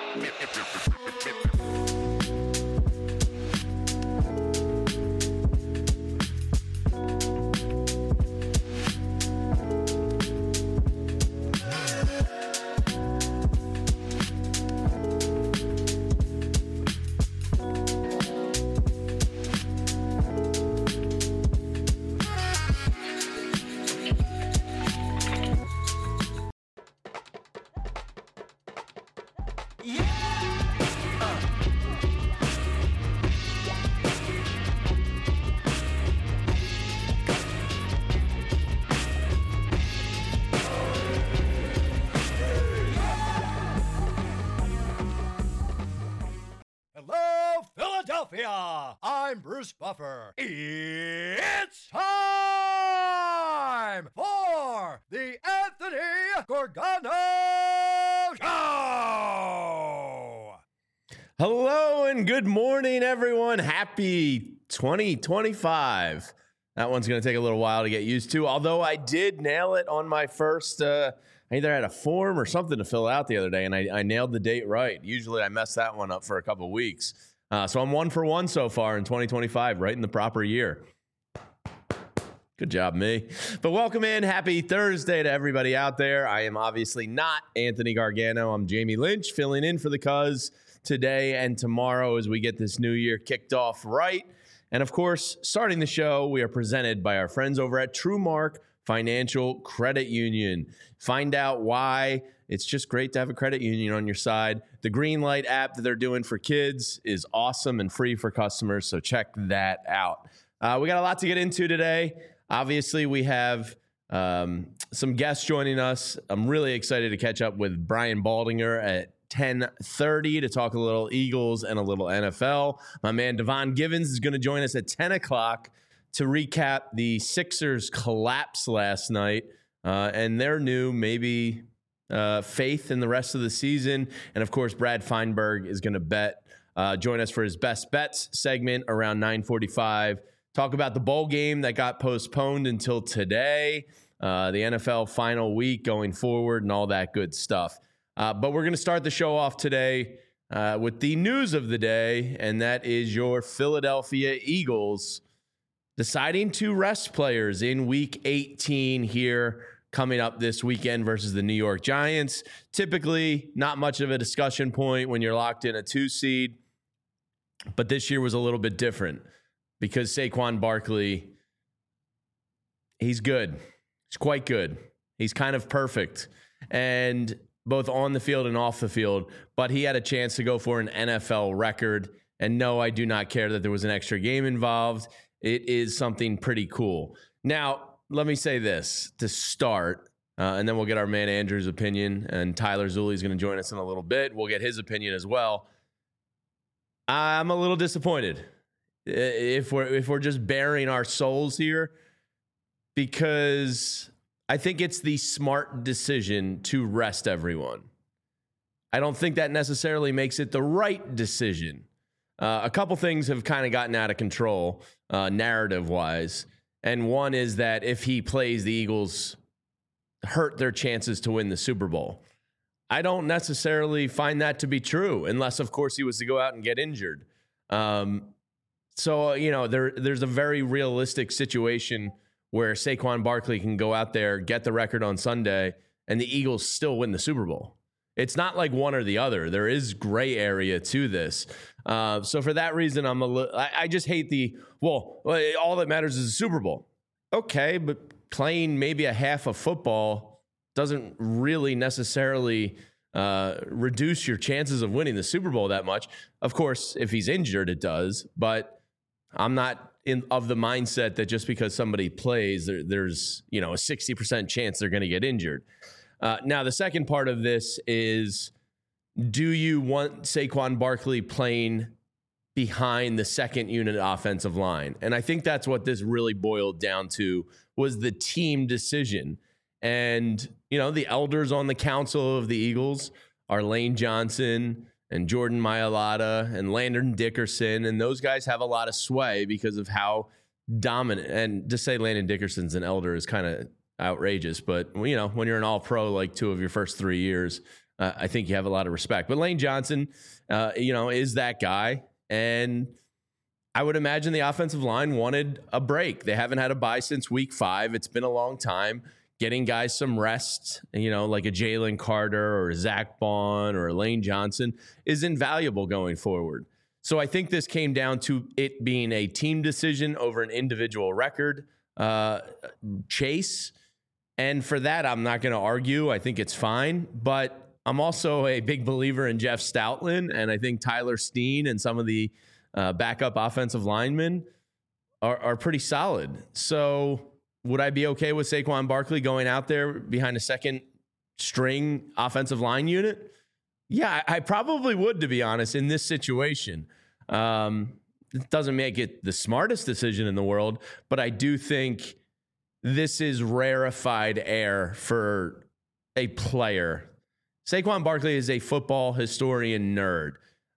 Hello, Philadelphia! I'm Bruce Buffer. It's time for the Anthony Gorgano Show! Hello and good morning, everyone. Happy 2025. That one's going to take a little while to get used to, although I did nail it on my first, I either had a form or something to fill out the other day, and I nailed the date right. Usually I mess that one up for a couple of weeks. So I'm 1 for 1 so far in 2025, right in the proper year. Good job, me. But welcome in. Happy Thursday to everybody out there. I am obviously not Anthony Gargano. I'm Jamie Lynch, filling in for the Cuz today and tomorrow as we get this new year kicked off right. And of course, starting the show, we are presented by our friends over at TrueMark Financial Credit Union. Find out why it's just great to have a credit union on your side. The Greenlight app that they're doing for kids is awesome and free for customers, so check that out. We got a lot to get into today. Obviously, we have some guests joining us. I'm really excited to catch up with Brian Baldinger at 10:30 to talk a little Eagles and a little NFL. My man Devon Givens is going to join us at 10 o'clock to recap the Sixers collapse last night and their new maybe faith in the rest of the season. And of course, Brad Feinberg is going to join us for his best bets segment around 9:45. Talk about the bowl game that got postponed until today, the NFL final week going forward and all that good stuff. But we're going to start the show off today with the news of the day, and that is your Philadelphia Eagles deciding to rest players in Week 18 here coming up this weekend versus the New York Giants. Typically, not much of a discussion point when you're locked in a 2 seed, but this year was a little bit different because Saquon Barkley, he's good. He's quite good. He's kind of perfect. And both on the field and off the field, but he had a chance to go for an NFL record. And no, I do not care that there was an extra game involved. It is something pretty cool. Now, let me say this to start, and then we'll get our man Andrew's opinion, and Tyler Zulli is going to join us in a little bit. We'll get his opinion as well. I'm a little disappointed if we're just bearing our souls here, because I think it's the smart decision to rest everyone. I don't think that necessarily makes it the right decision. A couple things have kind of gotten out of control narrative-wise, and one is that if he plays, the Eagles hurt their chances to win the Super Bowl. I don't necessarily find that to be true, unless, of course, he was to go out and get injured. So, you know, there's a very realistic situation where Saquon Barkley can go out there, get the record on Sunday, and the Eagles still win the Super Bowl. It's not like one or the other. There is gray area to this. So for that reason, I just hate all that matters is the Super Bowl. Okay, but playing maybe a half of football doesn't really necessarily reduce your chances of winning the Super Bowl that much. Of course, if he's injured, it does, but I'm not of the mindset that just because somebody plays, there's a 60% chance they're going to get injured. Now, the second part of this is, do you want Saquon Barkley playing behind the second unit offensive line? And I think that's what this really boiled down to, was the team decision. And, the elders on the council of the Eagles are Lane Johnson and Jordan Mailata and Landon Dickerson, and those guys have a lot of sway because of how dominant. And to say Landon Dickerson's an elder is kind of outrageous, but when you're an all-pro like 2 of your first 3 years, I think you have a lot of respect. But Lane Johnson, is that guy. And I would imagine the offensive line wanted a break. They haven't had a bye since week 5. It's been a long time. Getting guys some rest, like a Jalen Carter or a Zach Bond or a Lane Johnson is invaluable going forward. So I think this came down to it being a team decision over an individual record chase. And for that, I'm not going to argue. I think it's fine. But I'm also a big believer in Jeff Stoutland. And I think Tyler Steen and some of the backup offensive linemen are pretty solid. So would I be okay with Saquon Barkley going out there behind a second string offensive line unit? Yeah, I probably would, to be honest, in this situation. It doesn't make it the smartest decision in the world, but I do think this is rarefied air for a player. Saquon Barkley is a football historian nerd.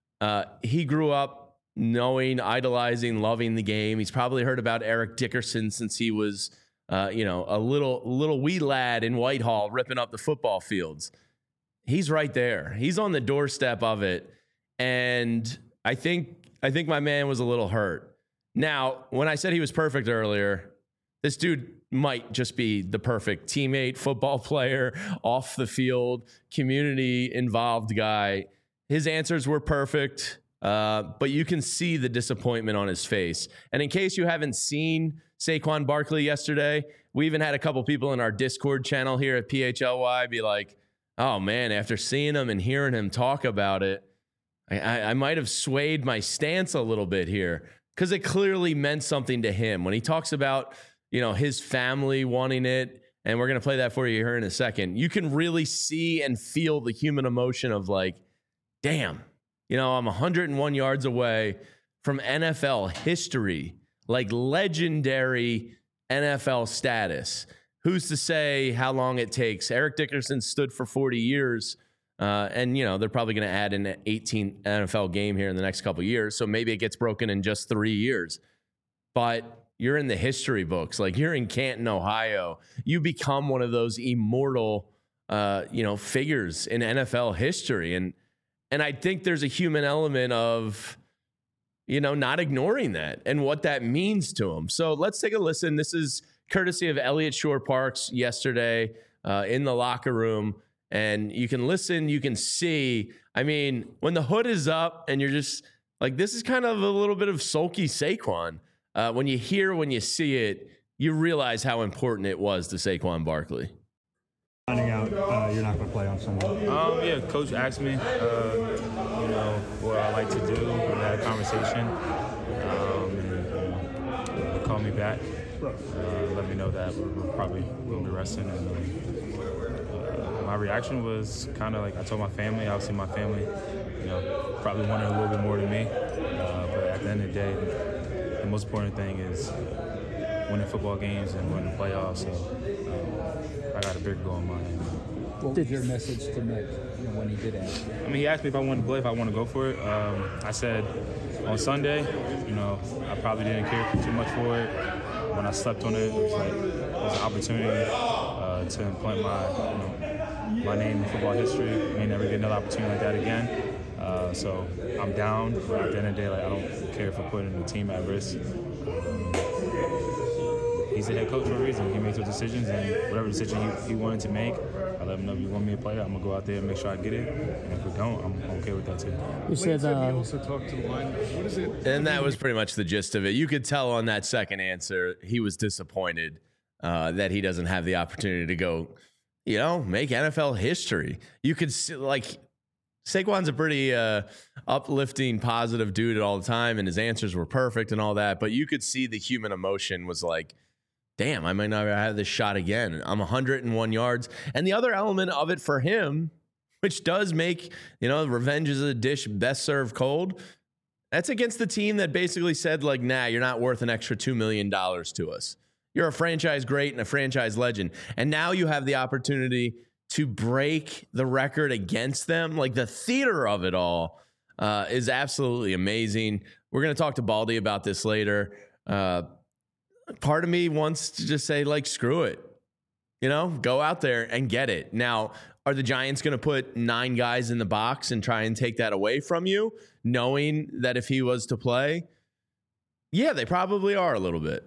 He grew up knowing, idolizing, loving the game. He's probably heard about Eric Dickerson since he was a little wee lad in Whitehall ripping up the football fields. He's right there. He's on the doorstep of it. And I think my man was a little hurt. Now, when I said he was perfect earlier, this dude might just be the perfect teammate, football player, off the field, community involved guy. His answers were perfect, but you can see the disappointment on his face. And in case you haven't seen Saquon Barkley yesterday, we even had a couple people in our Discord channel here at PHLY be like, oh man, after seeing him and hearing him talk about it, I might have swayed my stance a little bit here, because it clearly meant something to him. When he talks about, his family wanting it, and we're going to play that for you here in a second, you can really see and feel the human emotion of like, damn, I'm 101 yards away from NFL history, like legendary NFL status. Who's to say how long it takes? Eric Dickerson stood for 40 years, and they're probably going to add an 18th NFL game here in the next couple of years, so maybe it gets broken in just 3 years. But you're in the history books, like you're in Canton, Ohio. You become one of those immortal, figures in NFL history, and I think there's a human element of, not ignoring that and what that means to him. So let's take a listen. This is courtesy of Elliott Shore-Parks yesterday in the locker room. And you can listen, you can see. I mean, when the hood is up and you're just like, this is kind of a little bit of sulky Saquon. When you see it, you realize how important it was to Saquon Barkley. Finding out you're not going to play on Sunday. Yeah, Coach asked me, what I like to do. We had a conversation. And called me back. Let me know that we're probably going to be resting. And my reaction was kind of like, I told my family, obviously my family, probably wanted a little bit more than me. But at the end of the day, the most important thing is winning football games and winning the playoffs. So I got a big goal in mind. What was your message to Nick when he did ask? I mean, he asked me if I wanted to play, if I want to go for it. I said on Sunday, I probably didn't care too much for it. When I slept on it, it was an opportunity to implant my name in football history. I may never get another opportunity like that again. So I'm down, but at the end of the day, I don't care for putting the team at risk. He's the head coach for a reason. He makes those decisions, and whatever decision he wanted to make, I let him know if you want me to play, I'm going to go out there and make sure I get it. And if we don't, I'm okay with that too. You said he also talked to the line. What is it? And that was pretty much the gist of it. You could tell on that second answer, he was disappointed that he doesn't have the opportunity to go, make NFL history. You could see, Saquon's a pretty uplifting, positive dude all the time, and his answers were perfect and all that. But you could see the human emotion was like, damn, I might not have this shot again. I'm 101 yards. And the other element of it for him, which does make, revenge is a dish best served cold, that's against the team that basically said, nah, you're not worth an extra $2 million to us. You're a franchise great and a franchise legend. And now you have the opportunity to break the record against them. The theater of it all is absolutely amazing. We're going to talk to Baldy about this later. Part of me wants to just say, screw it. Go out there and get it. Now, are the Giants going to put 9 guys in the box and try and take that away from you, knowing that if he was to play? Yeah, they probably are a little bit.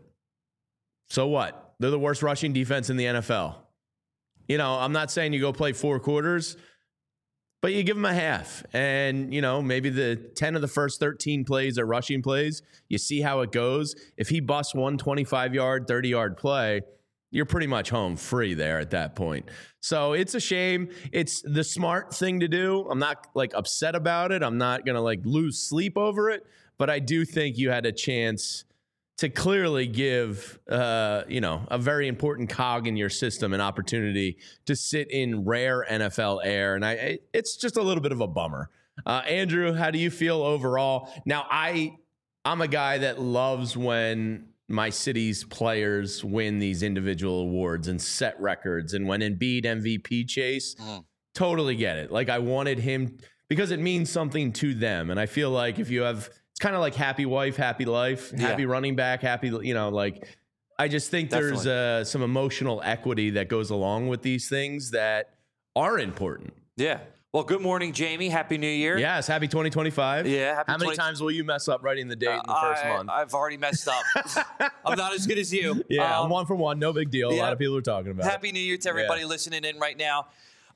So what? They're the worst rushing defense in the NFL. You know, I'm not saying you go play 4 quarters, but you give them a half. And, you know, maybe the 10 of the first 13 plays are rushing plays. You see how it goes. If he busts one 25-yard, 30-yard play, you're pretty much home free there at that point. So it's a shame. It's the smart thing to do. I'm not like upset about it. I'm not going to like lose sleep over it. But I do think you had a chance to clearly give, you know, a very important cog in your system an opportunity to sit in rare NFL air. And it's just a little bit of a bummer. Andrew, how do you feel overall? Now, I'm a guy that loves when my city's players win these individual awards and set records. And when Embiid MVP chase, totally get it. Like I wanted him because it means something to them. And I feel like if you have, it's kind of like happy wife, happy life, happy running back, happy, you know, like I just think there's some emotional equity that goes along with these things that are important. Yeah. Well, good morning, Jamie. Happy New Year. Yes, happy 2025. Yeah. How many times will you mess up writing the date in the first month? I've already messed up. I'm not as good as you. Yeah, I'm 1 for 1. No big deal. A lot of people are talking about Happy New Year to everybody listening in right now.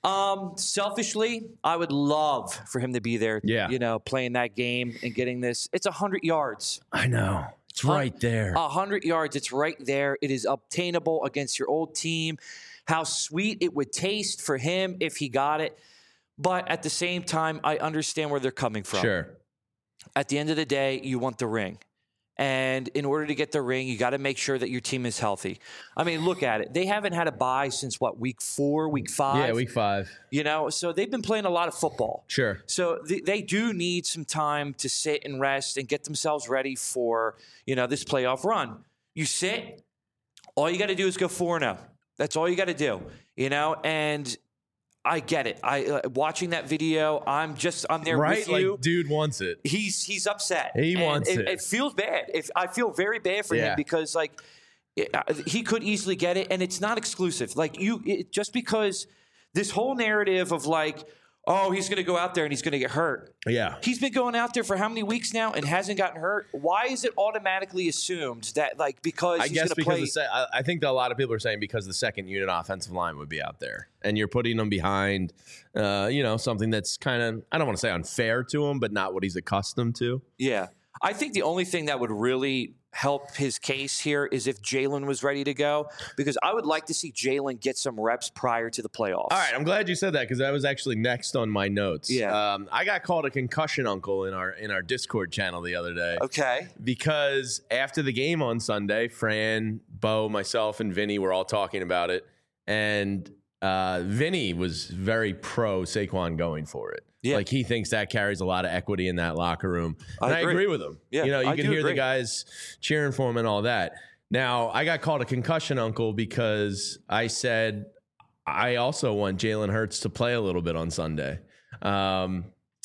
Selfishly, I would love for him to be there, you know, playing that game and getting this. It's 100 yards. I know. It's right there. 100 yards. It's right there. It is obtainable against your old team. How sweet it would taste for him if he got it. But at the same time, I understand where they're coming from. Sure. At the end of the day, you want the ring. And in order to get the ring, you got to make sure that your team is healthy. I mean, look at it. They haven't had a bye since, what, week 4, week 5? Yeah, week 5. You know, so they've been playing a lot of football. Sure. So they do need some time to sit and rest and get themselves ready for, you know, this playoff run. You sit, all you got to do is go 4-0. That's all you got to do, you know, and I get it. Watching that video, I'm there with you. Like, dude wants it. He's upset. He wants it. It feels bad. I feel very bad for him because like he could easily get it, and it's not exclusive. Like just because this whole narrative of like, oh, he's going to go out there and he's going to get hurt. Yeah. He's been going out there for how many weeks now and hasn't gotten hurt? Why is it automatically assumed that, like, because he's going to play? I think that a lot of people are saying because the second unit offensive line would be out there. And you're putting them behind, you know, something that's kind of, I don't want to say unfair to him, but not what he's accustomed to. Yeah. I think the only thing that would really help his case here is if Jalen was ready to go, because I would like to see Jalen get some reps prior to the playoffs. All right, I'm glad you said that because that was actually next on my notes. Yeah, I got called a concussion uncle in our Discord channel the other day. Okay, because after the game on Sunday, Fran, Bo, myself, and Vinny were all talking about it, and Vinny was very pro Saquon going for it. Yeah. Like he thinks that carries a lot of equity in that locker room. And I agree with him. Yeah, you know, you can hear the guys cheering for him and all that. Now, I got called a concussion uncle because I said I also want Jalen Hurts to play a little bit on Sunday. Now,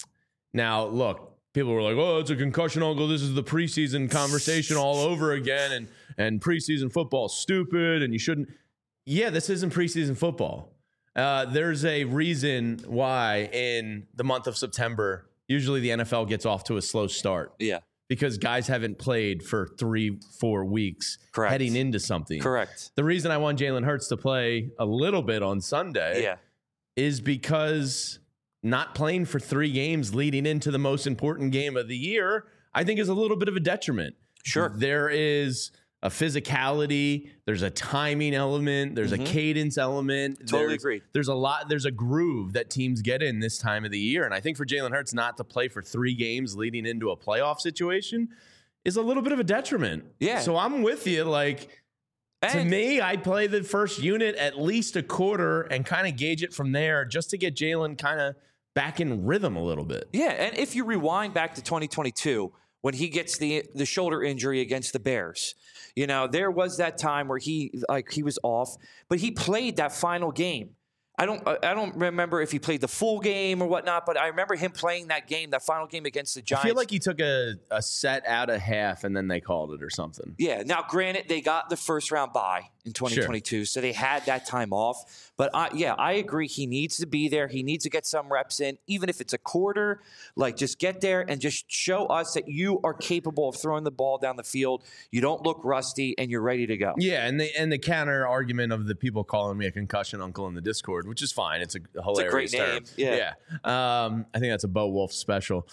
look, people were like, oh, it's a concussion uncle. This is the preseason conversation all over again. And preseason football is stupid and you shouldn't. Yeah, this isn't preseason football. There's a reason why in the month of September, usually the NFL gets off to a slow start. Yeah. Because guys haven't played for 3-4 weeks heading into something. Correct. The reason I want Jalen Hurts to play a little bit on Sunday is because not playing for 3 games leading into the most important game of the year, I think is a little bit of a detriment. Sure. There is a physicality, there's a timing element, there's a cadence element. Totally agree. There's a groove that teams get in this time of the year. And I think for Jalen Hurts not to play for 3 games leading into a playoff situation is a little bit of a detriment. Yeah. So I'm with you. Like, to me, I'd play the first unit at least a quarter and kind of gauge it from there just to get Jalen kind of back in rhythm a little bit. Yeah, and if you rewind back to 2022, when he gets the shoulder injury against the Bears, you know, there was that time where he was off, but he played that final game. I don't remember if he played the full game or whatnot, but I remember him playing that game, that final game against the Giants. I feel like he took a set out of half and then they called it or something. Yeah. Now, granted, they got the first round bye, in 2022, so they had that time off. But I agree. He needs to be there. He needs to get some reps in, even if it's a quarter. Like, just get there and just show us that you are capable of throwing the ball down the field. You don't look rusty, and you're ready to go. Yeah, and the counter argument of the people calling me a concussion uncle in the Discord, which is fine. It's a hilarious great term. name. Yeah. I think that's a Bo Wolf special.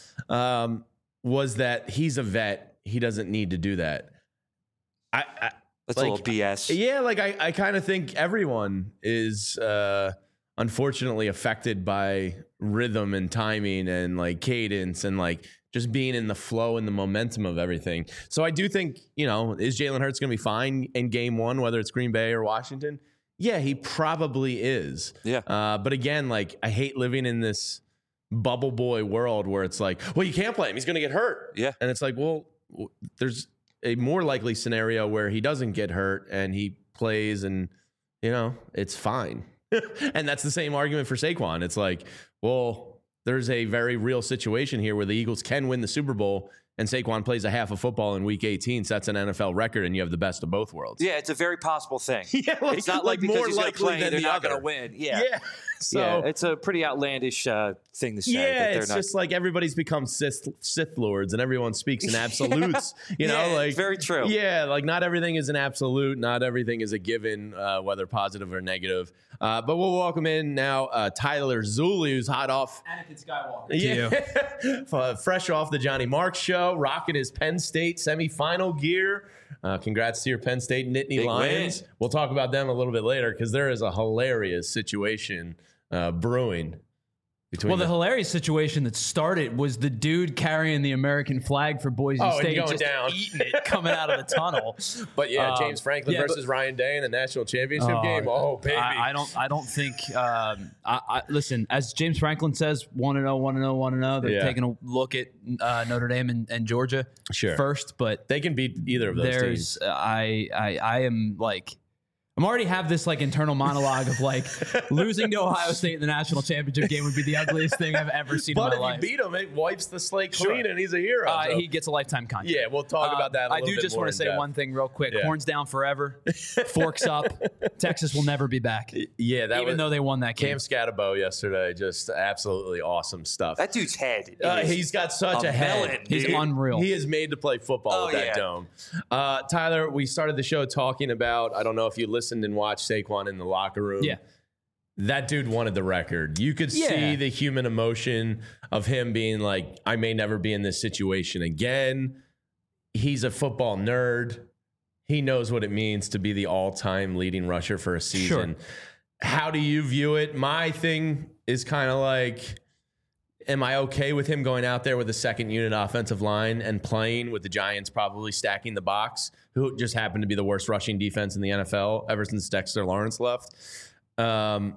Was that he's a vet. He doesn't need to do that. That's a little BS. Yeah, like I kind of think everyone is unfortunately affected by rhythm and timing and like cadence and like just being in the flow and the momentum of everything. So I do think, is Jalen Hurts going to be fine in game one, whether it's Green Bay or Washington? Yeah, he probably is. Yeah. But again, like I hate living in this bubble boy world where it's like, well, you can't play him. He's going to get hurt. Yeah. And it's like, well, there's a more likely scenario where he doesn't get hurt and he plays and, it's fine. And that's the same argument for Saquon. It's like, well, there's a very real situation here where the Eagles can win the Super Bowl and Saquon plays a half of football in week 18. So that's an NFL record and you have the best of both worlds. Yeah, it's a very possible thing. Yeah, it's not like because more he's going to play, than they're the not other. going to win. Yeah. So yeah, it's a pretty outlandish thing to say. Yeah, that they're it's not. just like everybody's become Sith lords and everyone speaks in absolutes. Yeah, like it's very true. Yeah, like not everything is an absolute. Not everything is a given, whether positive or negative. But we'll welcome in now Tyler Zuli, who's hot off. Anakin Skywalker. Yeah, fresh off the Johnny Marks show, rocking his Penn State semifinal gear. Congrats to your Penn State Nittany Big Lions. win. We'll talk about them a little bit later because there is a hilarious situation brewing. Well, the hilarious situation that started was the dude carrying the American flag for Boise State going just down. eating it coming out of the tunnel. But James Franklin versus Ryan Day in the national championship game. Oh, baby. I don't think. Listen, as James Franklin says, 1-0. They're taking a look at Notre Dame and Georgia first, but they can beat either of those teams. I am like. I'm already have this like internal monologue of like losing to Ohio State in the national championship game would be the ugliest thing I've ever seen in my life. But if you beat him, it wipes the slate clean and he's a hero. So. He gets a lifetime contract. Yeah, we'll talk about that a little bit more. I do just want to say one thing real quick. Yeah. Horns down forever. Forks up. Texas will never be back. Yeah, even though they won that game. Cam Scatterbo yesterday, just absolutely awesome stuff. That dude's head. He's got such a head. melon, He's unreal. He is made to play football with that dome. Tyler, we started the show talking about, I don't know if you listened and watched Saquon in the locker room. Yeah. That dude wanted the record. You could see the human emotion of him being like, I may never be in this situation again. He's a football nerd. He knows what it means to be the all-time leading rusher for a season. Sure. How do you view it? My thing is kind of like, am I okay with him going out there with a second unit offensive line and playing with the Giants probably stacking the box, who just happened to be the worst rushing defense in the NFL ever since Dexter Lawrence left? I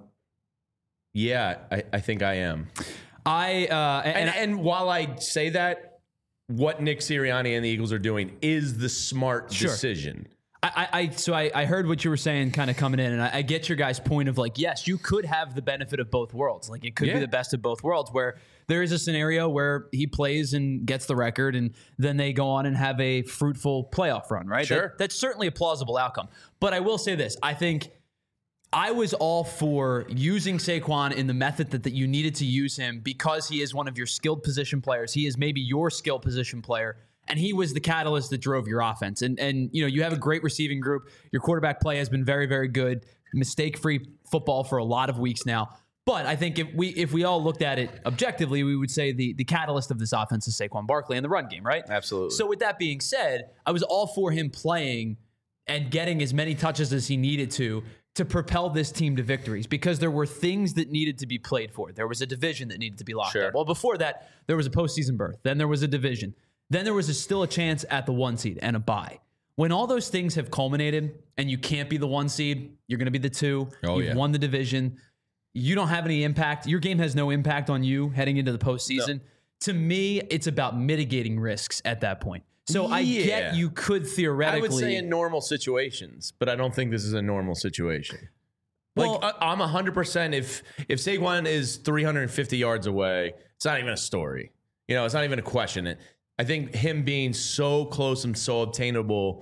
think I am. And while I say that, what Nick Sirianni and the Eagles are doing is the smart decision. I heard what you were saying kind of coming in, and I get your guys' point of like, yes, you could have the benefit of both worlds. Like it could be the best of both worlds where there is a scenario where he plays and gets the record and then they go on and have a fruitful playoff run, right? Sure. That's certainly a plausible outcome. But I will say this. I think I was all for using Saquon in the method that you needed to use him because he is one of your skilled position players. He is maybe your skilled position player. And he was the catalyst that drove your offense. And you have a great receiving group. Your quarterback play has been very, very good. Mistake-free football for a lot of weeks now. But I think if we all looked at it objectively, we would say the catalyst of this offense is Saquon Barkley and the run game, right? Absolutely. So with that being said, I was all for him playing and getting as many touches as he needed to propel this team to victories because there were things that needed to be played for. There was a division that needed to be locked up. Well, before that, there was a postseason berth. Then there was a division. Then there was still a chance at the 1 seed and a bye. When all those things have culminated and you can't be the 1 seed, you're going to be the 2. You've won the division. You don't have any impact. Your game has no impact on you heading into the postseason. No. To me, it's about mitigating risks at that point. So I get you could theoretically. I would say in normal situations, but I don't think this is a normal situation. Well, like I'm 100%. If Saquon is 350 yards away, it's not even a story. It's not even a question. I think him being so close and so obtainable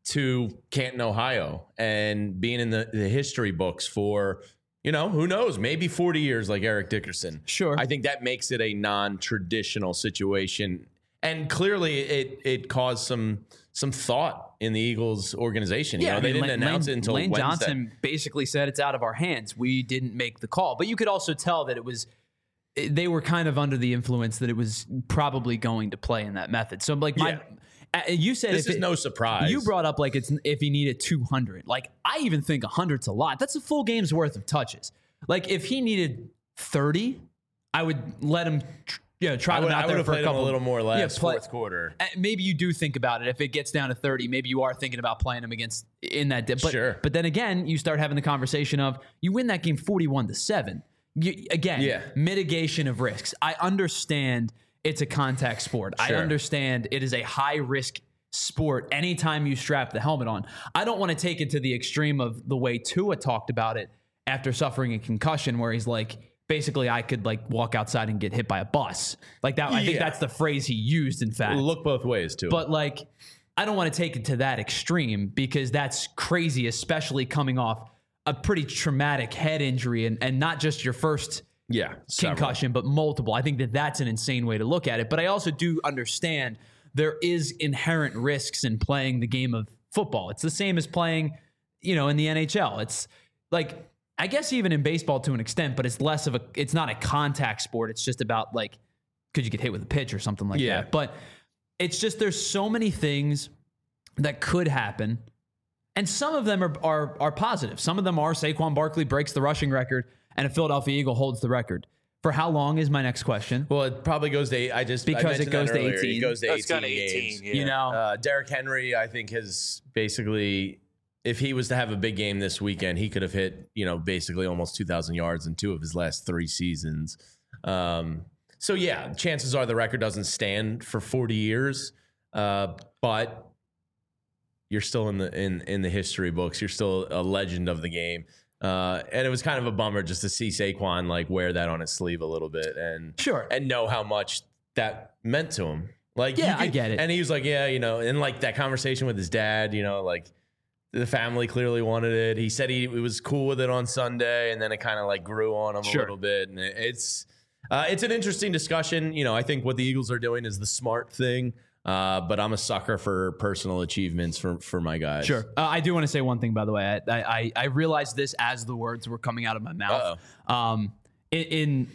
to Canton, Ohio, and being in the history books for, who knows, maybe 40 years like Eric Dickerson. Sure. I think that makes it a non-traditional situation. And clearly it caused some thought in the Eagles organization. They didn't announce it until Lane Wednesday. Johnson basically said it's out of our hands. We didn't make the call. But you could also tell that they were kind of under the influence that it was probably going to play in that method. So you said this is no surprise. You brought up like it's if he needed 200. Like I even think 100's a lot. That's a full game's worth of touches. Like if he needed 30, I would let him try them out there for a couple. A little more last fourth quarter. Maybe you do think about it. If it gets down to 30, maybe you are thinking about playing him against in that dip. But, sure. But then again, you start having the conversation of you win that game 41-7. Mitigation of risks. I understand it's a contact sport. Sure. I understand it is a high risk sport anytime you strap the helmet on. I don't want to take it to the extreme of the way Tua talked about it after suffering a concussion, where he's like, basically, I could like walk outside and get hit by a bus. Like that. I think that's the phrase he used, in fact. Look both ways, too. But like, I don't want to take it to that extreme because that's crazy, especially coming off a pretty traumatic head injury and not just your first concussion, but multiple. I think that's an insane way to look at it. But I also do understand there is inherent risks in playing the game of football. It's the same as playing, in the NHL. It's like, I guess even in baseball to an extent, but it's not a contact sport. It's just about like, could you get hit with a pitch or something like that? But it's just, there's so many things that could happen. And some of them are positive. Some of them are Saquon Barkley breaks the rushing record and a Philadelphia Eagle holds the record. For how long is my next question? Well, it probably goes to because it goes to 18. It goes to 18 It's got 18 games. Derrick Henry, I think, has basically, if he was to have a big game this weekend, he could have hit, basically almost 2,000 yards in 2 of his last 3 seasons. So chances are the record doesn't stand for 40 years, but you're still in the history books. You're still a legend of the game. And it was kind of a bummer just to see Saquon like wear that on his sleeve a little bit and know how much that meant to him. Like, I get it. And he was like, and like that conversation with his dad, like the family clearly wanted it. He said he was cool with it on Sunday, and then it kind of like grew on him a little bit. And it's an interesting discussion. I think what the Eagles are doing is the smart thing. But I'm a sucker for personal achievements for my guys. Sure. I do want to say one thing, by the way. I realized this as the words were coming out of my mouth. In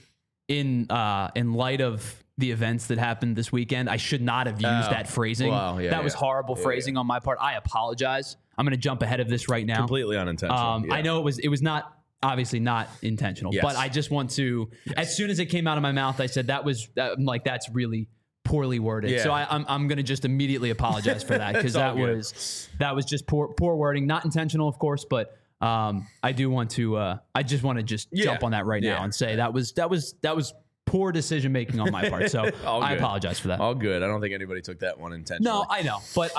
light of the events that happened this weekend, I should not have used that phrasing. That was horrible phrasing on my part. I apologize. I'm going to jump ahead of this right now. Completely unintentional. I know it was not obviously not intentional, but I just want to. As soon as it came out of my mouth, I said that's really poorly worded. So I'm going to just immediately apologize for that because that was just poor wording, not intentional, of course, but I do want to I just want to jump on that right now and say that was poor decision making on my part. So I apologize for that. All good. I don't think anybody took that one intentionally. No, I know, but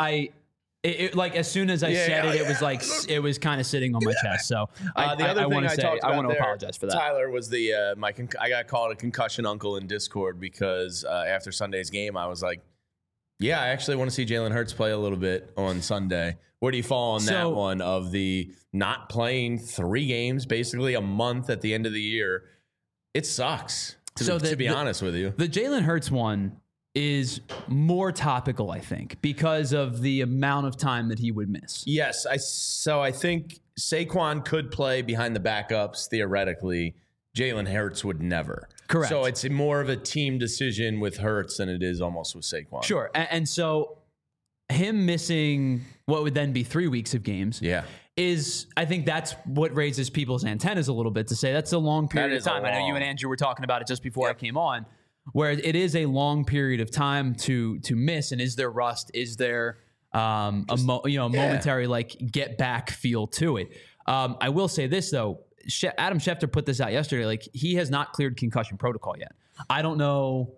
it like as soon as I said it, it was like it was kind of sitting on my chest. So the other thing I want to apologize for that. Tyler was I got called a concussion uncle in Discord because after Sunday's game, I was like, I actually want to see Jalen Hurts play a little bit on Sunday. Where do you fall on that one of the not playing 3 games, basically a month at the end of the year? It sucks. To be honest with you, the Jalen Hurts one is more topical, I think, because of the amount of time that he would miss. Yes. So I think Saquon could play behind the backups theoretically. Jalen Hurts would never. Correct. So it's more of a team decision with Hurts than it is almost with Saquon. Sure. And so him missing what would then be 3 weeks of games is, I think that's what raises people's antennas a little bit to say that's a long period of time. I know you and Andrew were talking about it just before I came on, where it is a long period of time to miss. And is there rust? Is there a momentary like get back feel to it? I will say this though, Adam Schefter put this out yesterday. Like he has not cleared concussion protocol yet. I don't know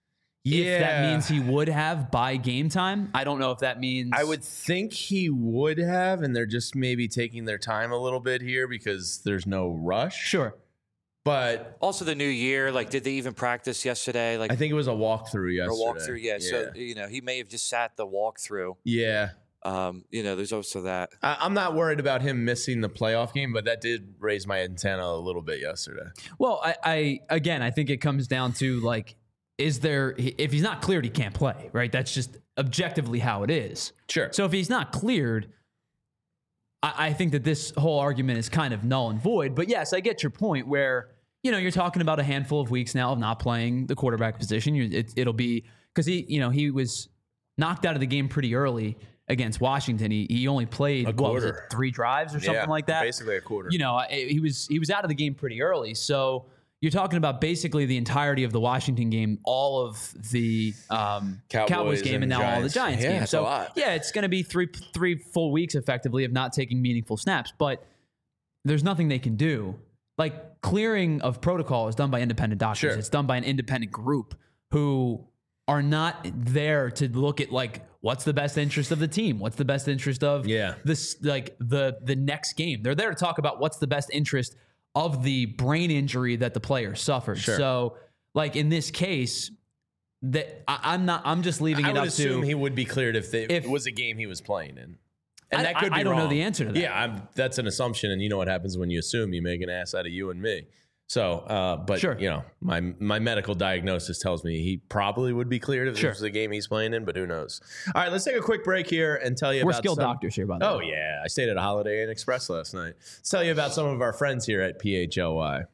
if that means he would have by game time. I don't know if that means. I would think he would have, and they're just maybe taking their time a little bit here because there's no rush. Sure. But also the new year, like, did they even practice yesterday? Like, I think it was a walkthrough yesterday. So he may have just sat the walkthrough. Yeah. There's also that. I'm not worried about him missing the playoff game, but that did raise my antenna a little bit yesterday. Well, I think it comes down to like, if he's not cleared, he can't play, right? That's just objectively how it is. Sure. So if he's not cleared, I think that this whole argument is kind of null and void. But yes, I get your point where, you're talking about a handful of weeks now of not playing the quarterback position. It'll be because he was knocked out of the game pretty early against Washington. He only played 3 drives or something like that. Basically a quarter. He was out of the game pretty early. So you're talking about basically the entirety of the Washington game, all of the Cowboys game, and now all the Giants game. That's so a lot. Yeah, it's going to be three full weeks effectively of not taking meaningful snaps. But there's nothing they can do. Like, clearing of protocol is done by independent doctors. Sure. It's done by an independent group who are not there to look at like what's the best interest of the team, what's the best interest of this, like the next game. They're there to talk about what's the best interest of the brain injury that the player suffered. Sure. So, like in this case, that I'm just leaving it up to. I would assume he would be cleared if it was a game he was playing in. And that could be I don't know wrong. the answer to that. Yeah, that's an assumption, and you know what happens when you assume. You make an ass out of you and me. So, but Sure. My medical diagnosis tells me he probably would be cleared if this was the game he's playing in, but who knows? All right, let's take a quick break here and tell you We're about skilled doctors here, by the way. Oh yeah, I stayed at a Holiday Inn Express last night. Let's tell you about some of our friends here at PHLY.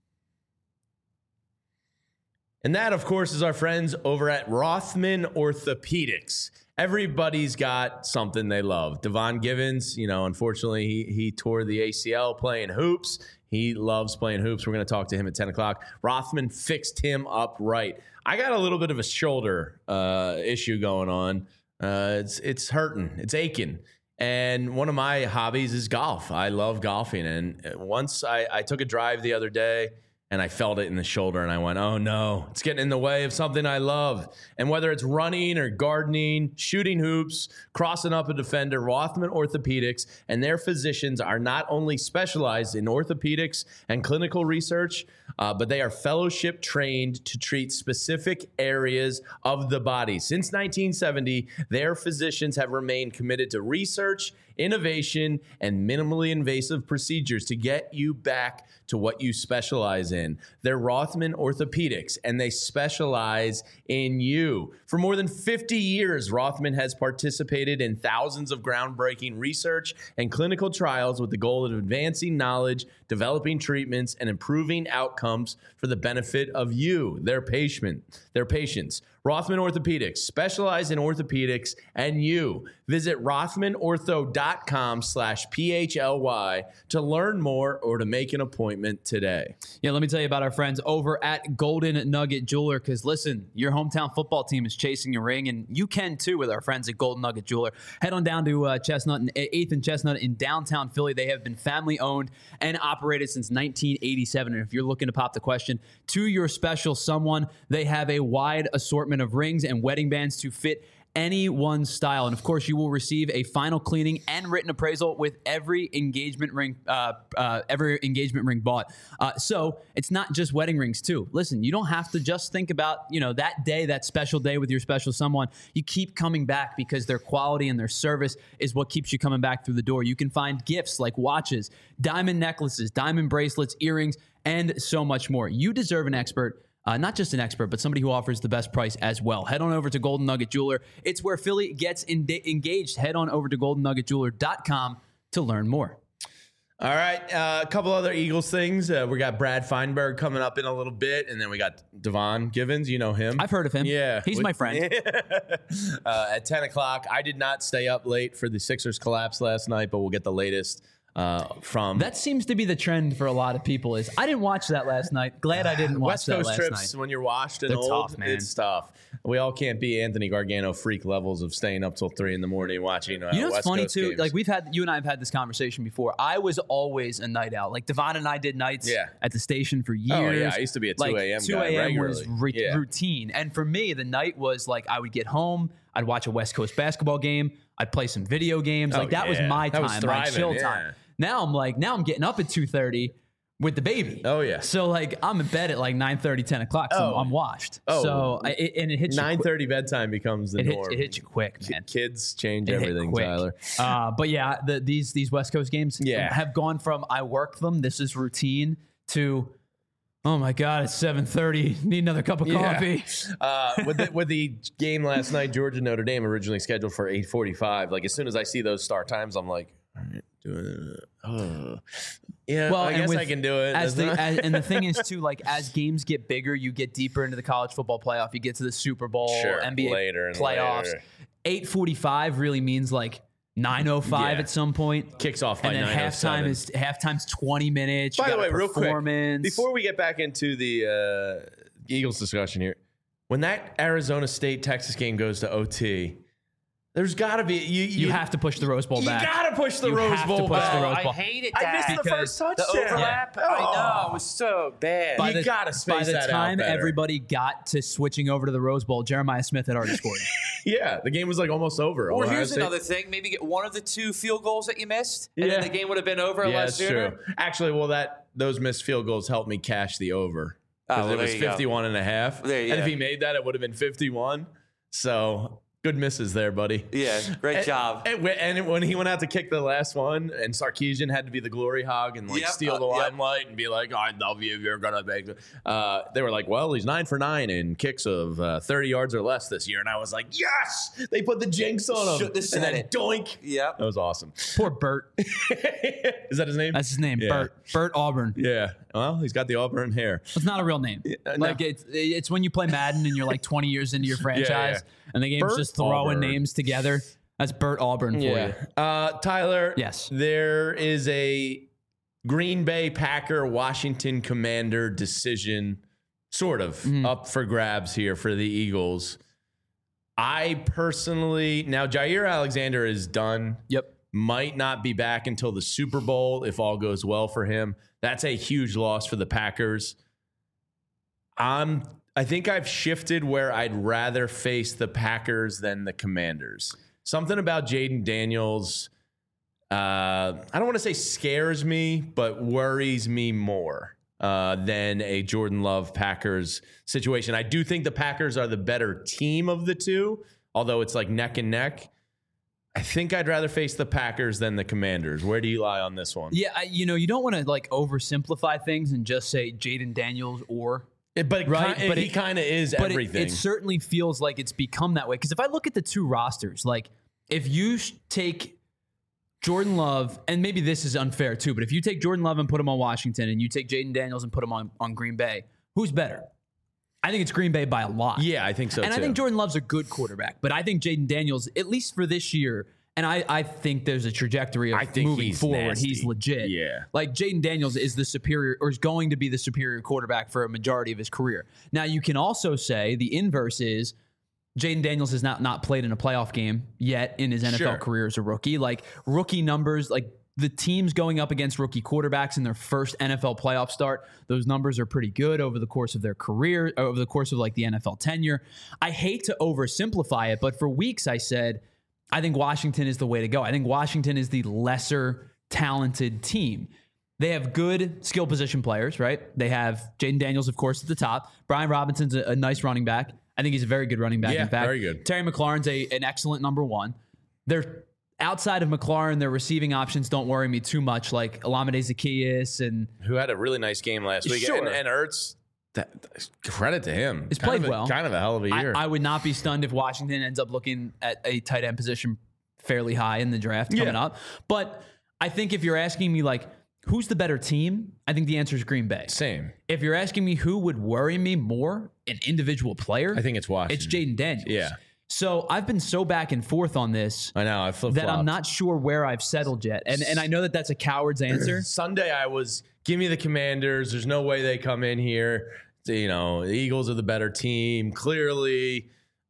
And that, of course, is our friends over at Rothman Orthopedics. Everybody's got something they love. Devon Givens, unfortunately, he tore the ACL playing hoops. He loves playing hoops. We're going to talk to him at 10 o'clock. Rothman fixed him up right. I got a little bit of a shoulder issue going on. It's hurting. It's aching. And one of my hobbies is golf. I love golfing. And once I took a drive the other day, and I felt it in the shoulder, and I went, oh no, it's getting in the way of something I love. And whether it's running or gardening, shooting hoops, crossing up a defender, Rothman Orthopedics and their physicians are not only specialized in orthopedics and clinical research, but they are fellowship trained to treat specific areas of the body. Since 1970, their physicians have remained committed to research, innovation, and minimally invasive procedures to get you back to what you specialize in. They're Rothman Orthopedics, and they specialize in you. For more than 50 years, Rothman has participated in thousands of groundbreaking research and clinical trials with the goal of advancing knowledge, developing treatments, and improving outcomes for the benefit of you, their patients. Rothman Orthopedics, specialize in orthopedics and you. Visit rothmanortho.com/PHLY to learn more or to make an appointment today. Yeah, let me tell you about our friends over at Golden Nugget Jeweler, because listen, your hometown football team is chasing a ring, and you can too with our friends at Golden Nugget Jeweler. Head on down to Chestnut and 8th and Chestnut in downtown Philly. They have been family owned and operated since 1987. And if you're looking to pop the question to your special someone, they have a wide assortment of rings and wedding bands to fit anyone's style. And of course, you will receive a final cleaning and written appraisal with every engagement ring bought. So it's not just wedding rings too. Listen, you don't have to just think about, that day, that special day with your special someone. You keep coming back because their quality and their service is what keeps you coming back through the door. You can find gifts like watches, diamond necklaces, diamond bracelets, earrings, and so much more. You deserve an expert. Not just an expert, but somebody who offers the best price as well. Head on over to Golden Nugget Jeweler. It's where Philly gets engaged. Head on over to goldennuggetjeweler.com to learn more. All right, a couple other Eagles things. We got Brad Feinberg coming up in a little bit, and then we got Devon Givens. You know him. I've heard of him. Yeah. He's my friend. At 10 o'clock. I did not stay up late for the Sixers collapse last night, but we'll get the latest from... That seems to be the trend for a lot of people is, I didn't watch that last night. Glad I didn't watch West that Coast last trips, night. when you're washed and They're old, tough, man. it's tough. We all can't be Anthony Gargano freak levels of staying up till 3 a.m. watching You know what's West funny Coast too? games. Like you and I have had this conversation before. I was always a night out. Like Devon and I did nights at the station for years. Oh, yeah. I used to be a 2 a.m. 2 guy a.m. was regularly. routine. And for me, the night was like I would get home, I'd watch a West Coast basketball game, I'd play some video games. Like that was my That time, was my thriving, chill yeah. time. Now I'm getting up at 2:30, with the baby. Oh, yeah. So like I'm in bed at like 9:30, 10 o'clock. So I'm washed. Oh. So and it hits you 9:30 bedtime becomes the norm. it hits you quick, man. Kids change It hit everything, quick. Tyler. But yeah, these West Coast games have gone from I work them, this is routine, to oh my God, it's 7:30. Need another cup of coffee. With the game last night, Georgia Notre Dame originally scheduled for 8:45. Like as soon as I see those start times, I'm like, all right, doing it. Yeah, well, I guess I can do it. And the thing is too, like as games get bigger, you get deeper into the college football playoff. You get to the Super Bowl, NBA later and playoffs. Later. 8:45 really means like 9:05 at some point. Kicks off by 9:07. Halftime's 20 minutes. By the way, real quick, performance. before we get back into the Eagles discussion here, when that Arizona State Texas game goes to OT, there's got to be you have to push the Rose Bowl back. You got to push the Rose have Bowl to push back. the Rose Bowl. I hated I that. missed the first touchdown. The overlap, I know, it was so bad. You gotta space that out By the time better. everybody got to switching over to the Rose Bowl, Jeremiah Smith had already scored. Yeah, the game was like almost over. Or Ohio here's State- another thing: maybe get one of the 2 field goals that you missed, and then the game would have been over a Yeah, lot that's sooner. true. Actually, well, those missed field goals helped me cash the over. Because it was 51 and a half. And if he made that, it would have been 51. So good misses there, buddy. Yeah, great job. And when he went out to kick the last one, and Sarkisian had to be the glory hog and steal the limelight and be like, "I love you. You're gonna make." They were like, "Well, he's 9 for 9 in kicks of 30 yards or less this year," and I was like, "Yes!" They put the jinx on him. Shouldn't have said and then it. doink. Yeah, that was awesome. Poor Bert. Is that his name? That's his name. Yeah. Bert Auburn. Yeah. Well, he's got the auburn hair. It's not a real name. Like it's when you play Madden and you're like 20 years into your franchise and the game's Bert just throwing Auburn. names together. That's Bert Auburn for you. Tyler. Yes. There is a Green Bay Packer Washington Commander decision sort of up for grabs here for the Eagles. I personally, now Jair Alexander is done. Yep. Might not be back until the Super Bowl if all goes well for him. That's a huge loss for the Packers. I think I've shifted where I'd rather face the Packers than the Commanders. Something about Jaden Daniels, I don't want to say scares me, but worries me more than a Jordan Love Packers situation. I do think the Packers are the better team of the two, although it's like neck and neck. I think I'd rather face the Packers than the Commanders. Where do you lie on this one? Yeah, you don't want to like oversimplify things and just say Jaden Daniels or But he kind of is everything. It certainly feels like it's become that way. Because if I look at the two rosters, like if you take Jordan Love, and maybe this is unfair too, but if you take Jordan Love and put him on Washington and you take Jaden Daniels and put him on Green Bay, who's better? I think it's Green Bay by a lot. Yeah, I think so and too. I think Jordan Love's a good quarterback, but I think Jaden Daniels, at least for this year, and I think there's a trajectory of moving forward. Nasty. He's legit. Yeah. Like Jaden Daniels is the superior, or is going to be the superior quarterback for a majority of his career. Now, you can also say the inverse is Jaden Daniels has not played in a playoff game yet in his NFL career as a rookie. Like rookie numbers, like the teams going up against rookie quarterbacks in their first NFL playoff start, those numbers are pretty good over the course of their career, over the course of like the NFL tenure. I hate to oversimplify it, but for weeks I said, I think Washington is the way to go. I think Washington is the lesser talented team. They have good skill position players, right? They have Jaden Daniels, of course, at the top. Brian Robinson's a nice running back. I think he's a very good running back. Yeah, in fact, very good. Terry McLaurin's an excellent number one. They're outside of McLaurin, their receiving options don't worry me too much, like Olamide Zaccheaus and who had a really nice game last week. Sure. And Ertz, credit to him. He's played well. Kind of a hell of a year. I would not be stunned if Washington ends up looking at a tight end position fairly high in the draft coming up. But I think if you're asking me, like, who's the better team? I think the answer is Green Bay. Same. If you're asking me who would worry me more, an individual player, I think it's Washington. It's Jaden Daniels. Yeah. So I've been so back and forth on this. I know. I flip-flopped. That I'm not sure where I've settled yet. And I know that that's a coward's answer. Sunday I was, give me the Commanders. There's no way they come in here. You know, the Eagles are the better team, clearly.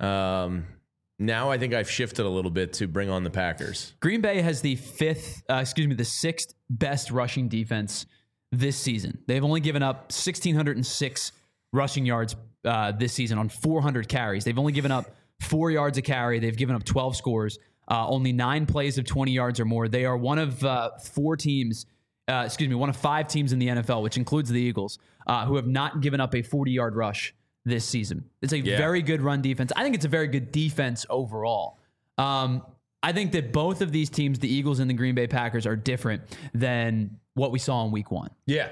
Now I think I've shifted a little bit to bring on the Packers. Green Bay has the sixth best rushing defense this season. They've only given up 1,606 rushing yards this season on 400 carries. They've only given up 4 yards a carry. They've given up 12 scores, only 9 plays of 20 yards or more. They are one of 4 teams one of 5 teams in the NFL, which includes the Eagles, who have not given up a 40-yard rush this season. It's a very good run defense. I think it's a very good defense overall. I think that both of these teams, the Eagles and the Green Bay Packers, are different than what we saw in week 1. Yeah.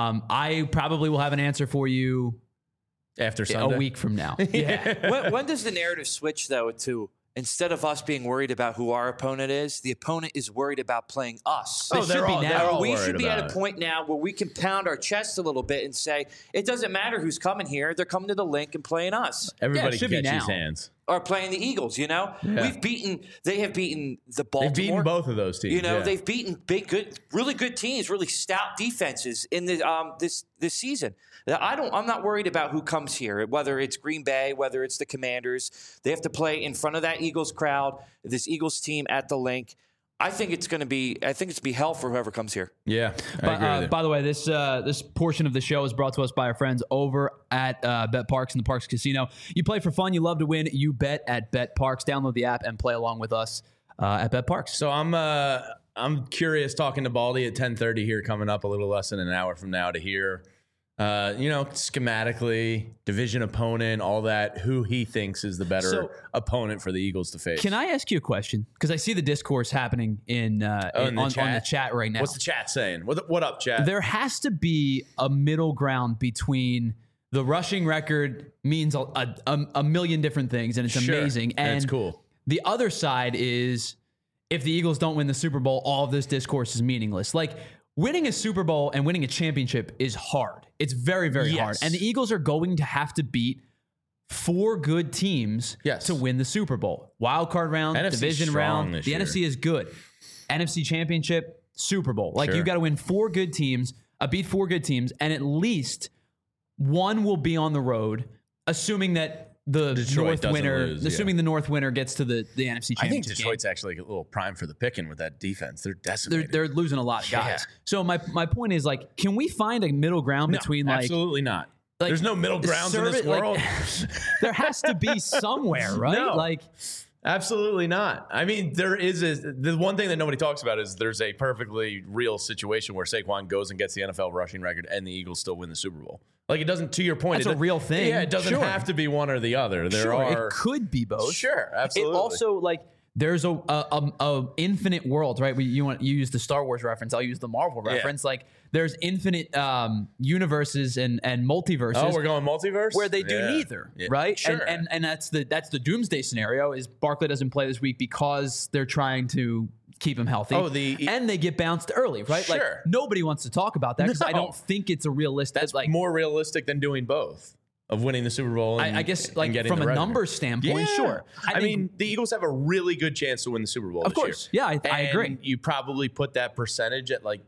I probably will have an answer for you After Sunday. a week from now. Yeah. When does the narrative switch, though, to instead of us being worried about who our opponent is, the opponent is worried about playing us? They should be now. We should be at a point now where we can pound our chest a little bit and say, it doesn't matter who's coming here. They're coming to the link and playing us. Everybody should be catch his now. hands. Or playing the Eagles, They have beaten the Baltimore. They've beaten both of those teams. They've beaten really good teams, really stout defenses in this season. I'm not worried about who comes here, whether it's Green Bay, whether it's the Commanders. They have to play in front of that Eagles crowd, this Eagles team at the link. I think it's going to be hell for whoever comes here. Yeah. I agree with you. By the way, this portion of the show is brought to us by our friends over at Bet Parks and the Parks Casino. You play for fun, you love to win, you bet at Bet Parks. Download the app and play along with us at Bet Parks. So I'm curious, talking to Baldy at 10:30 here, coming up a little less than an hour from now, to hear schematically, division opponent, all that, who he thinks is the better opponent for the Eagles to face. Can I ask you a question? Because I see the discourse happening on the chat right now. What's the chat saying? What up, chat? There has to be a middle ground between the rushing record means a million different things, and it's amazing. And it's cool. The other side is, if the Eagles don't win the Super Bowl, all of this discourse is meaningless. Like, winning a Super Bowl and winning a championship is hard. It's very, very hard. And the Eagles are going to have to beat 4 good teams to win the Super Bowl. Wild card round, NFC division round. The year. NFC is good. NFC championship, Super Bowl. Like, you got to win 4 good teams, beat 4 good teams, and at least one will be on the road, assuming that the Detroit North winner, lose, assuming the North winner gets to the NFC championship. I think Detroit's actually a little prime for the picking with that defense. They're decimated. They're losing a lot of guys. So my point is, like, can we find a middle ground between, like, absolutely not. There's no middle grounds in this world. There has to be somewhere, right? No. Like, absolutely not. I mean, the one thing that nobody talks about is there's a perfectly real situation where Saquon goes and gets the NFL rushing record and the Eagles still win the Super Bowl. Like, it doesn't, to your point, that's a real thing. Yeah, it doesn't have to be one or the other. It could be both. Sure, absolutely. It also, like, there's a infinite world, right? You use the Star Wars reference. I'll use the Marvel reference. Like, there's infinite universes and multiverses. Oh, we're going multiverse? Where they do neither, right? Sure. And that's the doomsday scenario. Is Barkley doesn't play this week because they're trying to keep him healthy. And they get bounced early, right? Sure. Like, nobody wants to talk about that because I don't think it's a realistic. That's like more realistic than doing both. Of winning the Super Bowl, and, I guess, like, from a numbers standpoint, sure. I mean, the Eagles have a really good chance to win the Super Bowl. Of course, year. Yeah, I agree. You probably put that percentage at like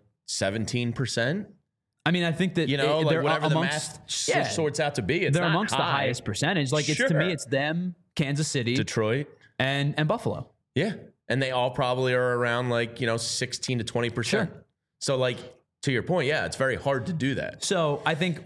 17%. I mean, I think that like whatever the math sorts out to be, they're amongst the highest percentage. Like, it's to me, it's them, Kansas City, Detroit, and Buffalo. Yeah, and they all probably are around 16 to 20%. Sure. So, like, to your point, it's very hard to do that. So I think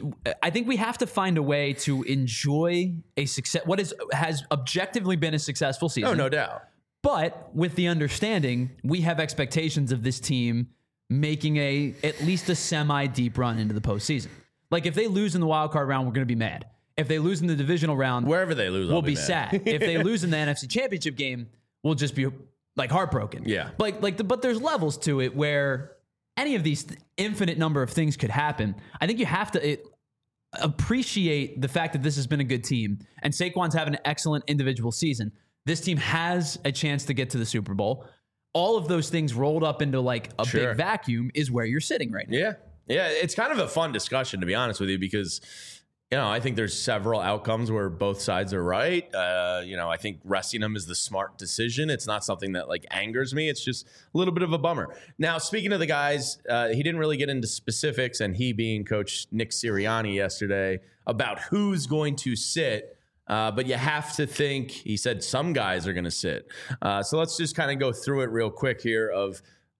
we have to find a way to enjoy a success. What has objectively been a successful season. Oh, no doubt. But with the understanding, we have expectations of this team making at least a semi-deep run into the postseason. Like, if they lose in the wild card round, we're going to be mad. If they lose in the divisional round, wherever they lose, we'll be sad. If they lose in the NFC Championship game, we'll just be, like, heartbroken. Yeah. But there's levels to it where any of these infinite number of things could happen. I think you have to appreciate the fact that this has been a good team, and Saquon's having an excellent individual season. This team has a chance to get to the Super Bowl. All of those things rolled up into, like, a big vacuum is where you're sitting right now. Yeah, it's kind of a fun discussion, to be honest with you, because I think there's several outcomes where both sides are right. I think resting him is the smart decision. It's not something that, like, angers me. It's just a little bit of a bummer. Now, speaking of the guys, he didn't really get into specifics, and he being Coach Nick Sirianni yesterday, about who's going to sit. But you have to think, he said some guys are going to sit. So let's just kind of go through it real quick here of,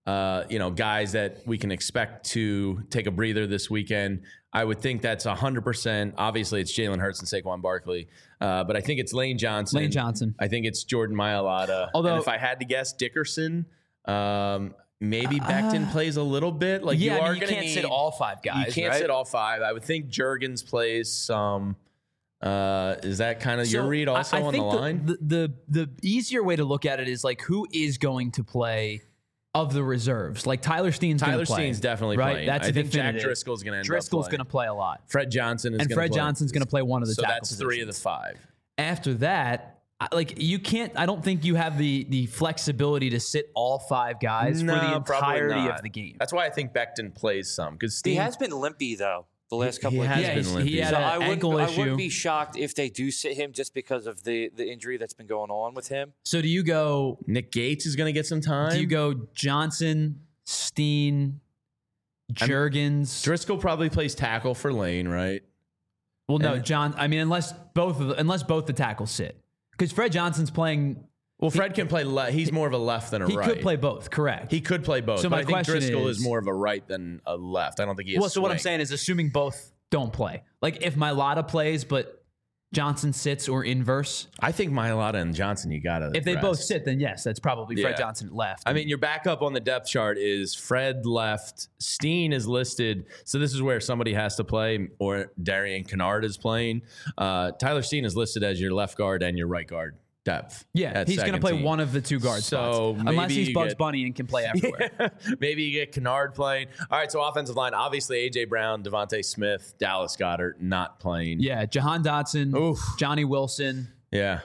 guys that we can expect to take a breather this weekend. I would think that's 100%. Obviously, it's Jalen Hurts and Saquon Barkley. But I think it's Lane Johnson. Lane Johnson. I think it's Jordan Mailata. Although, and if I had to guess, Dickerson. maybe Becton plays a little bit. Like Yeah, you are you going to can't need sit all 5 guys. You can't right? sit all 5. I would think Juergens plays some. Is that kind of your read also I on the think line? The easier way to look at it is like who is going to play of the reserves. Like Tyler Steen's going to play. Steen's definitely right? playing. That's I think definitive. Jack Driscoll's going to end Driscoll's up going to play a lot. Fred Johnson is going to play. And Fred Johnson's going to play one of the so tackle that's 3 of the positions. 5. After that, like you can't. I don't think you have the flexibility to sit all 5 guys for the probably entirety not. of the game. That's why I think Becton plays some because He has been limpy though the last couple of has games. been limpy. He had So an ankle I issue. wouldn't be shocked if they do sit him just because of the injury that's been going on with him. So do you go? Nick Gates is going to get some time. Do you go Johnson, Steen, Juergens? Driscoll probably plays tackle for Lane, right? Well, no, John. I mean, unless both the tackles sit, because Fred Johnson's playing. Well, Fred can play. He's more of a left than a He right. could play both. Correct. He could play both. So but my I think question Driscoll is is more of a right than a left. I don't think he is. well, so what I'm saying is, assuming both don't play, like if Mailata plays but Johnson sits or inverse, I think Mailata and Johnson, you got to. if they both sit, then yes, that's probably Fred Yeah. Johnson left. I mean, your backup on the depth chart is Fred left. Steen is listed. So this is where somebody has to play, or Darian Kennard is playing. Tyler Steen is listed as your left guard and your right guard depth. yeah, at he's going to second play team. one of the 2 guard So spots, maybe unless he's you Bugs get- Bunny and can play everywhere. Maybe you get Kennard playing. All right, so offensive line, obviously A.J. Brown, Devontae Smith, Dallas Goedert not playing. Yeah, Jahan Dotson, Oof. Johnny Wilson. Yeah.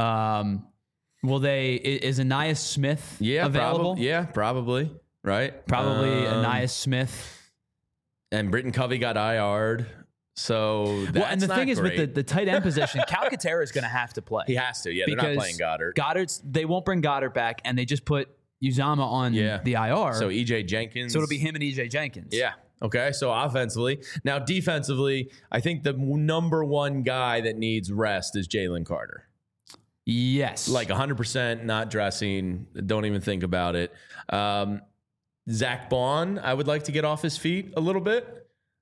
Is Anais Smith Yeah, available? probably. Right? Probably Anais Smith. And Britton Covey got IR'd. So that's And the not thing is great. with the tight end position, Calcaterra is going to have to play. He has to. Yeah, they're not playing Goddard. They won't bring Goddard back, and they just put Uzama on the IR. So E.J. Jenkins. So it'll be him and EJ Jenkins. Yeah. Okay. So offensively. Now defensively, I think the number one guy that needs rest is Jalen Carter. Yes. Like 100% not dressing. Don't even think about it. Zach Bond, I would like to get off his feet a little bit.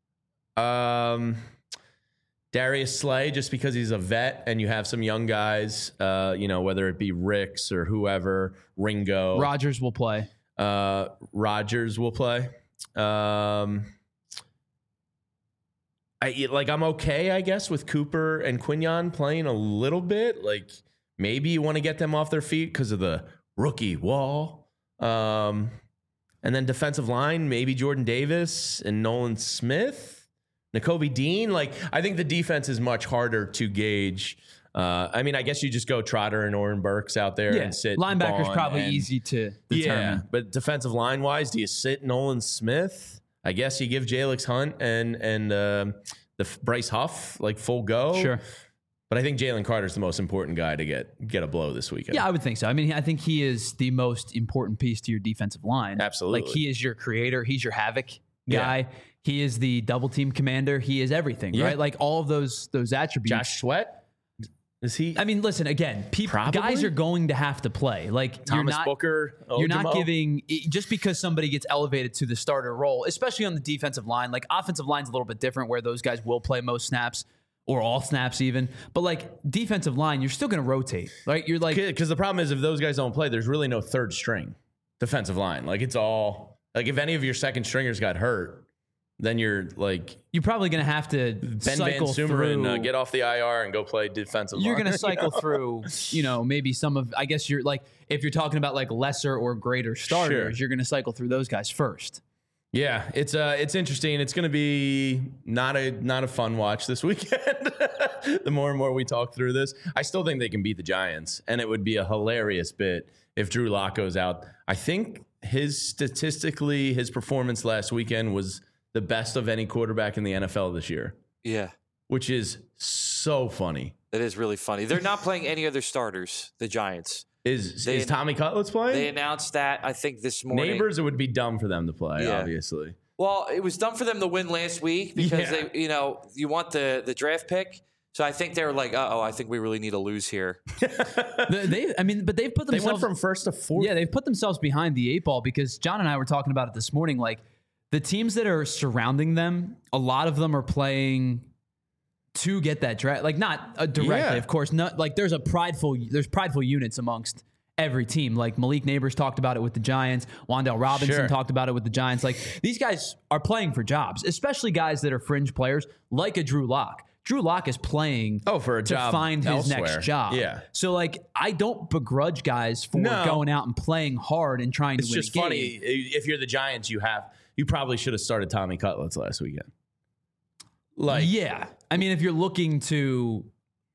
Darius Slay, just because he's a vet and you have some young guys, whether it be Ricks or whoever, Ringo. Rodgers will play. Rodgers will play. I'm okay, I guess, with Cooper and Quignon playing a little bit. Like maybe you want to get them off their feet because of the rookie wall. And then defensive line, maybe Jordan Davis and Nolan Smith. Nakobe Dean, I think the defense is much harder to gauge. I guess you just go Trotter and Oren Burks out there and sit. Linebackers Bond probably and- easy to determine. Yeah, but defensive line wise, do you sit Nolan Smith? I guess you give Jalix Hunt and the Bryce Huff full go. Sure. But I think Jalen Carter's the most important guy to get a blow this weekend. Yeah, I would think so. I mean, I think he is the most important piece to your defensive line. Absolutely. He is your creator. He's your havoc guy. Yeah. He is the double team commander. He is everything, Yeah. right? Like all of those attributes. Josh Sweat, is he? I mean, listen, again, Probably. guys are going to have to play. Thomas Booker. You're not Ojimo? giving just because somebody gets elevated to the starter role, especially on the defensive line. Offensive line's a little bit different, where those guys will play most snaps or all snaps even. But defensive line, you're still going to rotate, right? You're because the problem is if those guys don't play, there's really no third string defensive line. It's all if any of your second stringers got hurt, then you're probably going to have to Ben cycle Van through. Sumeren, get off the IR and go play defensive line. You're going to cycle through, maybe some of. I guess you're if you're talking about lesser or greater starters, you're going to cycle through those guys first. Yeah, it's interesting. It's going to be not a fun watch this weekend. The more and more we talk through this, I still think they can beat the Giants, and it would be a hilarious bit if Drew Lock goes out. I think his performance last weekend was the best of any quarterback in the NFL this year. Yeah. Which is so funny. That is really funny. They're not playing any other starters, the Giants. Is Tommy Cutlets playing? They announced that, I think, this morning. Neighbors, it would be dumb for them to play, obviously. Well, it was dumb for them to win last week because you want the draft pick. So I think they were I think we really need to lose here. But they've put themselves. They went from first to fourth. Yeah, they've put themselves behind the 8 ball because John and I were talking about it this morning. The teams that are surrounding them, a lot of them are playing to get that draft. Not directly, of course. Not there's prideful units amongst every team. Like Malik Neighbors talked about it with the Giants. Wan'Dale Robinson talked about it with the Giants. Like these guys are playing for jobs, especially guys that are fringe players like a Drew Lock. Drew Lock is playing for a to job find his elsewhere. next job. Yeah. So like I don't begrudge guys for going out and playing hard and trying to win It's just a game. funny. If you're the Giants, you probably should have started Tommy Cutlets last weekend. Yeah. I mean, if you're looking to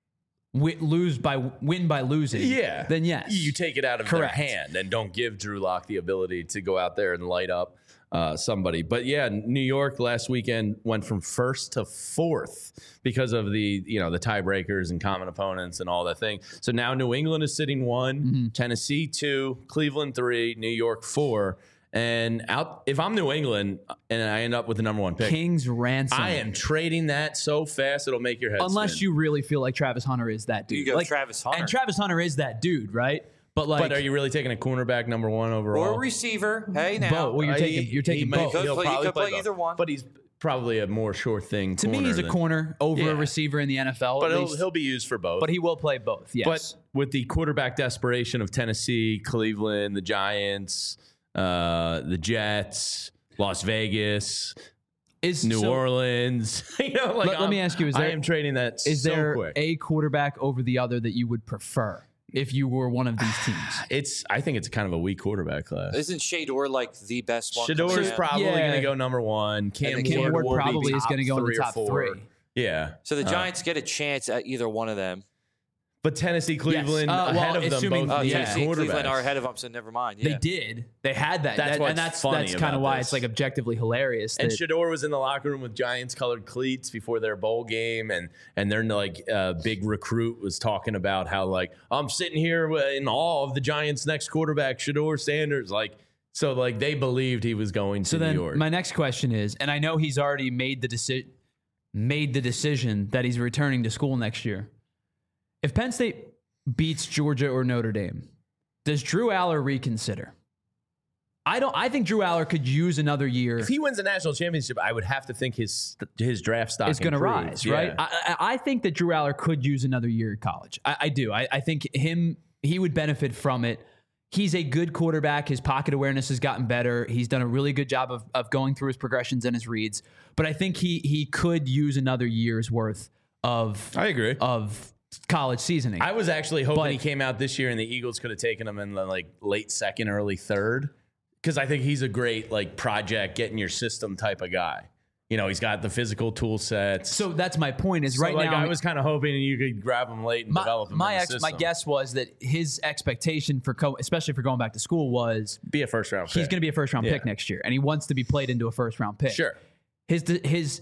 win by losing, then yes. You take it out of their hand and don't give Drew Lock the ability to go out there and light up somebody. But yeah, New York last weekend went from first to fourth because of the tiebreakers and common opponents and all that thing. So now New England is sitting 1, Tennessee 2, Cleveland 3, New York 4. And if I'm New England and I end up with the number 1 pick, King's ransom. I am trading that so fast it'll make your head unless spin. you really feel like Travis Hunter is that dude. You go Travis Hunter. And Travis Hunter is that dude, right? But are you really taking a cornerback number 1 overall? Or a receiver. Hey, now. Well, you're taking both. He'll probably play both. either one. But he's probably a more sure thing. To me, he's a corner over a receiver in the NFL. But he'll be used for both. But he will play both. Yes. But with the quarterback desperation of Tennessee, Cleveland, the Giants, the Jets, Las Vegas, New Orleans, let me ask you: I am trading that. Is so there quick. a quarterback over the other that you would prefer if you were one of these teams? I think it's kind of a weak quarterback class. Isn't Shador like the best one? Shador is probably going to go number 1. Cam Ward probably is going to go in the top 3 or 4. 3. Yeah. So the Giants get a chance at either one of them. But Tennessee, Cleveland ahead of them both. Tennessee and Cleveland quarterbacks. are ahead of them, so never mind. They did. They had that. That's funny That's kind about of why this. it's like objectively hilarious. And Shador was in the locker room with Giants-colored cleats before their bowl game, and their big recruit was talking about how I'm sitting here in awe of the Giants' next quarterback, Shador Sanders. So they believed he was going to New York. My next question is, and I know he's already made the decision that he's returning to school next year. If Penn State beats Georgia or Notre Dame, does Drew Aller reconsider? I think Drew Aller could use another year. If he wins a national championship, I would have to think his draft stock is going to rise, right? I think that Drew Aller could use another year at college. I do. I think he would benefit from it. He's a good quarterback. His pocket awareness has gotten better. He's done a really good job of going through his progressions and his reads. But I think he could use another year's worth of college seasoning. I was actually hoping he came out this year and the Eagles could have taken him in the late second, early third, because I think he's a great project, get in your system type of guy. He's got the physical tool sets. So that's my point. Is right now I was kind of hoping you could grab him late and develop him. My guess was that his expectation especially for going back to school, was be a first round pick. He's going to be a first round pick next year, and he wants to be played into a first round pick. Sure. His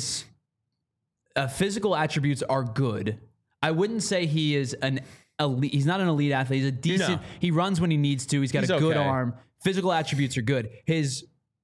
physical attributes are good. I wouldn't say he is an elite. He's not an elite athlete. He's a decent. No. He runs when he needs to. He's got a good arm. Physical attributes are good. His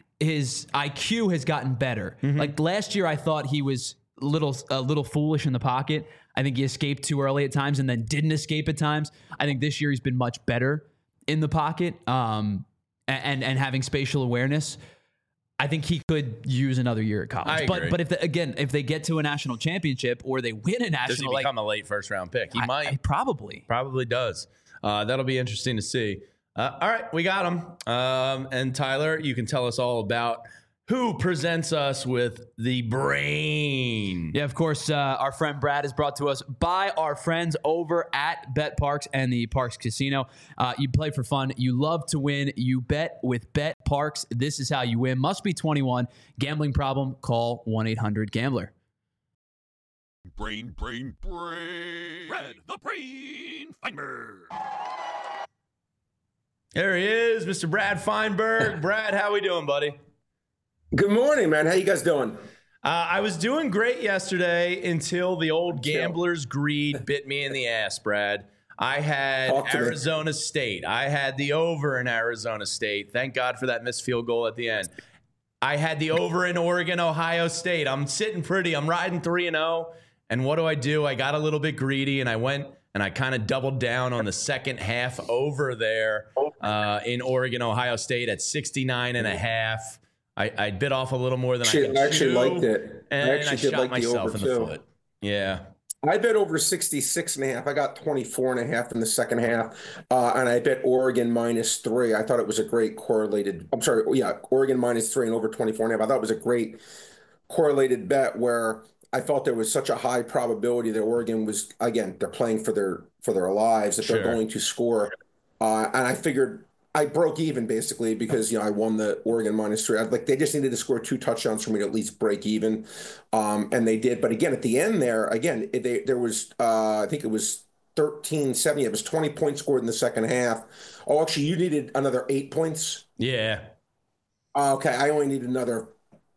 IQ has gotten better. Mm-hmm. Last year, I thought he was a little foolish in the pocket. I think he escaped too early at times and then didn't escape at times. I think this year he's been much better in the pocket and having spatial awareness. I think he could use another year at college. But if they get to a national championship or they win a national, does he become a late first round pick? He might. Probably does. That'll be interesting to see. All right, we got him. And Tyler, you can tell us all about who presents us with the brain. Yeah, of course. Our friend Brad is brought to us by our friends over at Bet Parks and the Parks Casino. You play for fun. You love to win. You bet with Bet Parks. This is how you win. Must be 21. Gambling problem? Call 1-800-GAMBLER. Brain. Brad, the Brain Feinberg. There he is, Mr. Brad Feinberg. Brad, how we doing, buddy? Good morning, man. How you guys doing? I was doing great yesterday until the old gambler's greed bit me in the ass, Brad. I had Arizona State. I had the over in Arizona State. Thank God for that missed field goal at the end. I had the over in Oregon, Ohio State. I'm sitting pretty. I'm riding 3-0. And what do? I got a little bit greedy, and I went and I kind of doubled down on the second half over there in Oregon, Ohio State at 69.5. I bit off a little more than I could actually liked it. And I shot like myself in the foot. Yeah. I bet over 66.5. I got 24.5 in the second half. And I bet Oregon -3. I thought it was a great correlated. I'm sorry. Yeah. Oregon -3 and over 24.5. I thought it was a great correlated bet where I felt there was such a high probability that Oregon was, again, they're playing for their lives, that they're going to score. And I figured I broke even basically because, I won the Oregon -3. They just needed to score 2 touchdowns for me to at least break even. And they did. But again, at the end there, again, there was, I think it was 13-7. It was 20 points scored in the second half. Oh, actually, you needed another 8 points? Yeah. Okay. I only need another,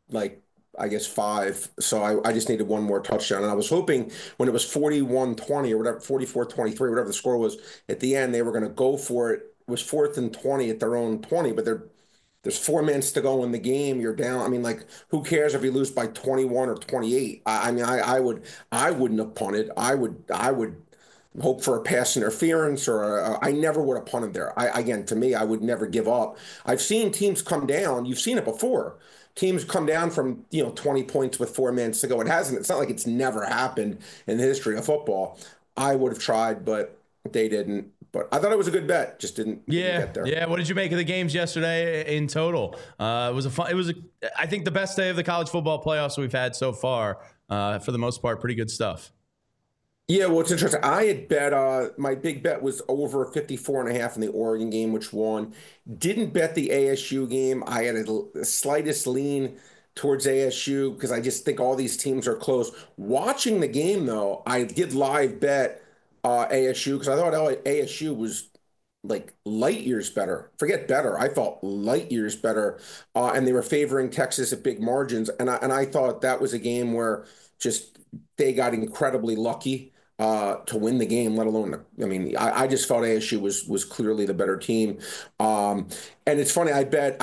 I guess 5. So I just needed one more touchdown. And I was hoping when it was 41-20 or whatever, 44-23, whatever the score was, at the end, they were going to go for it. It was 4th and 20 at their own 20, but there's 4 minutes to go in the game. You're down. I mean, who cares if you lose by 21 or 28? I wouldn't have punted. I would hope for a pass interference or I never would have punted there. Again, to me, I would never give up. I've seen teams come down. You've seen it before. Teams come down from 20 points with 4 minutes to go. It's not like it's never happened in the history of football. I would have tried, but they didn't. But I thought it was a good bet. Just didn't get there. Yeah. What did you make of the games yesterday in total? It was I think the best day of the college football playoffs we've had so far. For the most part, pretty good stuff. Yeah, well, it's interesting. I had bet, my big bet was over 54.5 in the Oregon game, which won. Didn't bet the ASU game. I had the slightest lean towards ASU because I just think all these teams are close. Watching the game, though, I did live bet ASU because I thought ASU was light years better. Forget better. I felt light years better. And they were favoring Texas at big margins. And I thought that was a game where just they got incredibly lucky to win the game, let alone, I just felt ASU was clearly the better team. And it's funny, I bet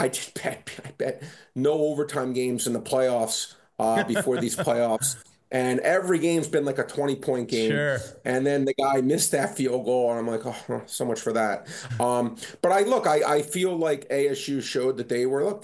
no overtime games in the playoffs before these playoffs. And every game's been like a 20-point game. Sure. And then the guy missed that field goal, and I'm like, oh, so much for that. But I feel like ASU showed that they were,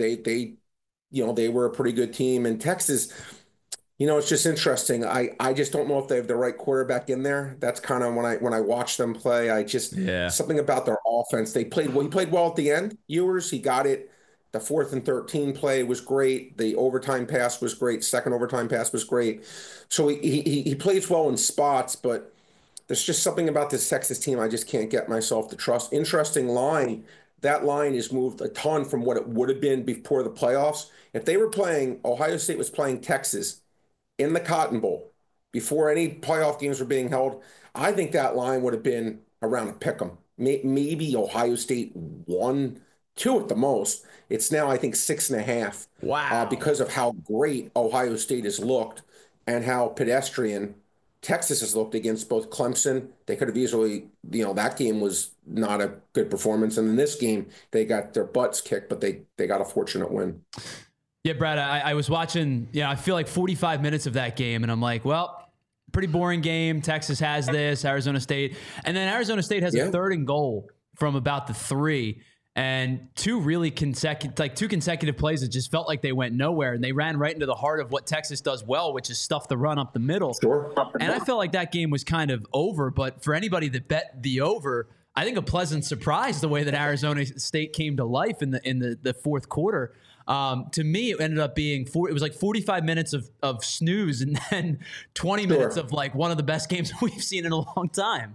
they were a pretty good team. And Texas, it's just interesting. I just don't know if they have the right quarterback in there. That's kind of when I watch them play, something about their offense. He played well at the end. Ewers, he got it. The 4th and 13 play was great. The overtime pass was great. Second overtime pass was great. So he plays well in spots, but there's just something about this Texas team I just can't get myself to trust. Interesting line. That line has moved a ton from what it would have been before the playoffs. If they were playing, Ohio State was playing Texas in the Cotton Bowl before any playoff games were being held, I think that line would have been around a pick 'em. Maybe Ohio State 1-2 at the most. It's now, I think, 6.5. Wow. Because of how great Ohio State has looked and how pedestrian Texas has looked against both Clemson. They could have easily, that game was not a good performance. And in this game, they got their butts kicked, but they got a fortunate win. Yeah, Brad, I was watching, I feel like 45 minutes of that game, and I'm like, well, pretty boring game. Texas has this, Arizona State. And then Arizona State has a 3rd and goal from about the 3. And two consecutive plays that just felt like they went nowhere, and they ran right into the heart of what Texas does well, which is stuff the run up the middle. Sure. And I felt like that game was kind of over, but for anybody that bet the over, I think a pleasant surprise the way that Arizona State came to life in the fourth quarter. To me, it ended up being it was like 45 minutes of snooze and then 20 minutes of like one of the best games we've seen in a long time.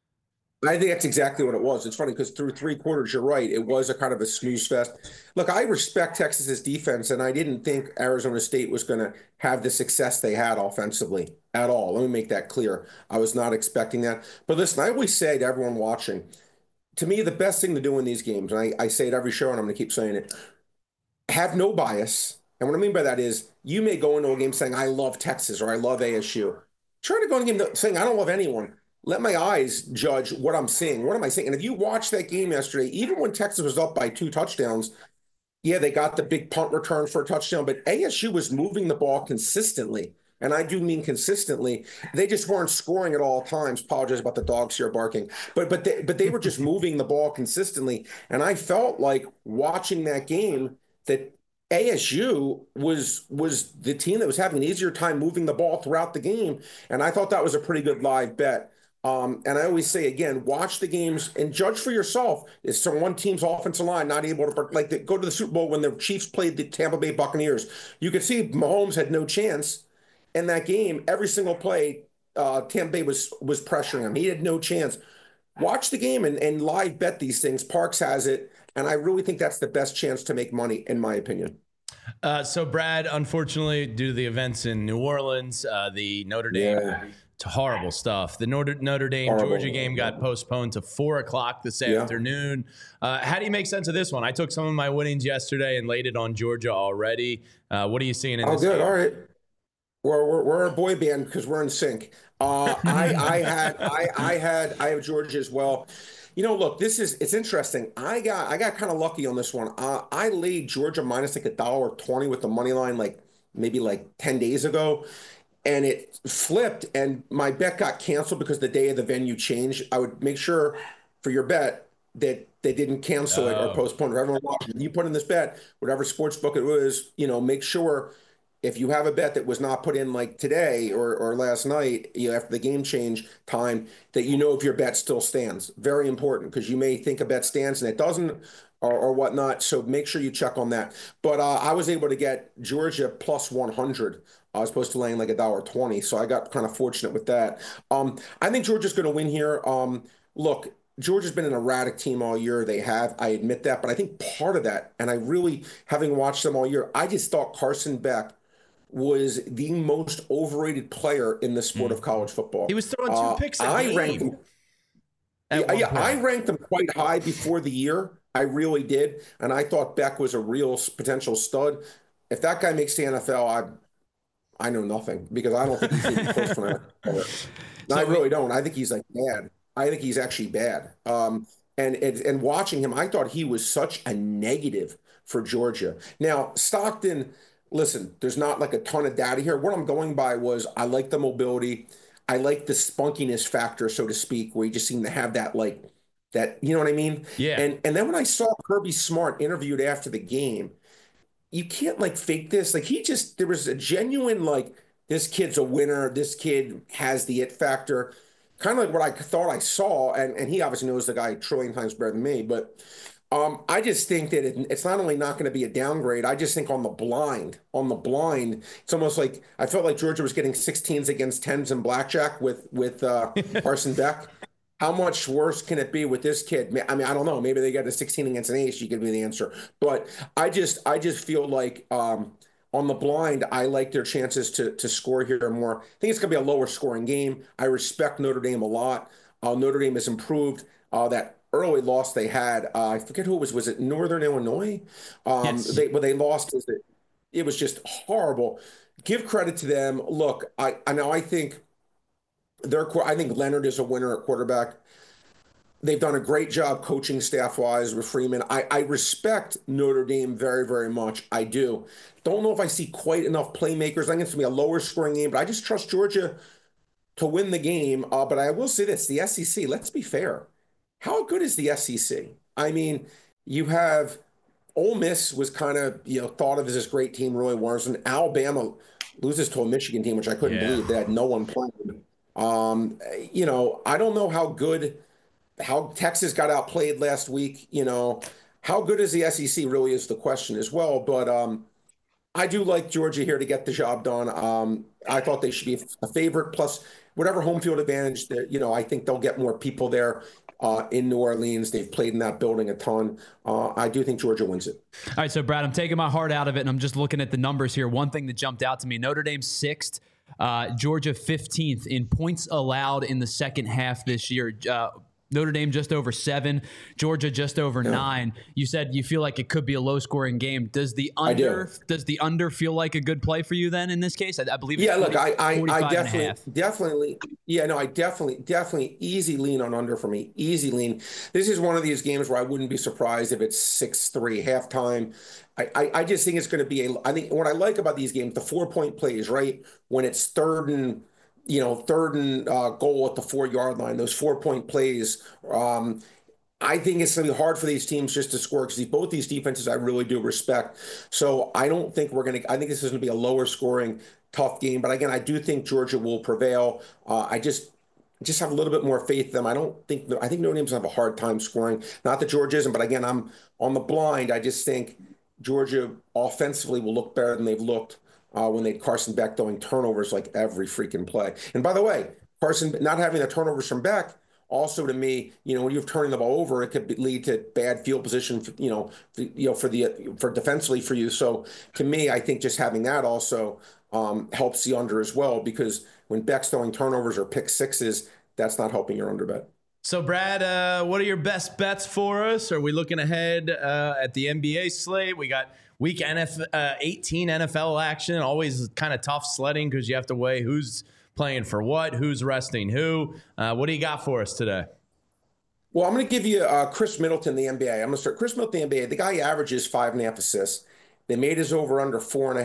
I think that's exactly what it was. It's funny because through 3 quarters, you're right. It was a kind of a snooze fest. Look, I respect Texas's defense, and I didn't think Arizona State was going to have the success they had offensively at all. Let me make that clear. I was not expecting that. But listen, I always say to everyone watching, to me, the best thing to do in these games, and I say it every show, and I'm going to keep saying it, have no bias. And what I mean by that is you may go into a game saying, I love Texas or I love ASU. Try to go into a game saying, I don't love anyone. Let my eyes judge what I'm seeing. What am I seeing? And if you watch that game yesterday, even when Texas was up by 2 touchdowns, yeah, they got the big punt return for a touchdown, but ASU was moving the ball consistently. And I do mean consistently. They just weren't scoring at all times. Apologize about the dogs here barking. But they were just moving the ball consistently. And I felt like watching that game that ASU was the team that was having an easier time moving the ball throughout the game, and I thought that was a pretty good live bet. And I always say again, watch the games and judge for yourself. Is some one team's offensive line not able to go to the Super Bowl when the Chiefs played the Tampa Bay Buccaneers? You could see Mahomes had no chance in that game. Every single play, Tampa Bay was pressuring him. He had no chance. Watch the game and live bet these things. Parks has it, and I really think that's the best chance to make money, in my opinion. So, Brad, unfortunately, due to the events in New Orleans, the Notre Dame, it's horrible stuff. The Notre Dame Georgia game got postponed to 4 o'clock this afternoon. How do you make sense of this one? I took some of my winnings yesterday and laid it on Georgia already. What are you seeing in this game? All right. We're a boy band because we're in sync. I have Georgia as well. Look, it's interesting. I got kind of lucky on this one. I laid Georgia minus like $1.20 with the money line maybe 10 days ago, and it flipped, and my bet got canceled because the day of the venue changed. I would make sure for your bet that they didn't cancel it or postpone it. Everyone watching, you put in this bet, whatever sports book it was, make sure. If you have a bet that was not put in like today or last night, after the game change time, that if your bet still stands. Very important, because you may think a bet stands and it doesn't or whatnot. So make sure you check on that. But I was able to get Georgia plus 100. I was supposed to laying like $1.20. So I got kind of fortunate with that. I think Georgia's going to win here. Look, Georgia's been an erratic team all year. They have, I admit that. But I think part of that, and I really, having watched them all year, I just thought Carson Beck was the most overrated player in the sport of college football. He was throwing 2 picks a game. I ranked him quite high before the year. I really did. And I thought Beck was a real potential stud. If that guy makes the NFL, I know nothing, because I don't think he's even close to an NFL. No, I really don't. I think he's bad. I think he's actually bad. And watching him, I thought he was such a negative for Georgia. Now, Stockton, listen, there's not a ton of data here. What I'm going by was I like the mobility. I like the spunkiness factor, so to speak, where you just seem to have that, you know what I mean? Yeah. And then when I saw Kirby Smart interviewed after the game, you can't fake this. There was a genuine, this kid's a winner. This kid has the it factor. Kind of like what I thought I saw. And he obviously knows the guy a trillion times better than me, but I just think that it's not only not going to be a downgrade. I just think on the blind, it's almost like I felt like Georgia was getting 16s against 10s in blackjack with Carson Beck. How much worse can it be with this kid? I mean, I don't know. Maybe they got a 16 against an ace. You could be the answer. But I just feel like on the blind, I like their chances to score here more. I think it's going to be a lower scoring game. I respect Notre Dame a lot. Notre Dame has improved. That early loss they had, I forget who it was. Was it Northern Illinois? Yes. They lost. It was just horrible. Give credit to them. Look, I think Leonard is a winner at quarterback. They've done a great job coaching staff-wise with Freeman. I respect Notre Dame very, very much. I do. Don't know if I see quite enough playmakers. I think it's going to be a lower scoring game, but I just trust Georgia to win the game. But I will say this, the SEC, let's be fair. How good is the SEC? I mean, you have Ole Miss was kind of, thought of as this great team, really wasn't. Alabama loses to a Michigan team, which I couldn't believe. They had no one playing. I don't know how Texas got outplayed last week. How good is the SEC really is the question as well. But I do like Georgia here to get the job done. I thought they should be a favorite, plus whatever home field advantage that, I think they'll get more people there. In New Orleans, they've played in that building a ton. I do think Georgia wins it. All right, so Brad, I'm taking my heart out of it, and I'm just looking at the numbers here. One thing that jumped out to me: Notre Dame 6th, Georgia 15th in points allowed in the second half this year. Notre Dame just over 7, Georgia just over 9. You said you feel like it could be a low-scoring game. Does the under feel like a good play for you then in this case? I believe. It's 40, look, I definitely easy lean on under for me. Easy lean. This is one of these games where I wouldn't be surprised if it's 6-3 halftime. I just think it's going to be I think what I like about these games, the 4-point plays, right? When it's third and goal at the 4-yard line, those 4-point plays. I think it's going to be hard for these teams just to score because both these defenses I really do respect. So I don't think I think this is going to be a lower scoring, tough game. But again, I do think Georgia will prevail. I just have a little bit more faith in them. I think Notre Dame's going to have a hard time scoring. Not that Georgia isn't, but again, I'm on the blind. I just think Georgia offensively will look better than they've looked when they had Carson Beck throwing turnovers like every freaking play. And by the way, Carson not having the turnovers from Beck, also to me, when you're turning the ball over, it could lead to bad field position, for defensively for you. So to me, I think just having that also helps the under as well, because when Beck's throwing turnovers or pick sixes, that's not helping your under bet. So, Brad, what are your best bets for us? Are we looking ahead at the NBA slate? We got week 18 NFL action, always kind of tough sledding because you have to weigh who's playing for what, who's resting who. What do you got for us today? Well, I'm going to give you Chris Middleton, the NBA. I'm going to start Chris Middleton, the NBA. The guy averages 5.5 assists. They made his over under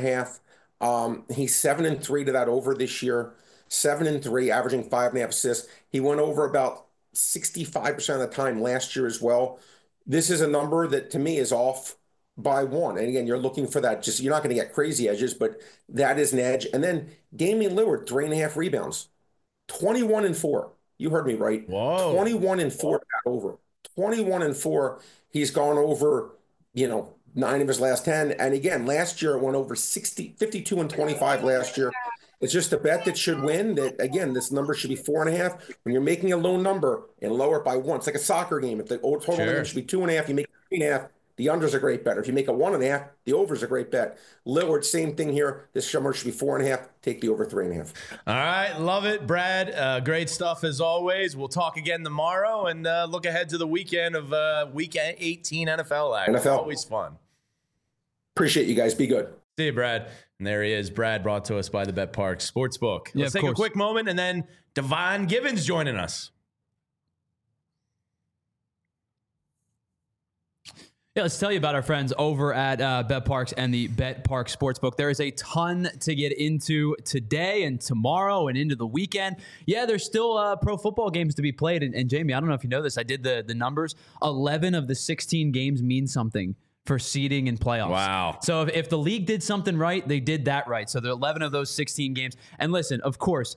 4.5. He's 7-3 to that over this year. 7-3, averaging 5.5 assists. He went over about 65% of the time last year as well. This is a number that to me is off by 1. And again, you're looking for that. Just you're not going to get crazy edges, but that is an edge. And then Damian Lillard, 3.5 rebounds, 21-4. You heard me right. Whoa. 21-4 over. 21-4. He's gone over, 9 of his last 10. And again, last year it went over 52-25 last year. It's just a bet that should win. That again, this number should be 4.5. When you're making a low number and lower it by 1, it's like a soccer game. If the total number should be 2.5, you make 3.5. The under's a great bet. If you make a 1.5, the over's a great bet. Lillard, same thing here. This number should be 4.5. Take the over 3.5. All right, love it, Brad. Great stuff as always. We'll talk again tomorrow and look ahead to the weekend of week 18 NFL action. NFL. Always fun. Appreciate you guys. Be good. See you, Brad. And there he is, Brad, brought to us by the BetParx Sportsbook. Let's take a quick moment, and then Devon Givens joining us. Yeah, let's tell you about our friends over at BetParx and the BetParx Sportsbook. There is a ton to get into today and tomorrow and into the weekend. Yeah, there's still pro football games to be played. And Jamie, I don't know if you know this. I did the numbers. 11 of the 16 games mean something for seeding and playoffs. Wow. So if the league did something right, they did that right. So there are 11 of those 16 games. And listen, of course,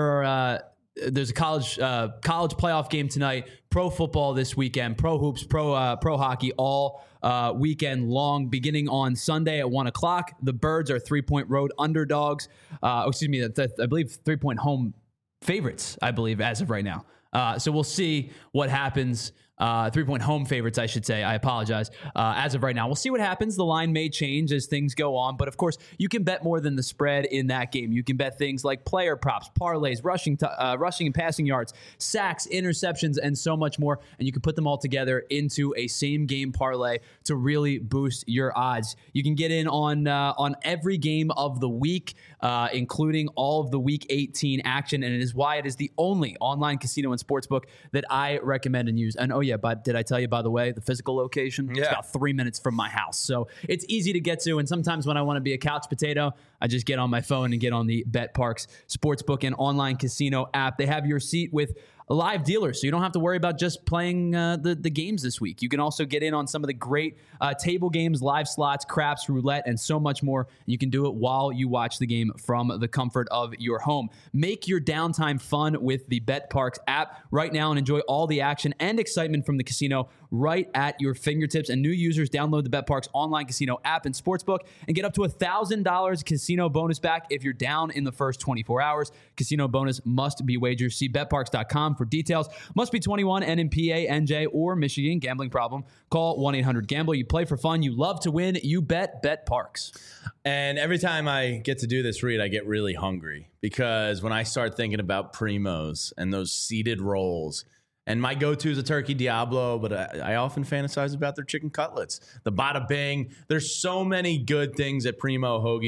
there's a college playoff game tonight, pro football this weekend, pro hoops, pro hockey, all weekend long, beginning on Sunday at 1 o'clock. The Birds are 3-point road underdogs. I believe 3-point home favorites, I believe, as of right now. So we'll see what happens. 3-point home favorites, I should say. I apologize. As of right now, we'll see what happens. The line may change as things go on, but of course, you can bet more than the spread in that game. You can bet things like player props, parlays, rushing and passing yards, sacks, interceptions, and so much more. And you can put them all together into a same game parlay to really boost your odds. You can get in on every game of the week, including all of the Week 18 action, and it is why it is the only online casino and sportsbook that I recommend and use. And but did I tell you, by the way, the physical location? Yeah. It's about 3 minutes from my house. So it's easy to get to. And sometimes when I want to be a couch potato, I just get on my phone and get on the BetParx Sportsbook and online casino app. They have your seat with live dealers, so you don't have to worry about just playing the games this week. You can also get in on some of the great table games, live slots, craps, roulette, and so much more. You can do it while you watch the game from the comfort of your home. Make your downtime fun with the BetParx app right now and enjoy all the action and excitement from the casino right at your fingertips. And new users download the BetParx online casino app and sportsbook and get up to $1,000 casino bonus back if you're down in the first 24 hours. Casino bonus must be wagers. See BetParx.com for details. Must be 21 and in PA, NJ, or Michigan. Gambling problem? Call 1-800-GAMBLER. You play for fun. You love to win. You bet BetParx. And every time I get to do this read, I get really hungry because when I start thinking about primos and those seeded rolls, and my go-to is a turkey Diablo, but I often fantasize about their chicken cutlets, the bada bing. There's so many good things at Primo Hoagies.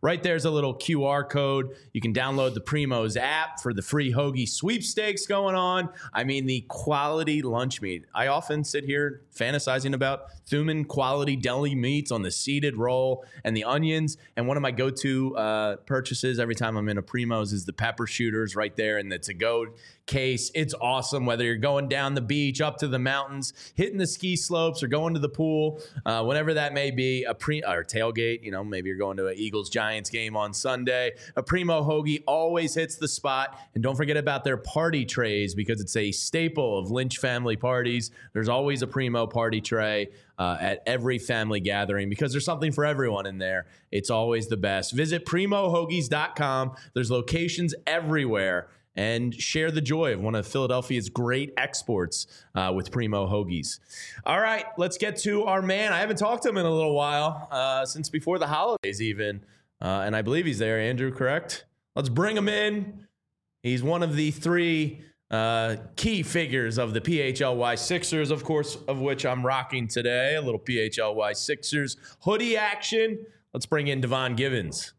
Right there's a little QR code. You can download the Primo's app for the free hoagie sweepstakes going on. I mean, the quality lunch meat. I often sit here fantasizing about Thuman quality deli meats on the seeded roll and the onions. And one of my go-to purchases every time I'm in a Primo's is the pepper shooters right there in the to-go case. It's awesome whether you're going down the beach, up to the mountains, hitting the ski slopes, or going to the pool, whatever that may be. Or tailgate, maybe you're going to an Eagles-Giants game on Sunday. A Primo hoagie always hits the spot. And don't forget about their party trays because it's a staple of Lynch family parties. There's always a Primo party tray at every family gathering because there's something for everyone in there. It's always the best. Visit PrimoHoagies.com. There's locations everywhere. And share the joy of one of Philadelphia's great exports with Primo Hoagies. All right, let's get to our man. I haven't talked to him in a little while, since before the holidays even. And I believe he's there, Andrew, correct? Let's bring him in. He's one of the three key figures of the PHLY Sixers, of course, of which I'm rocking today. A little PHLY Sixers hoodie action. Let's bring in Devon Givens.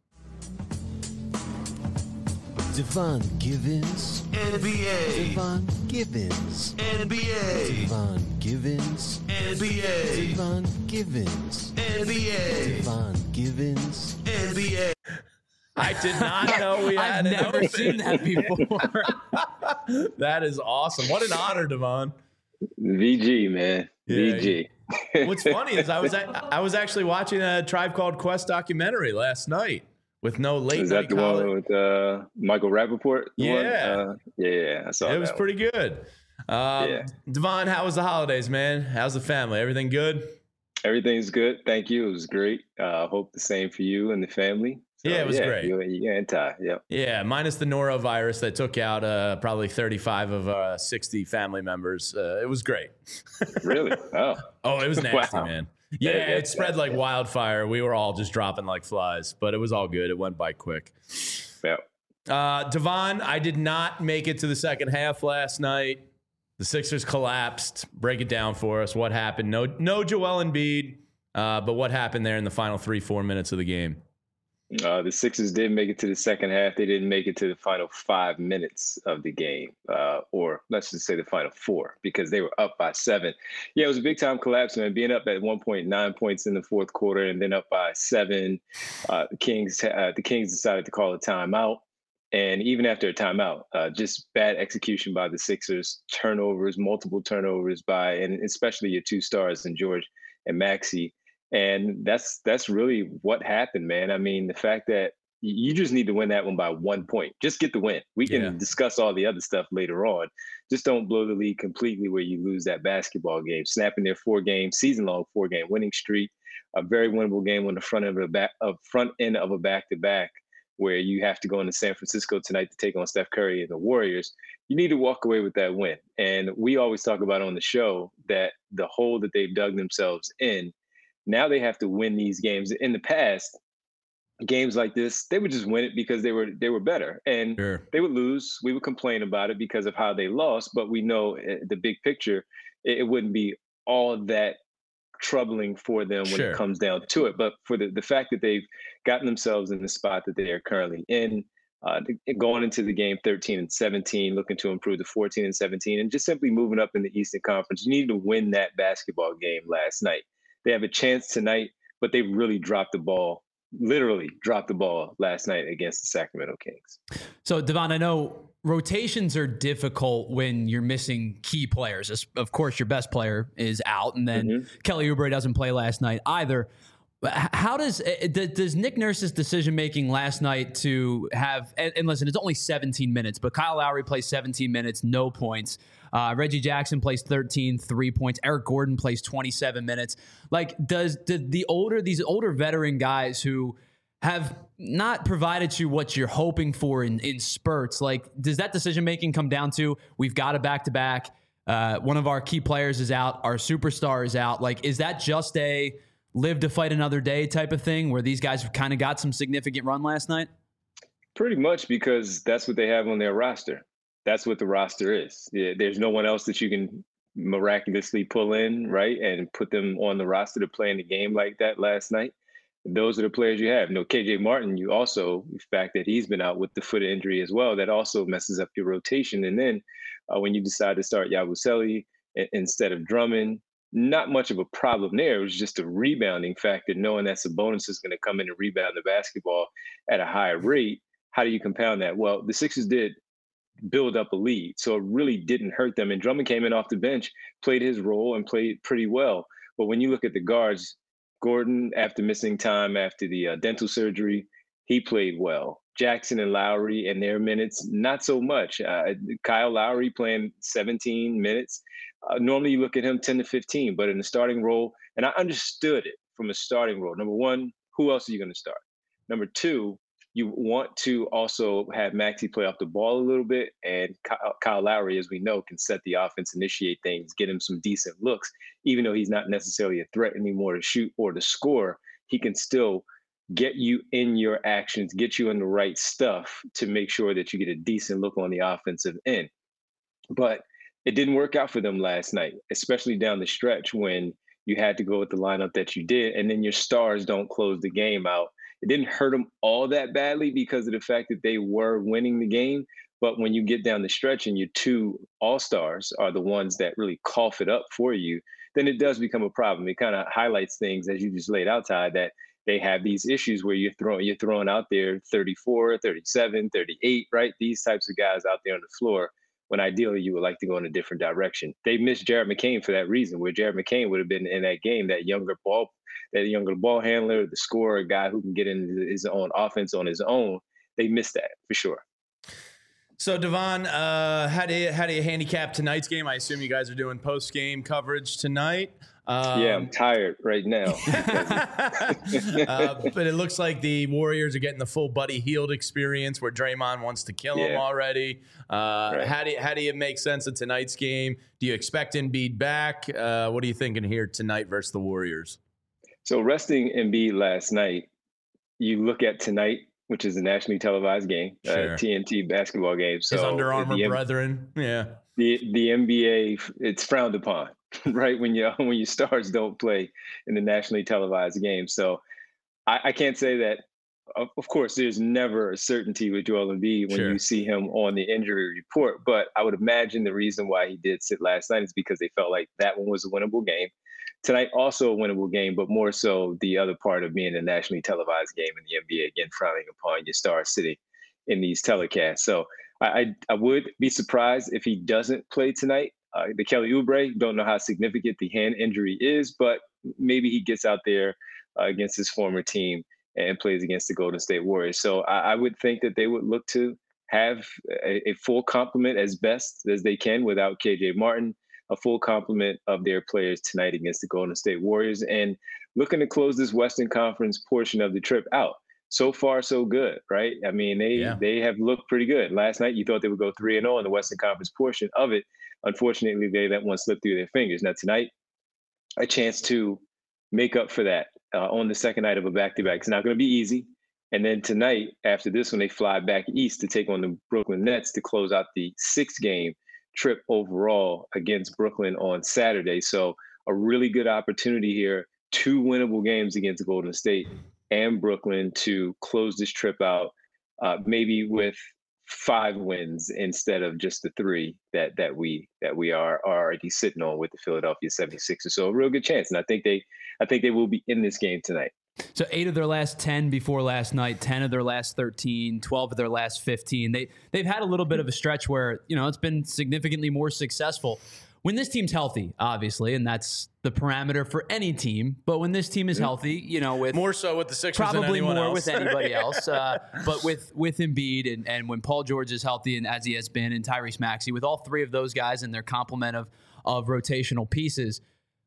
Devon Givens, NBA. Devon Givens, NBA. Devon Givens, NBA. Devon Givens, NBA. Devon Givens, NBA. I did not know we had I've never seen that before. That is awesome. What an honor, Devon. VG, man. Yeah, VG. What's funny is I was actually watching a Tribe Called Quest documentary last night with no late Is night that the college. one with Michael Rappaport? Yeah. Yeah, I saw It was that pretty good. Devon, how was the holidays, man? How's the family? Everything good? Everything's good. Thank you. It was great. Hope the same for you and the family. So, Yeah, it was great. You and Ty. Yep. Yeah, minus the norovirus that took out probably 35 of 60 family members. It was great. Really? Oh. Oh, it was nasty, Wow. man. Yeah, it spread like wildfire. We were all just dropping like flies, but it was all good. It went by quick. Yep. Devon, I did not make it to the second half last night. The Sixers collapsed. Break it down for us. What happened? No Joel Embiid, but what happened there in the final 3-4 minutes of the game? The Sixers did make it to the second half. They didn't make it to the final 5 minutes of the game, or let's just say the final 4, because they were up by 7. Yeah, it was a big time collapse, man. Being up at 1.9 points in the fourth quarter and then up by 7. The Kings decided to call a timeout. And even after a timeout, just bad execution by the Sixers, multiple turnovers by, and especially your 2 stars in George and Maxey. And that's really what happened, man. I mean, the fact that you just need to win that one by 1 point. Just get the win. We can discuss all the other stuff later on. Just don't blow the lead completely where you lose that basketball game. Snapping their season-long 4-game winning streak, a very winnable game on the front end of a back-to-back, where you have to go into San Francisco tonight to take on Steph Curry and the Warriors. You need to walk away with that win. And we always talk about on the show that the hole that they've dug themselves in, now they have to win these games. In the past, games like this, they would just win it because they were better. And they would lose. We would complain about it because of how they lost. But we know the big picture, it wouldn't be all that troubling for them when it comes down to it. But for the fact that they've gotten themselves in the spot that they are currently in, going into the game 13-17, looking to improve to 14-17, and just simply moving up in the Eastern Conference, you need to win that basketball game last night. They have a chance tonight, but they really literally dropped the ball last night against the Sacramento Kings. So, Devon, I know rotations are difficult when you're missing key players. Of course, your best player is out, and then Kelly Oubre doesn't play last night either. How does Nick Nurse's decision-making last night to have, and listen, it's only 17 minutes, but Kyle Lowry plays 17 minutes, no points. Reggie Jackson plays 13, 3 points. Eric Gordon plays 27 minutes. Like, these older veteran guys who have not provided you what you're hoping for in spurts, like, does that decision-making come down to, we've got a back-to-back, one of our key players is out, our superstar is out? Like, is that just a live to fight another day type of thing where these guys kind of got some significant run last night? Pretty much, because that's what they have on their roster. That's what the roster is. Yeah, there's no one else that you can miraculously pull in, right, and put them on the roster to play in a game like that last night. those are the players you have. No, KJ Martin, you also, the fact that he's been out with the foot injury as well, that also messes up your rotation. And then when you decide to start Yabusele instead of Drummond, not much of a problem there. It was just a rebounding factor, knowing that Sabonis is going to come in and rebound the basketball at a higher rate. How do you compound that? Well, the Sixers did build up a lead, so it really didn't hurt them. And Drummond came in off the bench, played his role, and played pretty well. But when you look at the guards, Gordon, after missing time after the dental surgery, he played well. Jackson and Lowry in their minutes, not so much. Kyle Lowry playing 17 minutes. Normally you look at him 10 to 15, but in the starting role, and I understood it from a starting role. Number one, who else are you going to start? Number two, you want to also have Maxey play off the ball a little bit, and Kyle Lowry, as we know, can set the offense, initiate things, get him some decent looks. Even though he's not necessarily a threat anymore to shoot or to score, he can still get you in your actions, get you in the right stuff to make sure that you get a decent look on the offensive end. But it didn't work out for them last night, especially down the stretch when you had to go with the lineup that you did, and then your stars don't close the game out. It didn't hurt them all that badly because of the fact that they were winning the game. But when you get down the stretch and your two all-stars are the ones that really cough it up for you, then it does become a problem. It kind of highlights things, as you just laid out, Ty, that they have these issues where you're throwing out there 34, 37, 38, right? These types of guys out there on the floor, when ideally you would like to go in a different direction. They missed Jared McCain for that reason, where Jared McCain would have been in that game, that younger ball handler, the scorer, a guy who can get into his own offense on his own. They missed that for sure. So, Devon, how do you handicap tonight's game? I assume you guys are doing post-game coverage tonight. Yeah, I'm tired right now. But it looks like the Warriors are getting the full Buddy Hield experience, where Draymond wants to kill him already. Right. How do you make sense of tonight's game? Do you expect Embiid back? What are you thinking here tonight versus the Warriors? So resting Embiid last night, you look at tonight, which is a nationally televised game, TNT basketball game. So his Under Armour brethren, the NBA, it's frowned upon, right? When your stars don't play in the nationally televised game. So I can't say that. Of course, there's never a certainty with Joel Embiid when you see him on the injury report. But I would imagine the reason why he did sit last night is because they felt like that one was a winnable game. Tonight, also a winnable game, but more so the other part of being a nationally televised game in the NBA, again, frowning upon your stars sitting in these telecasts. So I would be surprised if he doesn't play tonight. The Kelly Oubre, don't know how significant the hand injury is, but maybe he gets out there against his former team and plays against the Golden State Warriors. So I would think that they would look to have a full complement as best as they can without KJ Martin, a full complement of their players tonight against the Golden State Warriors, and looking to close this Western Conference portion of the trip out. So far, so good, right? I mean, they have looked pretty good. Last night, you thought they would go 3-0 in the Western Conference portion of it. Unfortunately, they let one slip through their fingers. Now, tonight, a chance to make up for that on the second night of a back-to-back. It's not going to be easy. And then tonight, after this one, they fly back east to take on the Brooklyn Nets to close out the 6-game trip overall against Brooklyn on Saturday. So a really good opportunity here, 2 winnable games against Golden State and Brooklyn to close this trip out, maybe with 5 wins instead of just the 3 that we are already sitting on with the Philadelphia 76ers. So a real good chance. And I think they will be in this game tonight. So 8 of their last 10 before last night, 10 of their last 13, 12 of their last 15. They've had a little bit of a stretch where, it's been significantly more successful when this team's healthy, obviously, and that's the parameter for any team. But when this team is healthy, with more so with the Sixers probably than anyone more else. with anybody else. But with Embiid and when Paul George is healthy and as he has been, and Tyrese Maxey, with all 3 of those guys and their complement of rotational pieces.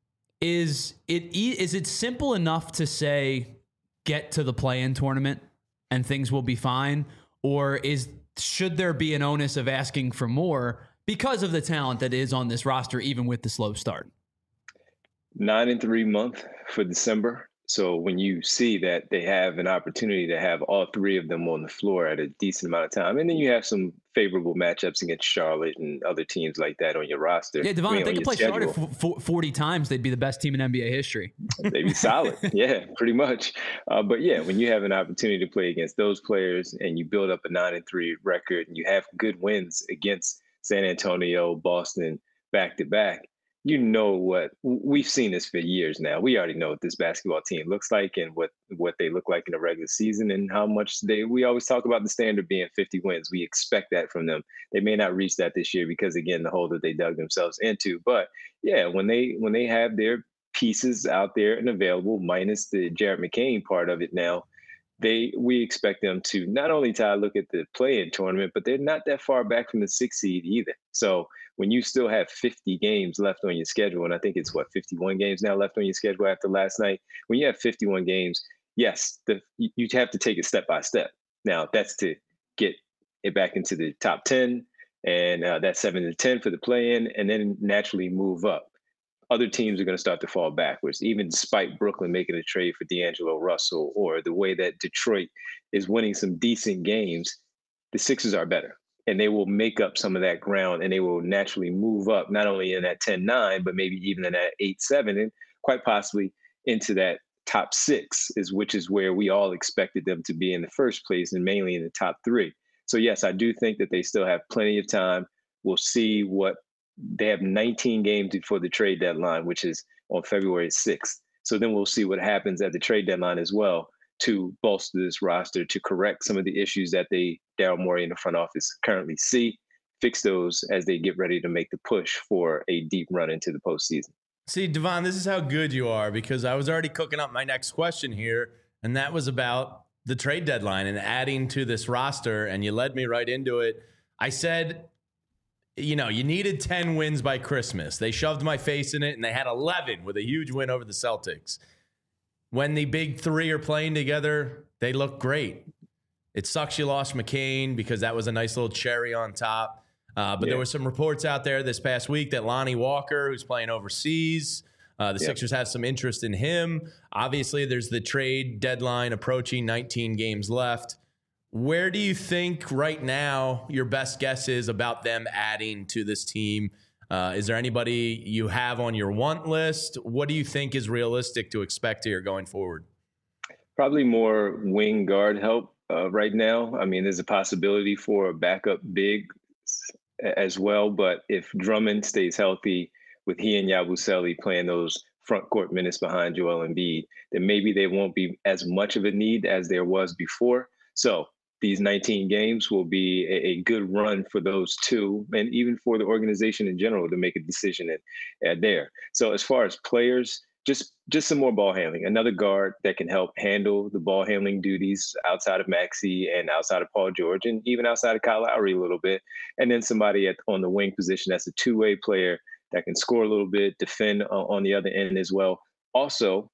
Is it simple enough to say get to the play-in tournament and things will be fine, or should there be an onus of asking for more because of the talent that is on this roster, even with the slow start? 9-3 month for December. So when you see that they have an opportunity to have all three of them on the floor at a decent amount of time, and then you have some favorable matchups against Charlotte and other teams like that on your roster. Yeah, Devon, if they could play Charlotte 40 times, they'd be the best team in NBA history. They'd be solid. Yeah, pretty much. But yeah, when you have an opportunity to play against those players and you build up a 9-3 record and you have good wins against San Antonio, Boston, back to back, you know what we've seen this for years now. We already know what this basketball team looks like and what they look like in the regular season and how much we always talk about the standard being 50 wins. We expect that from them. They may not reach that this year because again, the hole that they dug themselves into. But yeah, when they have their pieces out there and available, minus the Jared McCain part of it now, we expect them to not only look at the play-in tournament, but they're not that far back from the 6th seed either. So when you still have 50 games left on your schedule, and I think it's 51 games now left on your schedule after last night. When you have 51 games, yes, you have to take it step by step. Now that's to get it back into the top 10, and that's 7 to 10 for the play-in, and then naturally move up. Other teams are going to start to fall backwards, even despite Brooklyn making a trade for D'Angelo Russell or the way that Detroit is winning some decent games. The Sixers are better, and they will make up some of that ground, and they will naturally move up, not only in that 10-9, but maybe even in that 8-7, and quite possibly into that top 6, which is where we all expected them to be in the first place, and mainly in the top 3. So yes, I do think that they still have plenty of time. We'll see what they have 19 games before the trade deadline, which is on February 6th. So then we'll see what happens at the trade deadline as well to bolster this roster, to correct some of the issues that Daryl Morey in the front office currently see, fix those as they get ready to make the push for a deep run into the postseason. See, Devon, this is how good you are, because I was already cooking up my next question here, and that was about the trade deadline and adding to this roster, and you led me right into it. I said, you needed 10 wins by Christmas. They shoved my face in it, and they had 11 with a huge win over the Celtics. When the big three are playing together, they look great. It sucks you lost McCain because that was a nice little cherry on top. But there were some reports out there this past week that Lonnie Walker, who's playing overseas, the Sixers have some interest in him. Obviously, there's the trade deadline approaching, 19 games left. Where do you think right now your best guess is about them adding to this team? Is there anybody you have on your want list? What do you think is realistic to expect here going forward? Probably more wing guard help right now. I mean, there's a possibility for a backup big as well. But if Drummond stays healthy with he and Yabusele playing those front court minutes behind Joel Embiid, then maybe they won't be as much of a need as there was before. So these 19 games will be a good run for those two, and even for the organization in general to make a decision there. So as far as players, just some more ball handling, another guard that can help handle the ball handling duties outside of Maxey and outside of Paul George and even outside of Kyle Lowry a little bit. And then somebody on the wing position that's a two-way player that can score a little bit, defend on the other end as well. Also,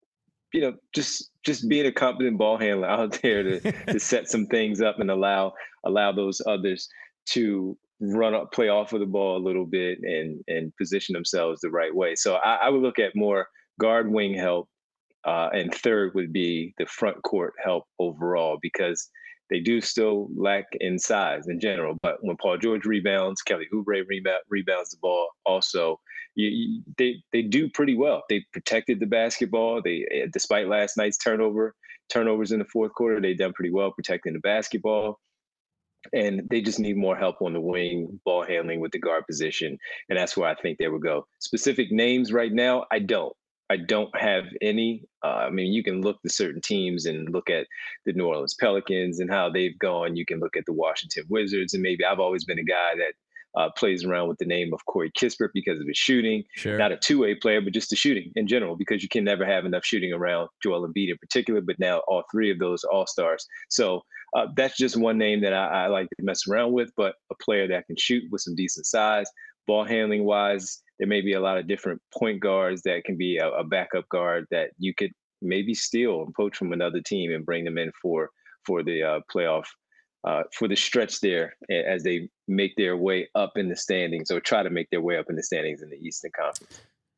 just being a competent ball handler out there to set some things up and allow those others to play off of the ball a little bit and position themselves the right way. So I would look at more guard wing help, and third would be the front court help overall, because they do still lack in size in general. But when Paul George rebounds, Kelly Oubre rebounds the ball also, they do pretty well. They protected the basketball. Despite last night's turnovers in the fourth quarter, they've done pretty well protecting the basketball. And they just need more help on the wing, ball handling with the guard position. And that's where I think they would go. Specific names right now, I don't have any. I mean, you can look to certain teams and look at the New Orleans Pelicans and how they've gone. You can look at the Washington Wizards, and maybe I've always been a guy that plays around with the name of Corey Kispert because of his shooting. Sure. Not a two-way player, but just the shooting in general, because you can never have enough shooting around Joel Embiid in particular, but now all three of those all-stars. So that's just one name that I like to mess around with, but a player that can shoot with some decent size. Ball handling wise, there may be a lot of different point guards that can be a backup guard that you could maybe steal and poach from another team and bring them in for the playoff, for the stretch there as they make their way up in the standings, or try to make their way up in the standings in the Eastern Conference.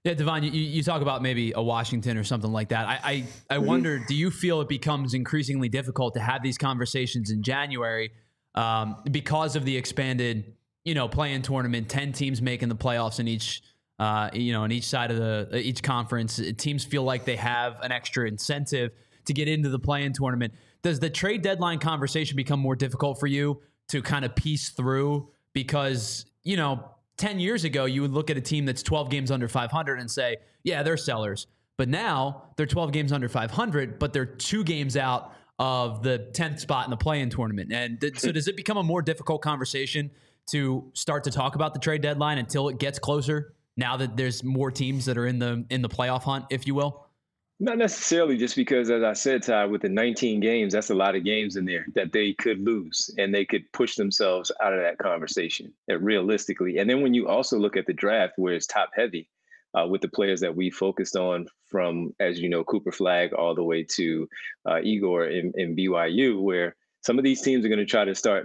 Yeah, Devon, you talk about maybe a Washington or something like that. I wonder, do you feel it becomes increasingly difficult to have these conversations in January because of the expanded, play-in tournament, 10 teams making the playoffs in each, in each side of each conference? Teams feel like they have an extra incentive to get into the play-in tournament. Does the trade deadline conversation become more difficult for you to kind of piece through? Because, 10 years ago, you would look at a team that's 12 games under 500 and say, yeah, they're sellers. But now they're 12 games under 500, but they're 2 games out of the 10th spot in the play-in tournament. And so does it become a more difficult conversation to start to talk about the trade deadline until it gets closer, now that there's more teams that are in the playoff hunt, if you will? Not necessarily, just because, as I said, Ty, with the 19 games, that's a lot of games in there that they could lose, and they could push themselves out of that conversation realistically. And then when you also look at the draft, where it's top heavy with the players that we focused on from, as you know, Cooper Flagg all the way to Igor in BYU, where some of these teams are going to try to start,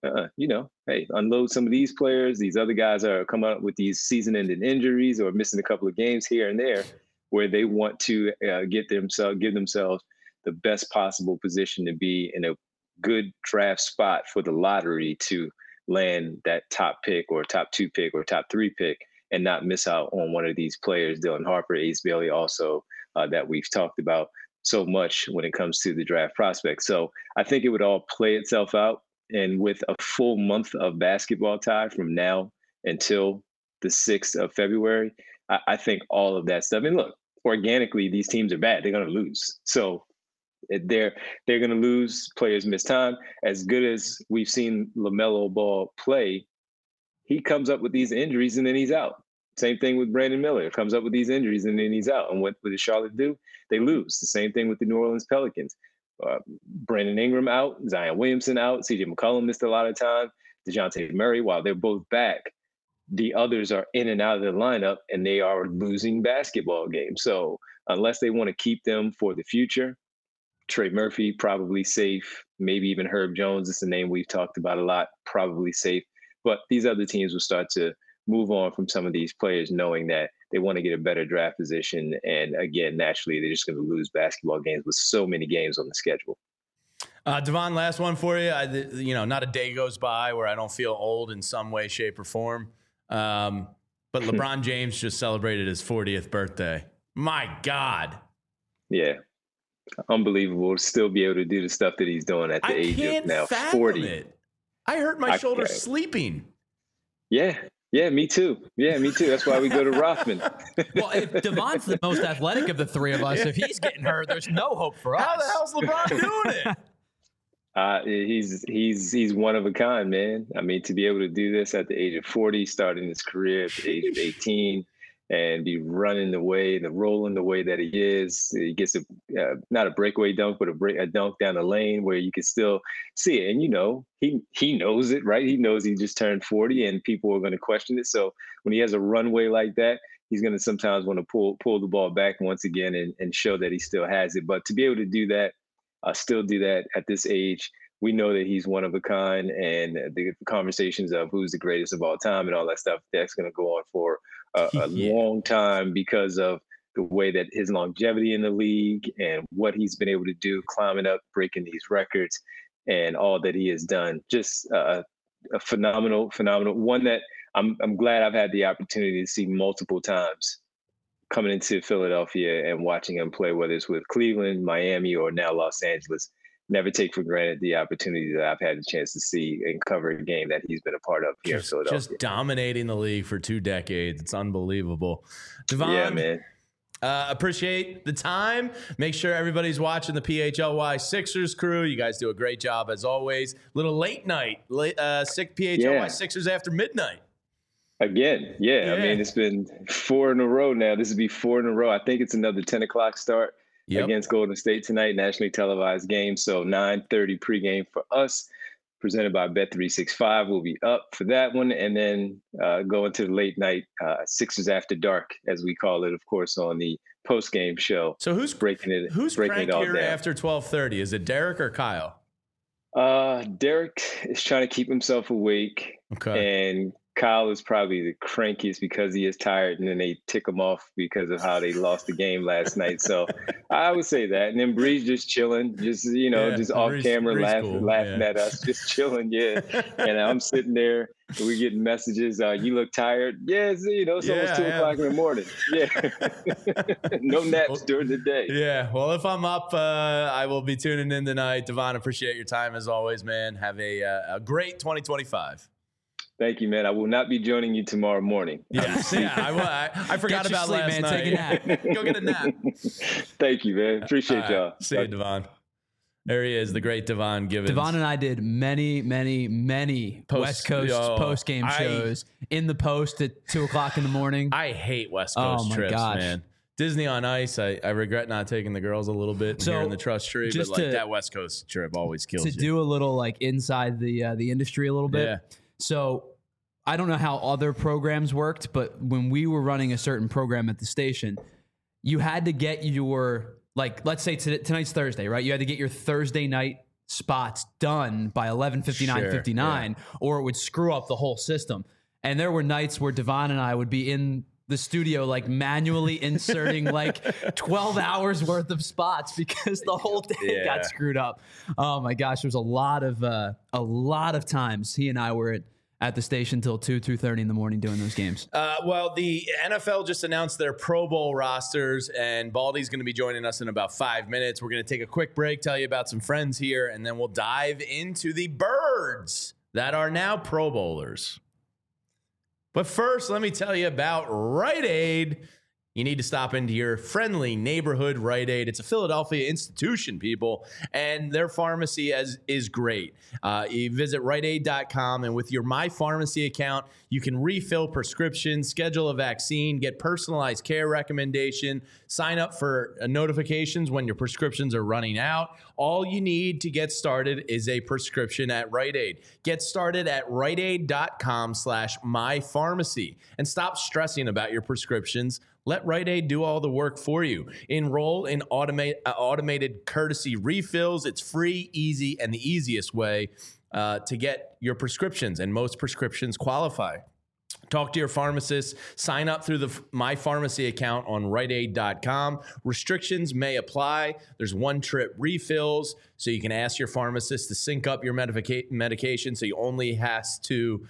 hey, unload some of these players. These other guys are coming up with these season-ending injuries or missing a couple of games here and there, where they want to give themselves the best possible position to be in a good draft spot for the lottery to land that top pick or top 2 pick or top 3 pick and not miss out on one of these players, Dylan Harper, Ace Bailey, also that we've talked about so much when it comes to the draft prospects. So I think it would all play itself out. And with a full month of basketball, Ty, from now until the 6th of February, I think all of that stuff. And look, organically, these teams are bad. They're going to lose. So they're going to lose. Players miss time. As good as we've seen LaMelo Ball play, he comes up with these injuries and then he's out. Same thing with Brandon Miller. Comes up with these injuries and then he's out. And what did Charlotte do? They lose. The same thing with the New Orleans Pelicans. Brandon Ingram out. Zion Williamson out. CJ McCollum missed a lot of time. DeJounte Murray, while they're both back, the others are in and out of the lineup and they are losing basketball games. So unless they want to keep them for the future, Trey Murphy, probably safe. Maybe even Herb Jones. It's a name we've talked about a lot, probably safe. But these other teams will start to move on from some of these players, knowing that they want to get a better draft position. And again, naturally, they're just going to lose basketball games with so many games on the schedule. Devon, last one for you. Not a day goes by where I don't feel old in some way, shape, or form. But LeBron James just celebrated his 40th birthday. My God. Yeah. Unbelievable to still be able to do the stuff that he's doing at the age of now 40. It. I hurt my shoulder sleeping. Yeah. Yeah, me too. That's why we go to Rothman. Well, if Devon's the most athletic of the three of us, if he's getting hurt, there's no hope for us. How the hell's LeBron doing it? He's one of a kind, man. I mean, to be able to do this at the age of 40, starting his career at the age of 18, and be running the way, rolling the way that he is. He gets not a breakaway dunk, but a dunk down the lane where you can still see it. And, he knows it, right? He knows he just turned 40 and people are going to question it. So when he has a runway like that, he's going to sometimes want to pull the ball back once again and show that he still has it. But to be able to do that, still do that at this age, we know that he's one of a kind, and the conversations of who's the greatest of all time and all that stuff, that's going to go on for a long time because of the way that his longevity in the league and what he's been able to do, climbing up, breaking these records, and all that he has done. Just a phenomenal one that I'm glad I've had the opportunity to see multiple times coming into Philadelphia and watching him play, whether it's with Cleveland, Miami, or now Los Angeles. Never take for granted the opportunity that I've had the chance to see and cover a game that he's been a part of here in Philadelphia. Just dominating the league for 2 decades. It's unbelievable. Devon, yeah, man. Appreciate the time. Make sure everybody's watching the PHLY Sixers crew. You guys do a great job as always. Little late night, PHLY Sixers after midnight. Again, yeah. I mean, it's been 4 in a row now. This would be 4 in a row. I think it's another 10 o'clock start. Against Golden State tonight, nationally televised game. So 9:30 pregame for us, presented by Bet365. We'll be up for that one, and then go into the late night Sixers After Dark, as we call it, of course, on the post-game show. So who's breaking it all down after 12:30? Is it Derek or Kyle? Derek is trying to keep himself awake, and Kyle is probably the crankiest because he is tired, and then they tick him off because of how they lost the game last night. So I would say that. And then Breeze just chilling, just just off camera, laughing at us, just chilling. Yeah. And I'm sitting there. We getting messages. You look tired. Yeah, it's almost 2 o'clock in the morning. Yeah. No naps during the day. Yeah. Well, if I'm up, I will be tuning in tonight. Devon, appreciate your time as always, man. Have a great 2025. Thank you, man. I will not be joining you tomorrow morning. Yes. I forgot about sleep, last man. night. Take a nap. Go get a nap. Thank you, man. Appreciate y'all. See you, Devon. There he is, the great Devon Givens. Devon and I did many West Coast post game shows in the post at 2 o'clock in the morning. I hate West Coast trips, man. Disney on Ice, I regret not taking the girls a little bit here in the Trust Tree, but that West Coast trip always kills you. To do a little inside the industry a little bit. Yeah. So I don't know how other programs worked, but when we were running a certain program at the station, you had to get your, let's say tonight's Thursday, right? You had to get your Thursday night spots done by 11:59, or it would screw up the whole system. And there were nights where Devon and I would be in the studio, manually inserting 12 hours worth of spots because the whole day got screwed up. Oh my gosh. There was a lot of times he and I were at the station till 2:30 in the morning doing those games. Well, the NFL just announced their Pro Bowl rosters, and Baldy's going to be joining us in about 5 minutes. We're going to take a quick break, tell you about some friends here, and then we'll dive into the birds that are now Pro Bowlers. But first, let me tell you about Rite Aid. You need to stop into your friendly neighborhood Rite Aid. It's a Philadelphia institution, people, and their pharmacy is great. You visit RiteAid.com, and with your My Pharmacy account, you can refill prescriptions, schedule a vaccine, get personalized care recommendation, sign up for notifications when your prescriptions are running out. All you need to get started is a prescription at Rite Aid. Get started at RiteAid.com/MyPharmacy and stop stressing about your prescriptions. Let Rite Aid do all the work for you. Enroll in automated courtesy refills. It's free, easy, and the easiest way to get your prescriptions, and most prescriptions qualify. Talk to your pharmacist. Sign up through the My Pharmacy account on RiteAid.com. Restrictions may apply. There's one-trip refills, so you can ask your pharmacist to sync up your medication, so you only has to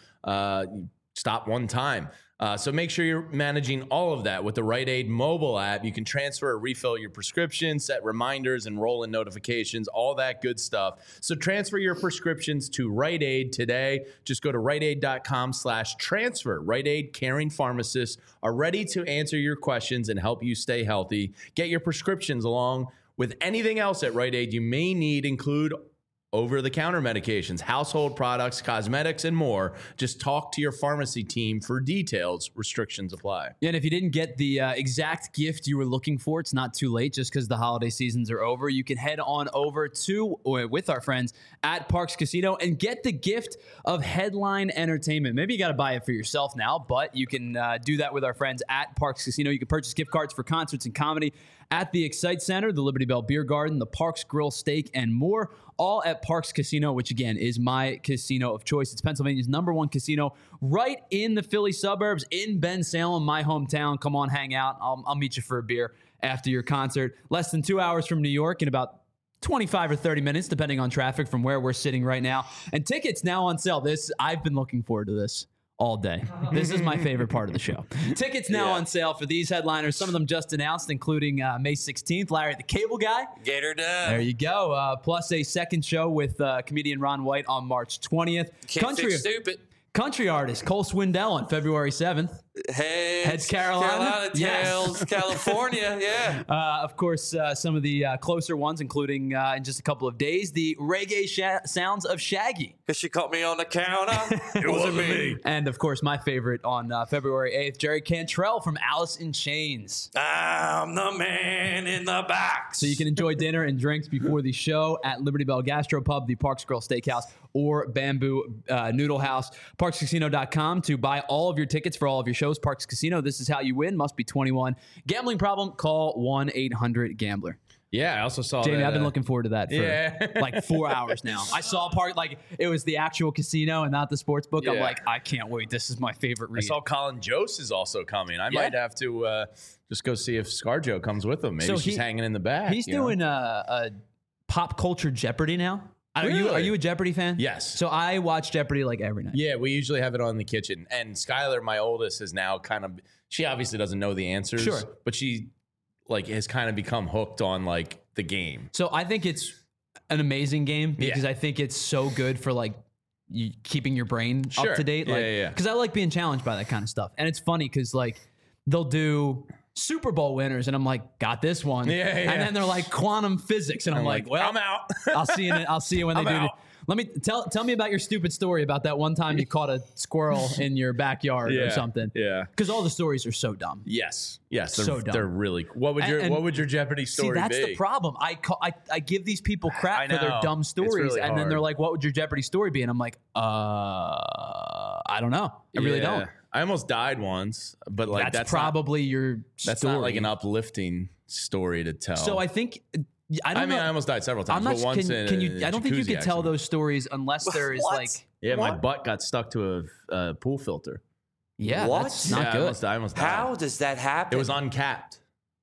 stop one time. So make sure you're managing all of that with the Rite Aid mobile app. You can transfer or refill your prescription, set reminders, enroll in notifications, all that good stuff. So transfer your prescriptions to Rite Aid today. Just go to RiteAid.com/transfer. Rite Aid caring pharmacists are ready to answer your questions and help you stay healthy. Get your prescriptions along with anything else at Rite Aid you may need, include over-the-counter medications, household products, cosmetics, and more. Just talk to your pharmacy team for details. Restrictions apply. And if you didn't get the exact gift you were looking for, it's not too late just because the holiday seasons are over. You can head on over with our friends at Parx Casino and get the gift of headline entertainment. Maybe you got to buy it for yourself now, but you can do that with our friends at Parx Casino. You can purchase gift cards for concerts and comedy at the Excite Center, the Liberty Bell Beer Garden, the Parx Grill Steak, and more, all at Parx Casino, which again is my casino of choice. It's Pennsylvania's #1 casino right in the Philly suburbs in Bensalem, my hometown. Come on, hang out. I'll meet you for a beer after your concert. Less than 2 hours from New York in about 25 or 30 minutes, depending on traffic from where we're sitting right now. And tickets now on sale. I've been looking forward to this all day. This is my favorite part of the show. Tickets now on sale for these headliners. Some of them just announced, including May 16th, Larry the Cable Guy. Gator Dub. There you go. Plus a second show with comedian Ron White on March 20th. Can't fix stupid. Country artist Cole Swindell on February 7th. Heads Carolina. Tails California. Yeah. Of course, some of the closer ones, including in just a couple of days, the reggae sounds of Shaggy. Because she caught me on the counter. It wasn't me. And of course, my favorite on February 8th, Jerry Cantrell from Alice in Chains. I'm the man in the box. So you can enjoy dinner and drinks before the show at Liberty Bell Gastropub, the Parx Grill Steakhouse, or Bamboo Noodle House. ParxCasino.com to buy all of your tickets for all of your shows. Parx Casino, this is how you win. Must be 21. Gambling problem? Call 1-800-GAMBLER. Yeah, I also saw Jamie, that, I've been looking forward to that for like 4 hours now. I saw part like it was the actual casino and not the sports book. I'm Yeah. like, I can't wait. This is my favorite I read. saw Colin Jost is also coming. I might have to just go see if ScarJo comes with him. Maybe So she's hanging in the back. He's you know? doing a pop culture Jeopardy now. Are Really? you a Jeopardy fan? Yes. So I watch Jeopardy like every night. Yeah, we usually have it on in the kitchen. And Skylar, my oldest, is now kind of, she obviously doesn't know the answers. Sure. But she like has kind of become hooked on like the game. So I think it's an amazing game because Yeah. I think it's so good for like keeping your brain up to date. Yeah, Like, yeah. Because I like being challenged by that kind of stuff. And it's funny because like they'll do Super Bowl winners and I'm like, got this one. Yeah, yeah. And then they're like quantum physics and I'm like, well, I'm out. I'll see you when they I'm do. out. Let me tell me about your stupid story about that one time you caught a squirrel in your backyard or something. Yeah. Because all the stories are so dumb. Yes. Yes. They're, So dumb. they're really. What would your Jeopardy story See, that's be? the problem. I give these people crap I for their know. dumb It's stories, really and then they're hard. like, "What would your Jeopardy story be?" And I'm like, I don't know. I really Yeah. don't. I almost died once, but like that's probably your That's story. not like an uplifting story to tell. So I think I don't I mean, know. I almost died several times, I'm not. but once Can you? in a I don't think you jacuzzi could tell accident. those stories unless there is What? like. Yeah, my What? butt got stuck to a pool filter. Yeah, What? that's not Yeah, good. I almost died. How does that happen? It was uncapped.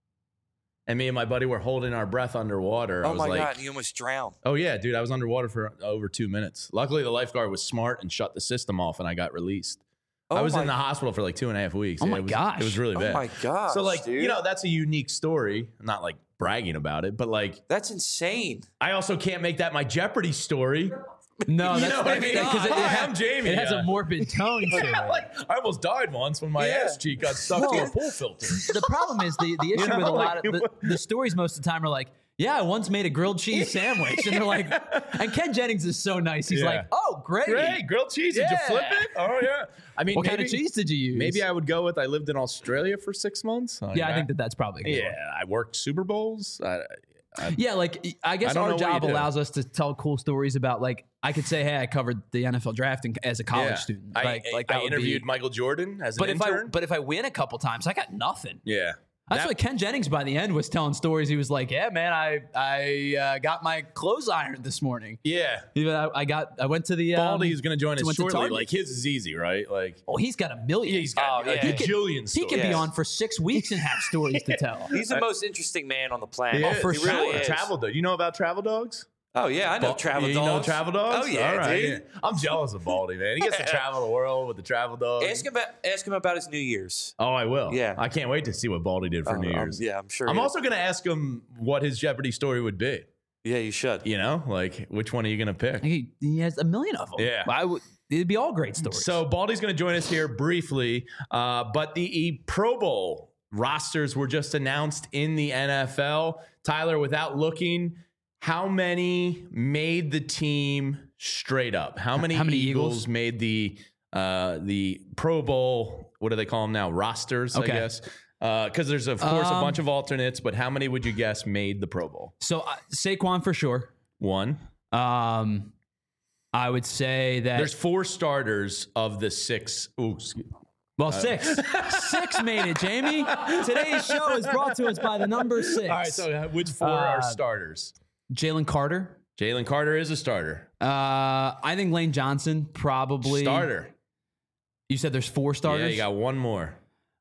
And me and my buddy were holding our breath underwater. I Oh was my like, God, you almost drowned. oh yeah, dude, I was underwater for over 2 minutes. Luckily, the lifeguard was smart and shut the system off, and I got released. I was in the hospital for like 2.5 weeks. Oh my it was, gosh. it was really bad. Oh my gosh. So like, dude. you know, that's a unique story. I'm not like bragging about it, but like, That's insane. I also can't make that my Jeopardy story. No, You that's know what I mean? because Hi, I'm Jamie. It has Yeah. a morbid tone to it. Like, I almost died once when my ass cheek got stuck to a pool filter. The problem is the issue know, with a lot like, of the stories most of the time are like, yeah, I once made a grilled cheese sandwich, and they're like, and Ken Jennings is so nice. He's Yeah. like, oh, great. Great, grilled cheese. Did you flip Yeah. it? Oh yeah. I mean, What maybe, kind of cheese did you use? Maybe I would go with. I lived in Australia for 6 months. Yeah, I think that's probably a good Yeah, one. I worked Super Bowls. Yeah, like I guess I don't our know what job you do. allows us to tell cool stories about like I could say, hey, I covered the NFL draft as a college Yeah. student. I that would interviewed be, Michael Jordan as an but intern. if I win a couple times, I got nothing. Yeah. That's why Ken Jennings by the end was telling stories. He was like, "Yeah, man, I got my clothes ironed this morning. Yeah. I went to the Baldy's going to join us went to shortly. Target. Like his is easy, right? Like Oh, he's got a million. he's got Oh, a yeah. gajillion He could be Yes. on for 6 weeks and have stories to tell. He's the most interesting man on the planet. Yeah, for he really sure. is. Travel dog. You know about travel dogs? Oh yeah, I know travel you dogs. know travel dogs? Oh yeah, All right. dude. I'm jealous of Baldy, man. He gets to travel the world with the travel dog. Ask him about his New Year's. Oh, I will. Yeah. I can't wait to see what Baldy did for New Year's. Yeah, I'm sure. I'm he- also going to ask him what his Jeopardy story would be. Yeah, you should. You know, like which one are you going to pick? He has a million of them. Yeah. It'd be all great stories. So Baldy's going to join us here briefly, but the Pro Bowl rosters were just announced in the NFL. Tyler, without looking, how many made the team straight up? How many Eagles made the Pro Bowl? What do they call them now? Rosters, Okay. I guess. Because there's of course a bunch of alternates, but how many would you guess made the Pro Bowl? So Saquon for sure. One. I would say that There's 4 starters of the 6. Ooh, excuse me. Well, 6. 6 made it, Jamie. Today's show is brought to us by the number 6. All right, so which 4 are starters? Jalen Carter. Jalen Carter is a starter. I think Lane Johnson probably Starter. You said there's 4 starters. Yeah, you got one more.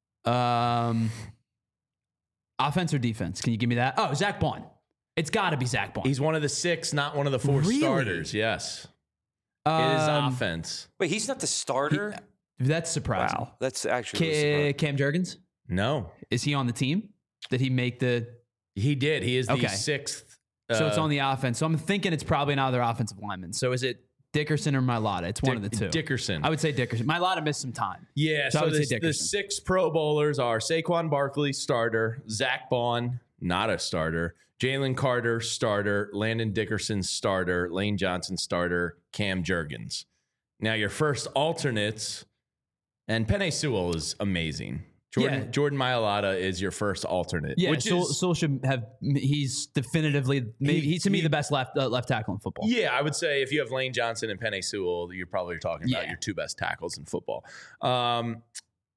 Offense or defense? Can you give me that? Oh, Zach Bond. It's got to be Zach Bond. He's one of the 6, not one of the 4 Really? starters. Yes, it is Um, offense. Wait, he's not the starter. That's surprising. Wow, that's actually really surprising. Cam Jurgens, No, is he on the team? Did he make the? he did. He is the Okay. 6th. So it's on the offense. So I'm thinking it's probably another offensive lineman. So is it Dickerson or Mailata? It's one of the two. Dickerson. I would say Dickerson. Mailata missed some time. Yeah, So I so would say the Dickerson. 6 Pro Bowlers are Saquon Barkley, starter. Zach Bond, not a starter. Jalen Carter, starter. Landon Dickerson, starter. Lane Johnson, starter. Cam Jurgens. Now your first alternates, and Penei Sewell is amazing. Jordan Mailata is your first alternate. Yeah, which is Sewell should have. He's definitively he's to me the best left tackle in football. Yeah, I would say if you have Lane Johnson and Penei Sewell, you're probably talking about your 2 best tackles in football.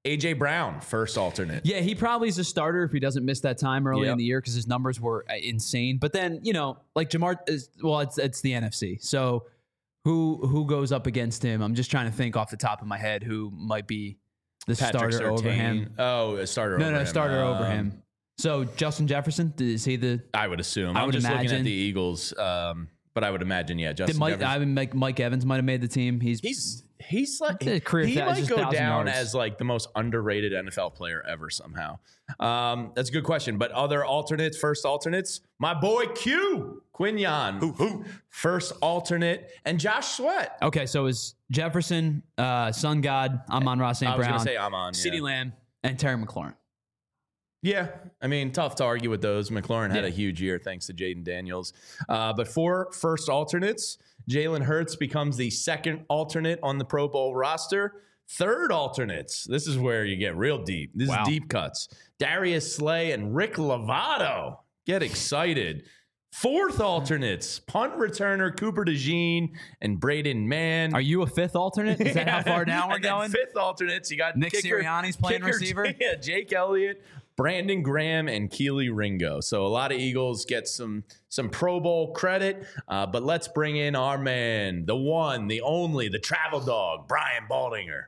AJ Brown, first alternate. Yeah, he probably is a starter if he doesn't miss that time early in the year because his numbers were insane. But then, like Jamar, it's the NFC. So who goes up against him? I'm just trying to think off the top of my head who might be the Patrick starter over Surtain. him. Oh, a starter over him. No, starter over him. So Justin Jefferson, is he the? I would assume. I I'm would just looking at imagine. the Eagles, but I would imagine, Justin Jefferson. Mike Evans might have made the team. He's like he might just go 1,000 down yards. as like the most underrated NFL player ever somehow. That's a good question. But other alternates, first alternates, my boy Quinyon, first alternate, and Josh Sweat. Okay, so is Jefferson, Sun God, Amon-Ra St. I was Brown, gonna say Amon, CeeDee yeah. Lamb, and Terry McLaurin. Yeah, I mean, tough to argue with those. McLaurin had a huge year thanks to Jaden Daniels. But for first alternates, Jalen Hurts becomes the second alternate on the Pro Bowl roster. Third alternates, this is where you get real deep. This is deep cuts. Darius Slay and Rick Lovato. Get excited. Fourth alternates, punt returner Cooper DeJean and Braden Mann. Are you a fifth alternate? Is that how far down we're And then going? Fifth alternates, you got Nick Sirianni's playing receiver? Yeah, Jake Elliott, Brandon Graham, and Keely Ringo. So a lot of Eagles get some Pro Bowl credit, but let's bring in our man, the one, the only, the travel dog, Brian Baldinger.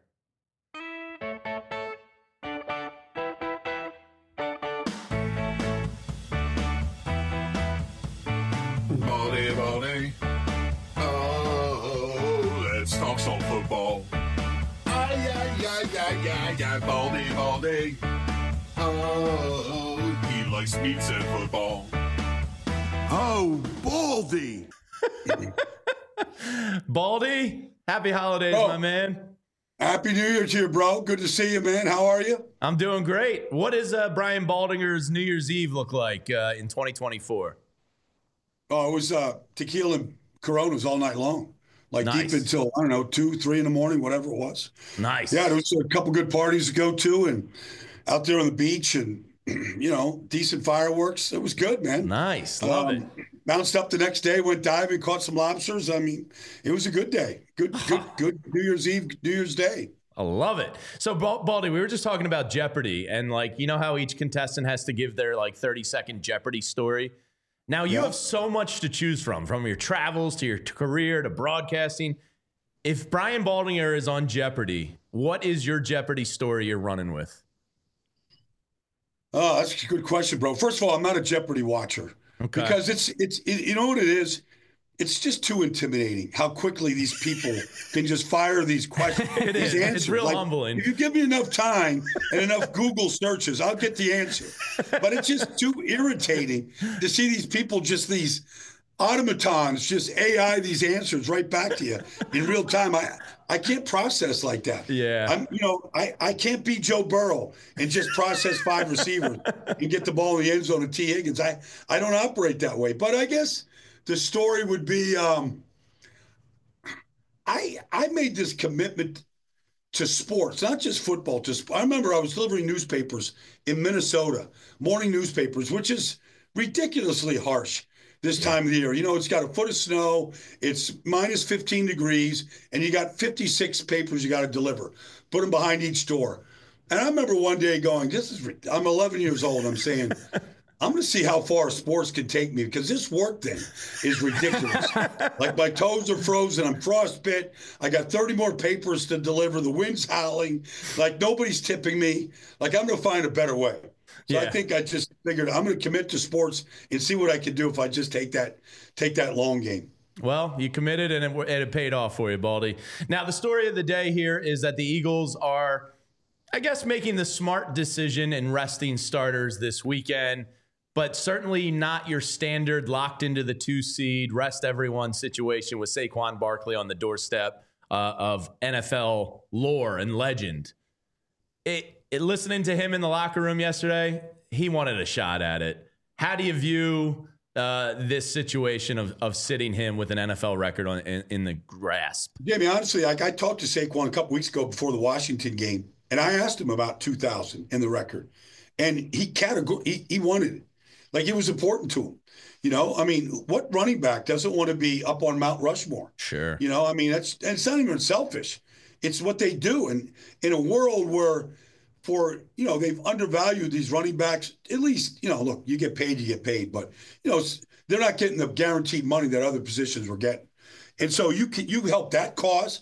Baldy. Oh, let's talk some football. Ay, Baldy. Oh, he likes meats and football. Oh, Baldy. Baldy, happy holidays, my man. Happy New Year to you, bro. Good to see you, man. How are you? I'm doing great. What does Brian Baldinger's New Year's Eve look like in 2024? Oh, it was tequila and Coronas all night long, like Nice. deep until, 2, 3 in the morning, whatever it was. Nice. Yeah, there was a couple good parties to go to and out there on the beach and, decent fireworks. It was good, man. Nice. Love it. Bounced up the next day, went diving, caught some lobsters. I mean, it was a good day. Good New Year's Eve, New Year's Day. I love it. So, Baldy, we were just talking about Jeopardy, and how each contestant has to give their 30-second Jeopardy story. Now, you have so much to choose from your travels to your career to broadcasting. If Brian Baldinger is on Jeopardy, what is your Jeopardy story you're running with? Oh, that's a good question, bro. First of all, I'm not a Jeopardy watcher because it's you know what it is? It's just too intimidating how quickly these people can just fire these questions. These answers. It's real humbling. If you give me enough time and enough Google searches, I'll get the answer. But it's just too irritating to see these people, just these automatons, just AI these answers right back to you in real time. I can't process like that. Yeah. I can't be Joe Burrow and just process 5 receivers and get the ball in the end zone to T. Higgins. I don't operate that way. But I guess the story would be I made this commitment to sports, not just football. I remember I was delivering newspapers in Minnesota, morning newspapers, which is ridiculously harsh this time of the year. It's got a foot of snow, it's minus 15 degrees, and you got 56 papers you got to deliver. Put them behind each door. And I remember one day going, I'm 11 years old. I'm saying, I'm going to see how far sports can take me because this work thing is ridiculous. Like my toes are frozen. I'm frostbit. I got 30 more papers to deliver. The wind's howling. Like nobody's tipping me. Like I'm going to find a better way. So I think I just figured I'm going to commit to sports and see what I can do if I just take that long game. Well, you committed and it paid off for you, Baldy. Now, the story of the day here is that the Eagles are, I guess, making the smart decision and resting starters this weekend, but certainly not your standard locked into the 2 seed, rest everyone situation with Saquon Barkley on the doorstep of NFL lore and legend. Listening to him in the locker room yesterday, he wanted a shot at it. How do you view this situation of sitting him with an NFL record in the grasp? Jamie, honestly, I talked to Saquon a couple weeks ago before the Washington game, and I asked him about 2,000 in the record, and he wanted it. Like it was important to him. What running back doesn't want to be up on Mount Rushmore? Sure. It's not even selfish. It's what they do. And in a world where they've undervalued these running backs. At least, look, you get paid, but they're not getting the guaranteed money that other positions were getting. And so you help that cause.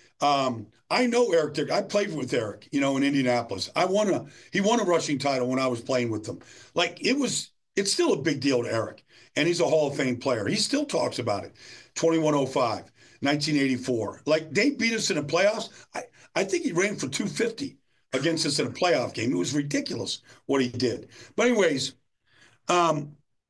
I know Eric Dick. I played with Eric, in Indianapolis. He won a rushing title when I was playing with them. It's still a big deal to Eric. And he's a Hall of Fame player. He still talks about it. 2105, 1984. They beat us in the playoffs. I think he ran for 250 against us in a playoff game. It was ridiculous what he did. But anyways, I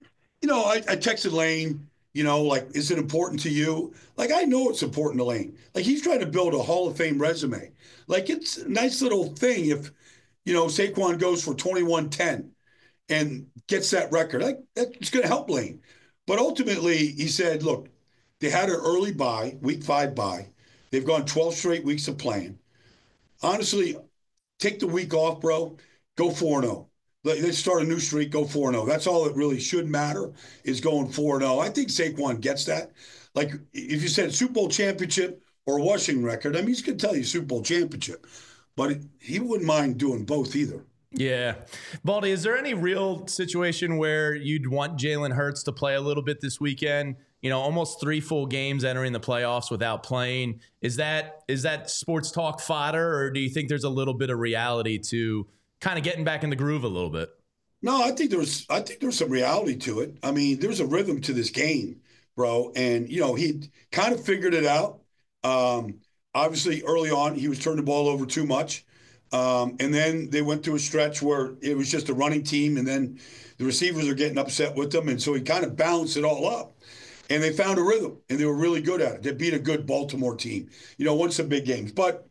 texted Lane, is it important to you? I know it's important to Lane. He's trying to build a Hall of Fame resume. It's a nice little thing if, Saquon goes for 21-10 and gets that record. That's going to help Lane. But ultimately, he said, look, they had an early bye, week 5 bye. They've gone 12 straight weeks of playing. Honestly, take the week off, bro. Go 4-0. Let's start a new streak, go 4-0. That's all that really should matter is going 4-0. I think Saquon gets that. If you said Super Bowl championship or a Washington record, he's going to tell you Super Bowl championship. But he wouldn't mind doing both either. Yeah. Baldy, is there any real situation where you'd want Jalen Hurts to play a little bit this weekend? Almost 3 full games entering the playoffs without playing. Is that sports talk fodder, or do you think there's a little bit of reality to kind of getting back in the groove a little bit? No, I think there's some reality to it. There's a rhythm to this game, bro. And, he kind of figured it out. Obviously, early on, he was turning the ball over too much. And then they went through a stretch where it was just a running team, and then the receivers are getting upset with them. And so he kind of balanced it all up. And they found a rhythm, and they were really good at it. They beat a good Baltimore team, won some big games. But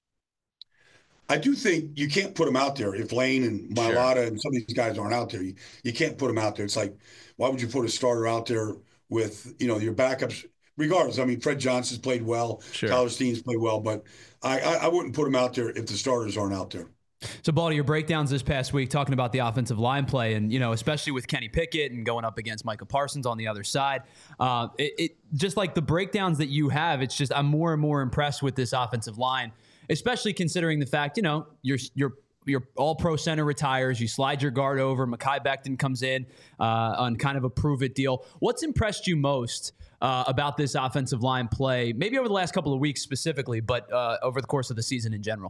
I do think you can't put them out there if Lane and Mailata and some of these guys aren't out there. You can't put them out there. It's why would you put a starter out there with, your backups? Regardless, Fred Johnson's played well. Sure. Tyler Steen's played well. But I wouldn't put them out there if the starters aren't out there. So, Baldy, your breakdowns this past week talking about the offensive line play and, especially with Kenny Pickett and going up against Micah Parsons on the other side. It just like the breakdowns that you have, it's just I'm more and more impressed with this offensive line, especially considering the fact, your all-pro center retires, you slide your guard over, Mekhi Becton comes in on kind of a prove-it deal. What's impressed you most about this offensive line play, maybe over the last couple of weeks specifically, but over the course of the season in general?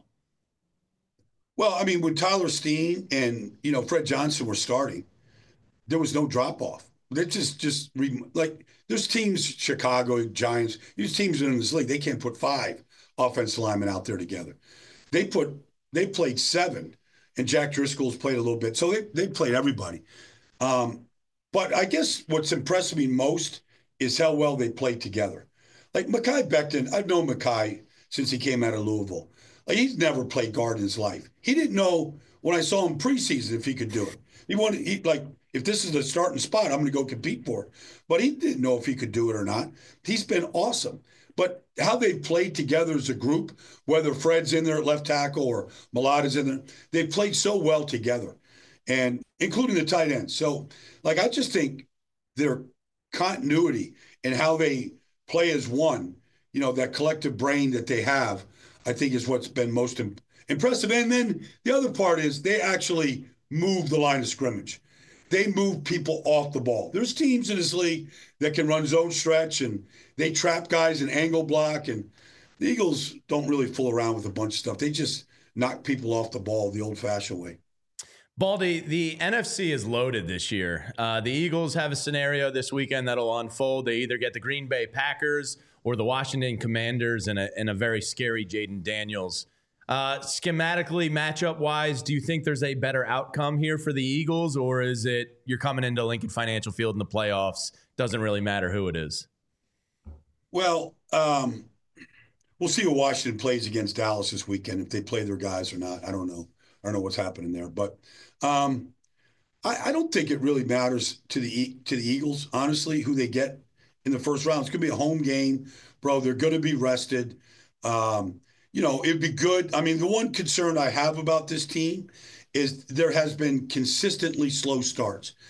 Well, when Tyler Steen and, Fred Johnson were starting, there was no drop-off. They're just there's teams, Chicago, Giants, these teams in this league, they can't put 5 offensive linemen out there together. They played 7, and Jack Driscoll's played a little bit. So they played everybody. But I guess what's impressed me most is how well they played together. Mekhi Becton, I've known Mekhi since he came out of Louisville. He's never played guard in his life. He didn't know when I saw him preseason if he could do it. If this is the starting spot, I'm going to go compete for it. But he didn't know if he could do it or not. He's been awesome. But how they've played together as a group, whether Fred's in there at left tackle or Mailata's in there, they've played so well together, and including the tight ends. So, I just think their continuity and how they play as one, that collective brain that they have, I think is what's been most impressive. And then the other part is they actually move the line of scrimmage. They move people off the ball. There's teams in this league that can run zone stretch, and they trap guys and angle block. And the Eagles don't really fool around with a bunch of stuff. They just knock people off the ball the old-fashioned way. Baldy, the NFC is loaded this year. The Eagles have a scenario this weekend that'll unfold. They either get the Green Bay Packers or the Washington Commanders and a very scary Jaden Daniels. Schematically, matchup-wise, do you think there's a better outcome here for the Eagles, or is it you're coming into Lincoln Financial Field in the playoffs, doesn't really matter who it is? Well, we'll see who Washington plays against Dallas this weekend, if they play their guys or not. I don't know. I don't know what's happening there. But I don't think it really matters to the Eagles, honestly, who they get in the first round. It's going to be a home game, bro. They're going to be rested. It'd be good. The one concern I have about this team is there has been consistently slow starts.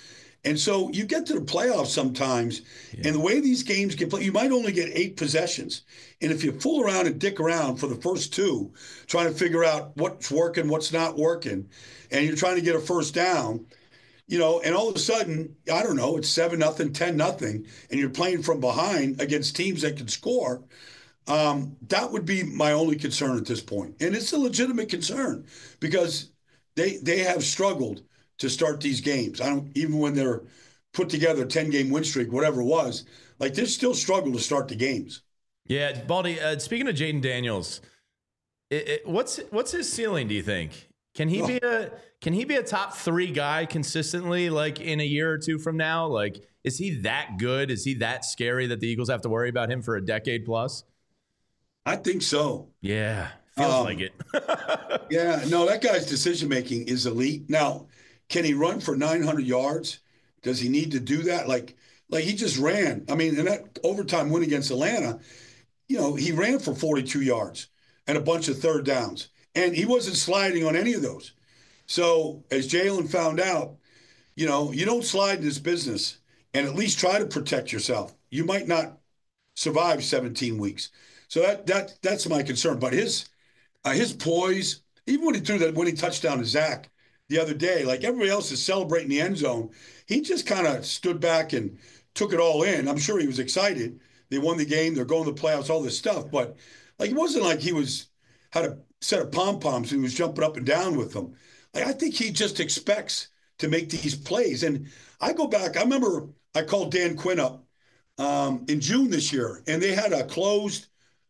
And so you get to the playoffs sometimes, and the way these games get played, you might only get 8 possessions. And if you fool around and dick around for the first 2, trying to figure out what's working, what's not working, and you're trying to get a first down, and all of a sudden, I don't know, it's 7-0, 10-0, and you're playing from behind against teams that can score. That would be my only concern at this point. And it's a legitimate concern because they have struggled to start these games. Even when they're put together a 10-game win streak, whatever it was, like they still struggle to start the games. Yeah, Baldy, speaking of Jaden Daniels, what's his ceiling, do you think? Can he be a top 3 guy consistently, like in a year or 2 from now? Like, is he that good? Is he that scary that the Eagles have to worry about him for a decade plus? I think so. Yeah, feels like it. Yeah, no, that guy's decision-making is elite. Now, can he run for 900 yards? Does he need to do that? Like he just ran. I mean, in that overtime win against Atlanta, he ran for 42 yards and a bunch of third downs. And he wasn't sliding on any of those. So as Jalen found out, you don't slide in this business and at least try to protect yourself. You might not survive 17 weeks. So that's my concern. But his poise, even when he threw that winning touchdown to Zach the other day, like everybody else is celebrating the end zone, he just kind of stood back and took it all in. I'm sure he was excited. They won the game. They're going to the playoffs, all this stuff. But like it wasn't like he had a set of pom-poms and he was jumping up and down with them. Like I think he just expects to make these plays. And I go back, I remember I called Dan Quinn up in June this year, and they had a closed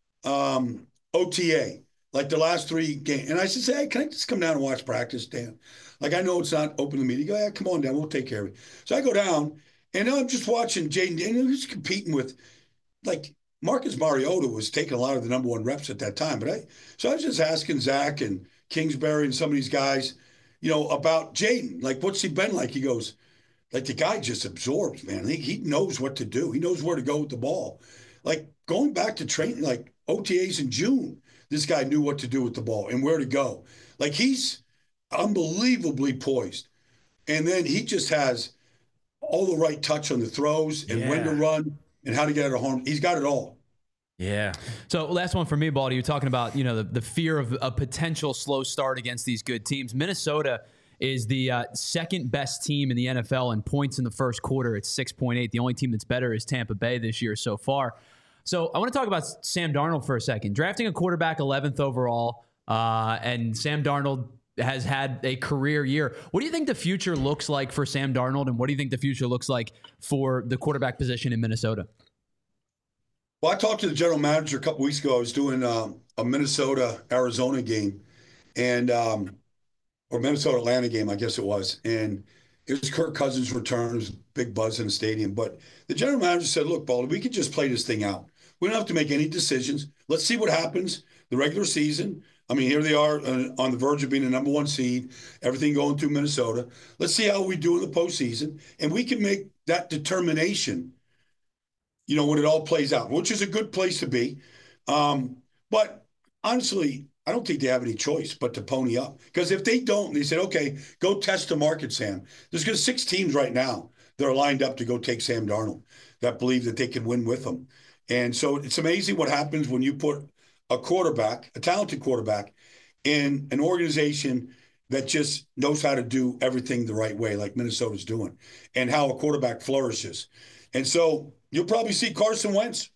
OTA, like the last 3 games. And I said, hey, can I just come down and watch practice, Dan? Like, I know it's not open to me. He go, yeah, come on down. We'll take care of it. So I go down, and I'm just watching Jaden Daniels. He's competing with, like, Marcus Mariota was taking a lot of the number 1 reps at that time. So I was just asking Zach and Kingsbury and some of these guys, about Jaden. Like, what's he been like? He goes, like, the guy just absorbs, man. He knows what to do. He knows where to go with the ball. Like, going back to training, like OTAs in June, this guy knew what to do with the ball and where to go. Like, he's unbelievably poised. And then he just has all the right touch on the throws and when to run and how to get out of harm. He's got it all. Yeah. So last one for me, Baldy. You're talking about, the fear of a potential slow start against these good teams. Minnesota is the second best team in the NFL in points in the first quarter. It's 6.8. The only team that's better is Tampa Bay this year so far. So I want to talk about Sam Darnold for a second. Drafting a quarterback 11th overall, and Sam Darnold has had a career year. What do you think the future looks like for Sam Darnold, and what do you think the future looks like for the quarterback position in Minnesota? Well, I talked to the general manager a couple weeks ago. I was doing a Minnesota-Arizona game, and or Minnesota-Atlanta game, I guess it was. And it was Kirk Cousins' return. It was a big buzz in the stadium. But the general manager said, look, Baldy, we could just play this thing out. We don't have to make any decisions. Let's see what happens the regular season. I mean, here they are on the verge of being the number 1 seed, everything going through Minnesota. Let's see how we do in the postseason. And we can make that determination, when it all plays out, which is a good place to be. But honestly, I don't think they have any choice but to pony up. Because if they don't, they said, okay, go test the market, Sam. There's 6 teams right now that are lined up to go take Sam Darnold that believe that they can win with him. And so it's amazing what happens when you put a quarterback, a talented quarterback, in an organization that just knows how to do everything the right way, like Minnesota's doing, and how a quarterback flourishes. And so you'll probably see Carson Wentz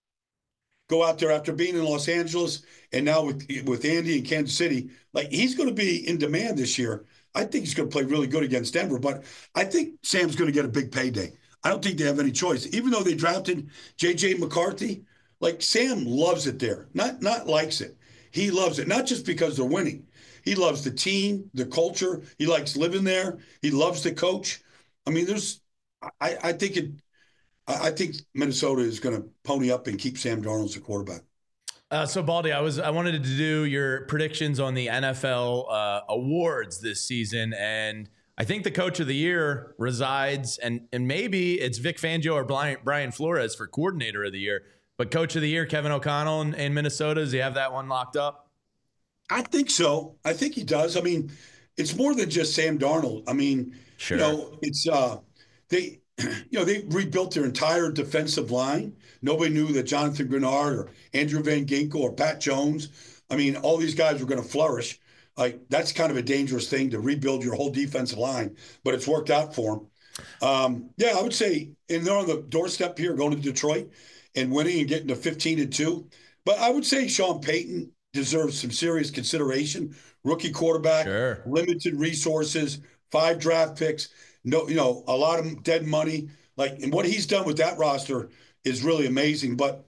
go out there after being in Los Angeles and now with Andy in Kansas City. Like, he's going to be in demand this year. I think he's going to play really good against Denver, but I think Sam's going to get a big payday. I don't think they have any choice. Even though they drafted J.J. McCarthy, like, Sam loves it there. Not likes it. He loves it, not just because they're winning. He loves the team, the culture. He likes living there. He loves the coach. I mean, I think Minnesota is going to pony up and keep Sam Darnold as a quarterback. So Baldy, I wanted to do your predictions on the NFL awards this season, and I think the Coach of the Year resides, and maybe it's Vic Fangio or Brian Flores for Coordinator of the Year. But Coach of the Year, Kevin O'Connell in Minnesota, does he have that one locked up? I think so. I think he does. I mean, it's more than just Sam Darnold. I mean, sure. It's they rebuilt their entire defensive line. Nobody knew that Jonathan Grenard or Andrew Van Ginkel or Pat Jones, I mean, all these guys were going to flourish. Like, that's kind of a dangerous thing to rebuild your whole defensive line, but it's worked out for them. I would say, and they're on the doorstep here going to Detroit and winning and getting to 15-2. But I would say Sean Payton deserves some serious consideration. Rookie quarterback, limited resources, 5 draft picks, a lot of dead money. And what he's done with that roster is really amazing. But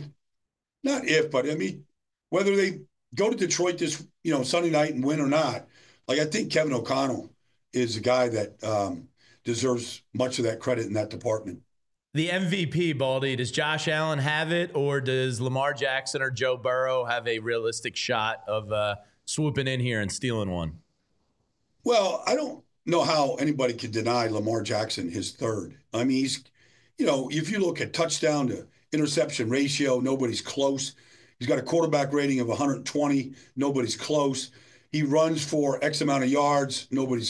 whether they go to Detroit this, Sunday night and win or not, I think Kevin O'Connell is a guy that deserves much of that credit in that department. The MVP, Baldy, does Josh Allen have it, or does Lamar Jackson or Joe Burrow have a realistic shot of swooping in here and stealing one? Well, I don't know how anybody could deny Lamar Jackson his third. I mean, he's, if you look at touchdown to interception ratio, nobody's close. He's got a quarterback rating of 120. Nobody's close. He runs for X amount of yards.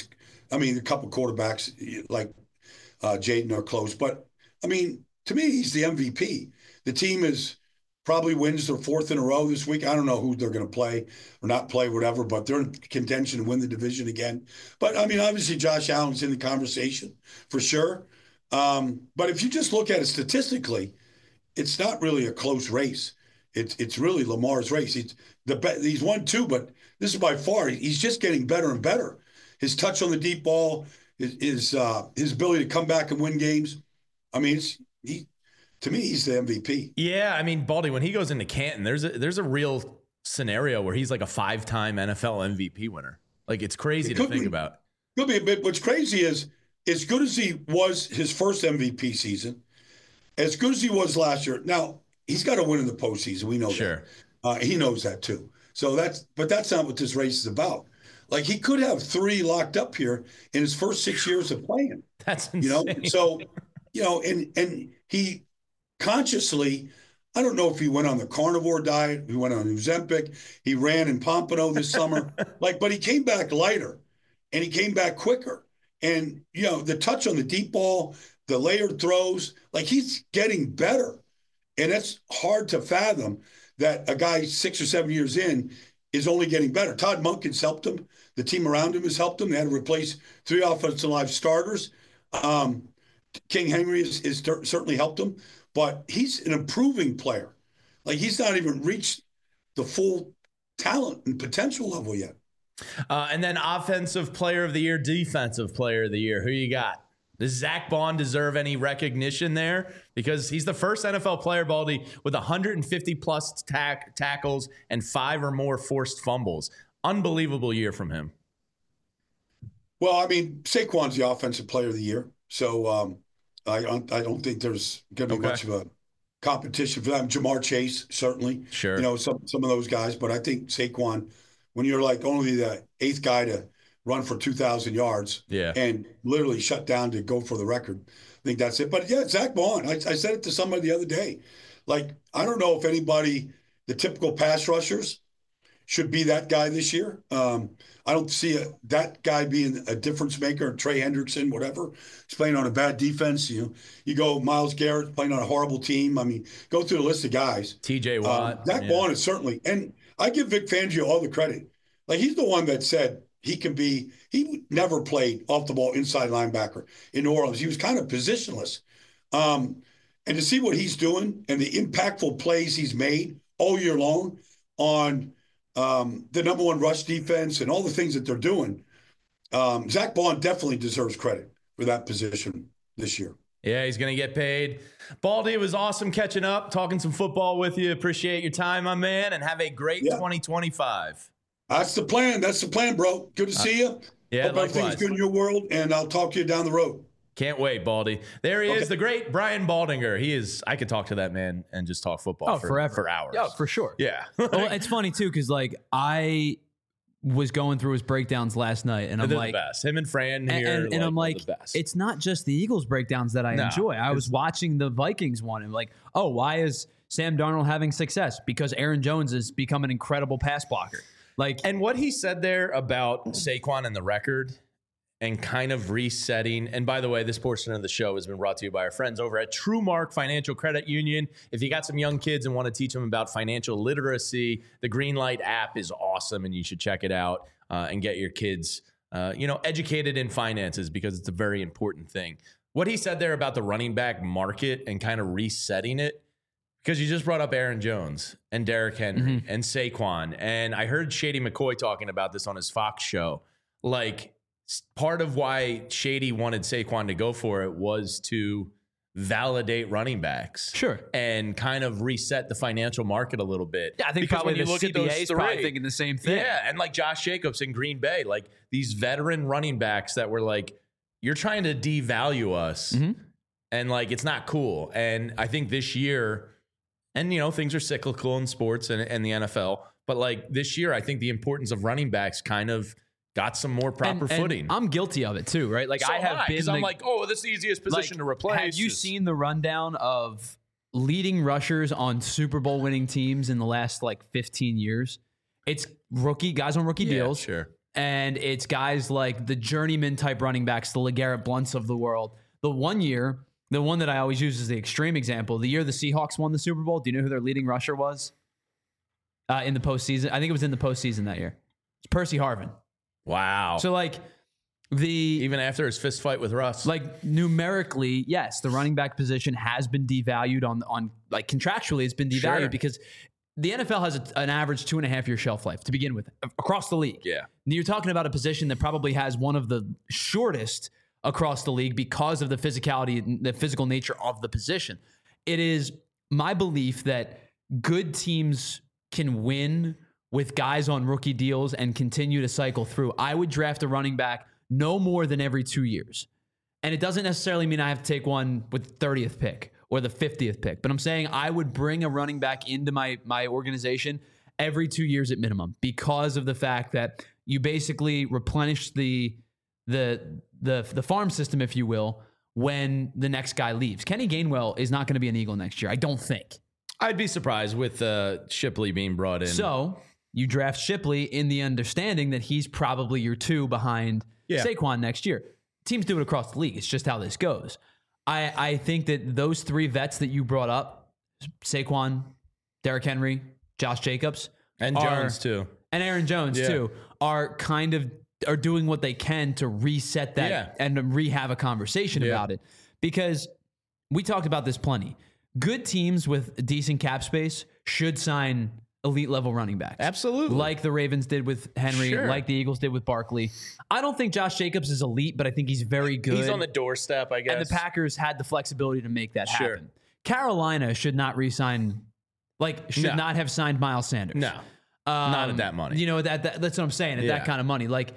A couple quarterbacks like Jaden are close. But, to me, he's the MVP. The team probably wins their 4th in a row this week. I don't know who they're going to play or not play, whatever, but they're in contention to win the division again. But, obviously Josh Allen's in the conversation for sure. But if you just look at it statistically, it's not really a close race. It's really Lamar's race. He's 1-2, but this is by far, he's just getting better and better. His touch on the deep ball, his ability to come back and win games. To me, he's the MVP. Yeah, Baldy, when he goes into Canton, there's a real scenario where he's like a 5-time NFL MVP winner. It's crazy to think about. Could be a bit. What's crazy is, as good as he was his first MVP season, as good as he was last year, now he's got to win in the postseason. We know that. He knows that too. So that's not what this race is about. He could have 3 locked up here in his first 6 years of playing. That's insane. So, and he consciously, I don't know if he went on the carnivore diet, he went on Ozempic, he ran in Pompano this summer, but he came back lighter and he came back quicker. And, the touch on the deep ball, the layered throws, he's getting better. And that's hard to fathom that a guy 6 or 7 years in is only getting better. Todd Monken's helped him. The team around him has helped him. They had to replace 3 offensive line starters. King Henry has certainly helped him, but he's an improving player. He's not even reached the full talent and potential level yet. And then offensive player of the year, defensive player of the year. Who you got? Does Zach Bond deserve any recognition there? Because he's the first NFL player, Baldy, with 150-plus tackles and 5 or more forced fumbles. Unbelievable year from him. Well, Saquon's the offensive player of the year. So I don't think there's going to be much of a competition for them. Jamar Chase, certainly. Sure. Some of those guys. But I think Saquon, when you're only the 8th guy to run for 2,000 yards and literally shut down to go for the record, I think that's it. But, yeah, Zach Bond, I said it to somebody the other day. I don't know if anybody, the typical pass rushers, should be that guy this year. I don't see that guy being a difference maker. Trey Hendrickson, whatever. He's playing on a bad defense. You go Myles Garrett playing on a horrible team. Go through the list of guys. TJ Watt. Zach Bond is certainly, and I give Vic Fangio all the credit. He's the one that said he never played off the ball inside linebacker in New Orleans. He was kind of positionless. And to see what he's doing and the impactful plays he's made all year long on the number 1 rush defense and all the things that they're doing, Zach Bond definitely deserves credit for that position this year. Yeah, he's going to get paid. Baldy, it was awesome catching up, talking some football with you. Appreciate your time, my man, and have a great 2025. That's the plan. That's the plan, bro. Good to see you. Yeah, Hope everything's good in your world, and I'll talk to you down the road. Can't wait, Baldy. There he is, the great Brian Baldinger. I could talk to that man and just talk football forever. For hours. Yeah, for sure. Yeah. Well, it's funny, too, because, I was going through his breakdowns last night, and I'm the best. Him and Fran here. And I'm like, it's not just the Eagles breakdowns that I enjoy. I was watching the Vikings one, and why is Sam Darnold having success? Because Aaron Jones has become an incredible pass blocker. And what he said there about Saquon and the record, and kind of resetting. And by the way, this portion of the show has been brought to you by our friends over at TrueMark Financial Credit Union. If you got some young kids and want to teach them about financial literacy, the Greenlight app is awesome, and you should check it out and get your kids educated in finances, because it's a very important thing. What he said there about the running back market and kind of resetting it, because you just brought up Aaron Jones and Derrick Henry and Saquon. And I heard Shady McCoy talking about this on his Fox show. Like, part of why Shady wanted Saquon to go for it was to validate running backs. Sure. And kind of reset the financial market a little bit. Yeah, I think because probably when you the look at those CBA is three, probably thinking the same thing. Yeah, and like Josh Jacobs in Green Bay, like these veteran running backs that were like, you're trying to devalue us, and like it's not cool. And I think this year, and things are cyclical in sports and the NFL, but like this year, I think the importance of running backs kind of got some more proper footing. I'm guilty of it too, right? Like So I have been. because I'm like, oh, this is the easiest position to replace. Have you seen the rundown of leading rushers on Super Bowl winning teams in the last like 15 years? It's guys on rookie deals. Sure. And it's guys like the journeyman type running backs, the LeGarrette Blunts of the world. The one that I always use as the extreme example, the year the Seahawks won the Super Bowl, do you know who their leading rusher was in the postseason? I think it was in the postseason that year. It's Percy Harvin. Wow. So like even after his fist fight with Russ, like numerically, yes, the running back position has been devalued on like contractually it's been devalued because the NFL has an average 2.5-year shelf life to begin with across the league. Yeah. And you're talking about a position that probably has one of the shortest across the league because of the physicality and the physical nature of the position. It is my belief that good teams can win with guys on rookie deals and continue to cycle through. I would draft a running back no more than every 2 years. And it doesn't necessarily mean I have to take one with the 30th pick or the 50th pick, but I'm saying I would bring a running back into my organization every 2 years at minimum, because of the fact that you basically replenish the farm system, if you will, when the next guy leaves. Kenny Gainwell is not going to be an Eagle next year, I don't think. I'd be surprised with Shipley being brought in. So you draft Shipley in the understanding that he's probably your 2 behind Saquon next year. Teams do it across the league. It's just how this goes. I think that those 3 vets that you brought up, Saquon, Derrick Henry, Josh Jacobs, and Jones too, and Aaron Jones too, are doing what they can to reset that and have a conversation about it. Because we talked about this plenty. Good teams with decent cap space should sign elite level running backs. Absolutely. Like the Ravens did with Henry, like the Eagles did with Barkley. I don't think Josh Jacobs is elite, but I think he's very good. He's on the doorstep, I guess. And the Packers had the flexibility to make that happen. Carolina should not re-sign, not have signed Miles Sanders. No. Not at that money. That's what I'm saying, at that kind of money. Like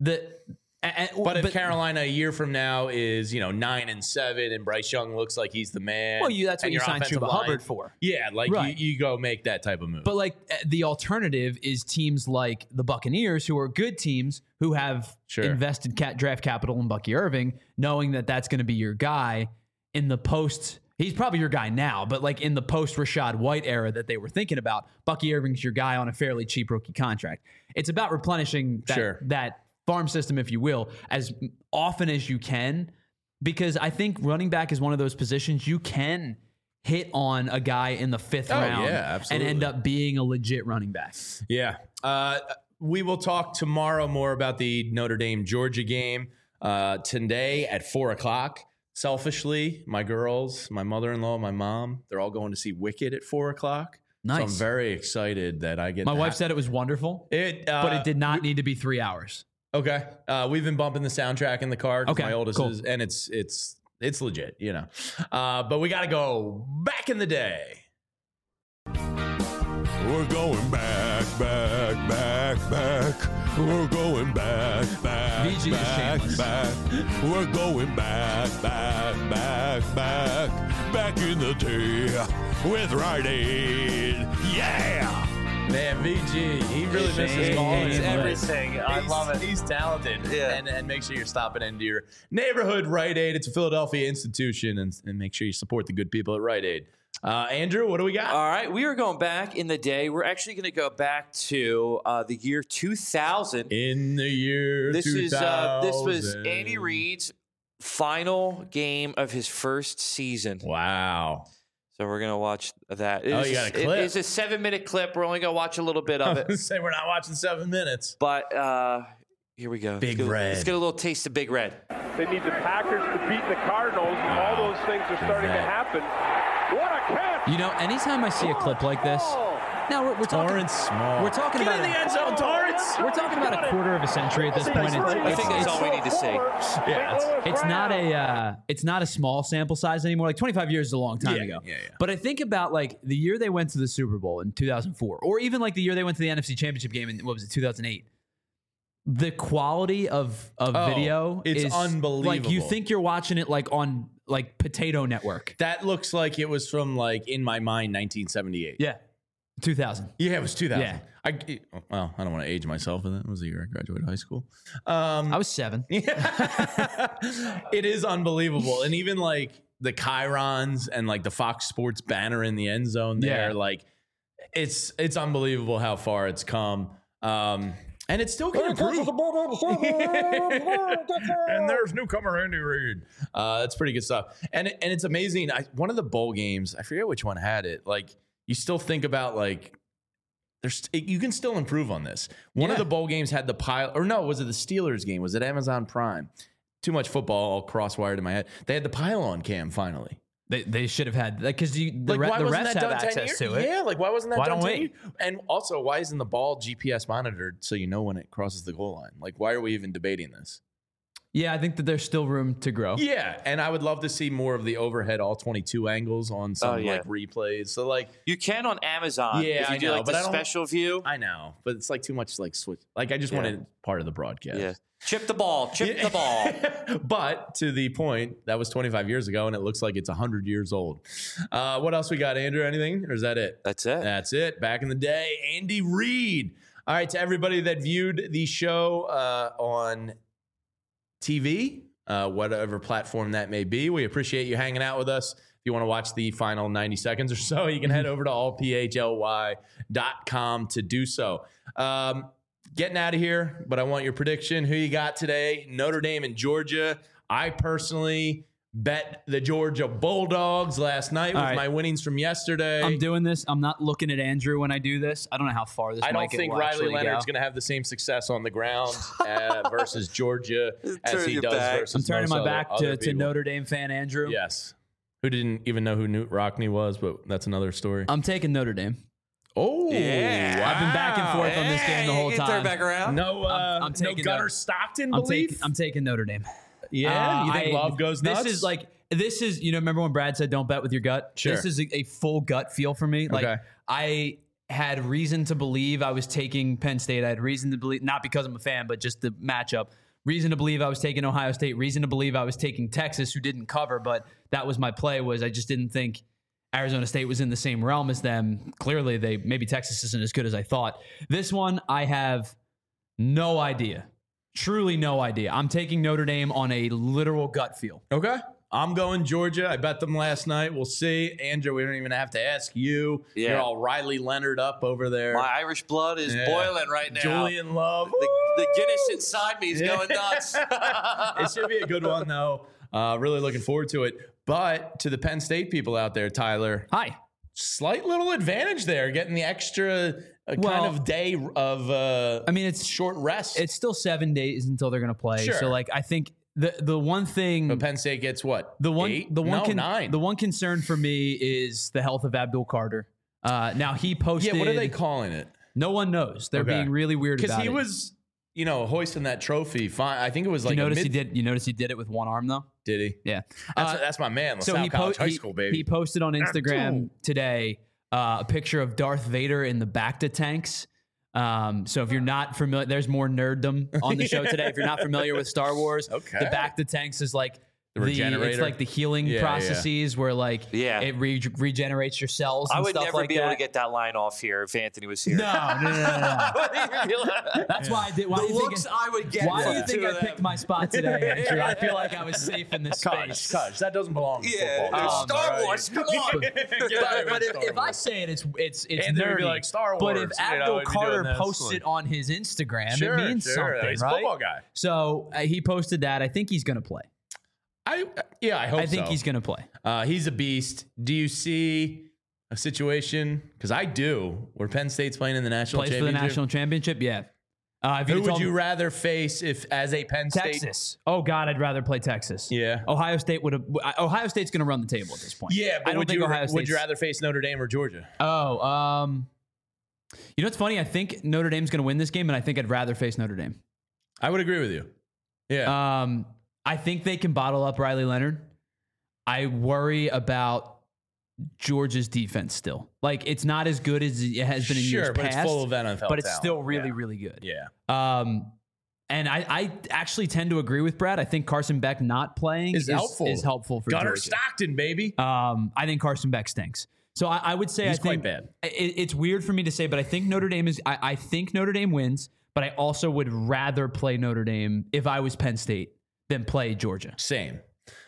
but if Carolina a year from now is 9-7 and Bryce Young looks like he's the man, well, that's what you signed Chuba Hubbard for. Yeah, you go make that type of move. But the alternative is teams like the Buccaneers, who are good teams who have invested draft capital in Bucky Irving, knowing that that's going to be your guy in the post. He's probably your guy now, but in the post Rashad White era that they were thinking about, Bucky Irving's your guy on a fairly cheap rookie contract. It's about replenishing that farm system, if you will, as often as you can, because I think running back is one of those positions you can hit on a guy in the 5th round and end up being a legit running back. Yeah. We will talk tomorrow more about the Notre Dame-Georgia game. Today at 4:00. Selfishly, my girls, my mother-in-law, my mom, they're all going to see Wicked at 4:00. Nice. So I'm very excited that I get My wife said it was wonderful, but it did not need to be 3 hours. Okay. We've been bumping the soundtrack in the car. Okay, my oldest is, and it's legit, but we got to go back in the day. We're going back. We're going back. VG is shameless. We're going back in the day with Rite Aid. Yeah. Man, VG, he really misses calling. He's everything. I love it. He's talented. Yeah. And make sure you're stopping into your neighborhood Rite Aid. It's a Philadelphia institution, and make sure you support the good people at Rite Aid. Andrew, what do we got? All right, we are going back in the day. We're actually going to go back to the year 2000. In the year this 2000. This was Andy Reid's final game of his first season. Wow. So we're going to watch that. You got a clip. It's a 7-minute clip. We're only going to watch a little bit of it. Say we're not watching 7 minutes. But here we go. Big Red. Let's get a little taste of Big Red. They need the Packers to beat the Cardinals. All those things are starting to happen. What a catch! You know, anytime I see a clip like this, now we're talking. Torrance Small. We're talking Get about in the end zone, Torrance. We're talking about a quarter of a century at this point. I think that's all we need to see. Yeah, it's not a small sample size anymore. Like 25 years is a long time ago. Yeah. But I think about like the year they went to the Super Bowl in 2004, or even like the year they went to the NFC Championship game in 2008. The quality of video it's unbelievable. Like you think you're watching it like on like Potato Network. That looks like it was from like in my mind 1978. Yeah. 2000. Yeah, it was 2000. Yeah. I don't want to age myself, but that was the year I graduated high school. I was 7. It is unbelievable. And even like the Chyrons and like the Fox Sports banner in the end zone there, like it's unbelievable how far it's come. And it's still going to improve. And there's newcomer Andy Reid. That's pretty good stuff. And it's amazing. One of the bowl games, I forget which one had it. Like you still think about like you can still improve on this. One of the bowl games had the pile, or no, was it the Steelers game? Was it Amazon Prime? Too much football all cross-wired in my head. They had the pylon cam finally. They should have had that because the why wasn't refs that have done 10 access years? to it. Yeah, like why wasn't that Why done don't 10 we? years? And also, why isn't the ball GPS monitored so you know when it crosses the goal line? Like, why are we even debating this? Yeah, I think that there's still room to grow. Yeah, and I would love to see more of the overhead all 22 angles on some like replays. So like you can on Amazon. Yeah, if you I do know, like but the I don't- special view. I know, but it's like too much like switch. Like I just wanted part of the broadcast. Yeah. Chip the ball. Chip the ball. But to the point, that was 25 years ago, and it looks like it's 100 years old. What else we got, Andrew? Anything? Or is that it? That's it. That's it. Back in the day, Andy Reid. All right, to everybody that viewed the show on TV, whatever platform that may be, we appreciate you hanging out with us. If you want to watch the final 90 seconds or so, you can head over to allphly.com to do so. Getting out of here, but I want your prediction. Who you got today? Notre Dame and Georgia. I personally bet the Georgia Bulldogs last night with my winnings from yesterday. I'm doing this. I'm not looking at Andrew when I do this. I don't know how far this I might don't think Riley Leonard's going to have the same success on the ground versus Georgia as he does versus I'm turning most my back other to people. Notre Dame fan Andrew. Yes. Who didn't even know who Newt Rockne was, but that's another story. I'm taking Notre Dame. Oh, yeah. I've been back and forth on this game the whole time. Turn back around. No, I'm no taking Gunnar Stockton I'm belief? I'm taking Notre Dame. Yeah, you think Love goes nuts? This is remember when Brad said don't bet with your gut? Sure. This is a full gut feel for me. Like Okay. I had reason to believe I was taking Penn State. I had reason to believe, not because I'm a fan, but just the matchup. Reason to believe I was taking Ohio State. Reason to believe I was taking Texas, who didn't cover, but that was my play. Was I just didn't think Arizona State was in the same realm as them. Clearly, maybe Texas isn't as good as I thought. This one, I have no idea. Truly no idea. I'm taking Notre Dame on a literal gut feel. Okay. I'm going Georgia. I bet them last night. We'll see. Andrew, we don't even have to ask you. Yeah. You're all Riley Leonard up over there. My Irish blood is boiling right now. Julian Love. The Guinness inside me is going nuts. It should be a good one, though. Really looking forward to it. But to the Penn State people out there, Tyler. Hi. Slight little advantage there, getting the extra kind of day of it's short rest. It's still 7 days until they're going to play. Sure. So, like, I think the one thing. But Penn State gets what? 9. The one concern for me is the health of Abdul Carter. Now, he posted. Yeah, what are they calling it? No one knows. They're being really weird about it. Because he was, hoisting that trophy. Fine. I think it was like You notice he did it with one arm, though? Did he? Yeah. That's my man. LaSalle College High School, baby. He posted on Instagram today a picture of Darth Vader in the Bacta tanks. So if you're not familiar, there's more nerddom on the show today. If you're not familiar with Star Wars, the Bacta tanks is like The regenerator. It's like the healing processes where it regenerates your cells. And I would stuff never like be that. able to get that line off here if Anthony was here. No. That's why I did. Why The do you looks think, I would get. Why do you from think two I of picked them. my spot today, Andrew? I feel like I was safe in this space. Cush, that doesn't belong to football. there's Star Wars. Come on. But if I say it, it's Anthony would nerdy. be like, Star But Wars, if you know, Abdul we'd be doing Carter this, posts like- it on his Instagram, Sure, it means sure. something, He's a right? football guy. So he posted that. I think he's going to play. I hope I think so. he's going to play. He's a beast. Do you see a situation? Because I do. Where Penn State's playing in the national Plays for the championship. national championship. Yeah. Who would you rather face if as a Penn State? Texas. Oh God, I'd rather play Texas. Yeah. Ohio State would have. Ohio State's going to run the table at this point. Yeah, but I don't think Ohio State's. would you rather face Notre Dame or Georgia? Oh, you know what's funny? I think Notre Dame's going to win this game, and I think I'd rather face Notre Dame. I would agree with you. Yeah. I think they can bottle up Riley Leonard. I worry about Georgia's defense still. Like, it's not as good as it has been in years Sure, but past. it's full of NFL but it's talent. still really, really good. Yeah. And I actually tend to agree with Brad. I think Carson Beck not playing is helpful for Gunnar Georgia. Stockton, baby. I think Carson Beck stinks. So I would say He's I think quite bad. It's weird for me to say, but I think Notre Dame is. I think Notre Dame wins, but I also would rather play Notre Dame if I was Penn State than play Georgia. Same.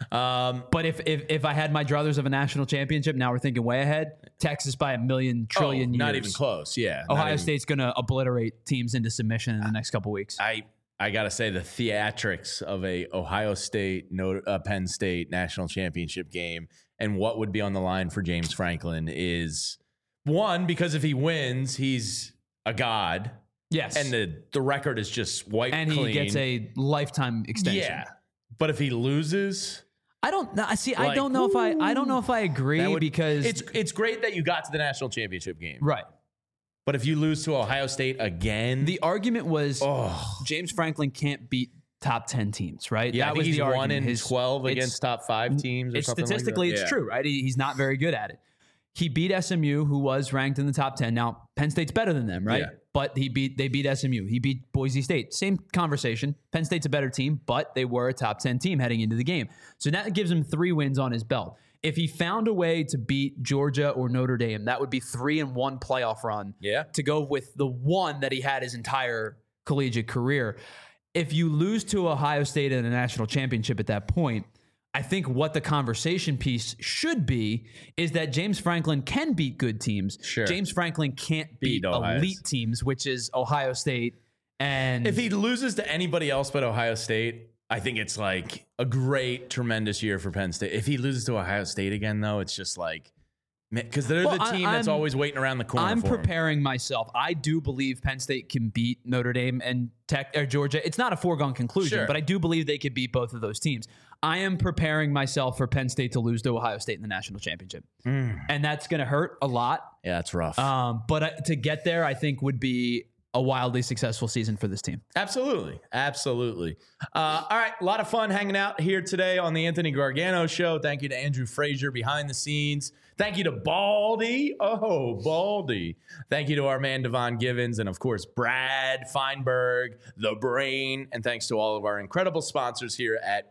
But if I had my druthers of a national championship, now we're thinking way ahead. Texas by a million trillion years. Not even close. Yeah. Ohio State's going to obliterate teams into submission in the next couple weeks. I got to say the theatrics of a Ohio State, Penn State national championship game and what would be on the line for James Franklin is one, because if he wins, he's a god. Yes. And the record is just white and clean. he gets a lifetime extension. Yeah. But if he loses, I don't know. See, I don't know if I agree because it's great that you got to the national championship game. Right. But if you lose to Ohio State again, the argument was James Franklin can't beat top 10 teams, right? Yeah, that I think was he's the 1 argument. in 12 against top 5 teams. Or something Statistically, like that. it's true, right? He's not very good at it. He beat SMU, who was ranked in the top 10. Now, Penn State's better than them, right? Yeah. But they beat SMU. He beat Boise State. Same conversation. Penn State's a better team, but they were a top 10 team heading into the game. So that gives him 3 wins on his belt. If he found a way to beat Georgia or Notre Dame, that would be 3-1 playoff run. Yeah. To go with the one that he had his entire collegiate career. If you lose to Ohio State in a national championship at that point, I think what the conversation piece should be is that James Franklin can beat good teams. Sure. James Franklin can't beat Ohio elite teams, which is Ohio State. And if he loses to anybody else but Ohio State, I think it's like a great, tremendous year for Penn State. If he loses to Ohio State again, though, it's just like, because they're the team that's always waiting around the corner. I'm for him. preparing myself. I do believe Penn State can beat Notre Dame and Georgia. It's not a foregone conclusion, Sure. but I do believe they could beat both of those teams. I am preparing myself for Penn State to lose to Ohio State in the national championship, and that's going to hurt a lot. Yeah, it's rough. But to get there, I think would be a wildly successful season for this team. Absolutely. Absolutely. All right. A lot of fun hanging out here today on the Anthony Gargano Show. Thank you to Andrew Frazier behind the scenes. Thank you to Baldy. Oh, Baldy. Thank you to our man, Devon Givens. And of course, Brad Feinberg, the brain. And thanks to all of our incredible sponsors here at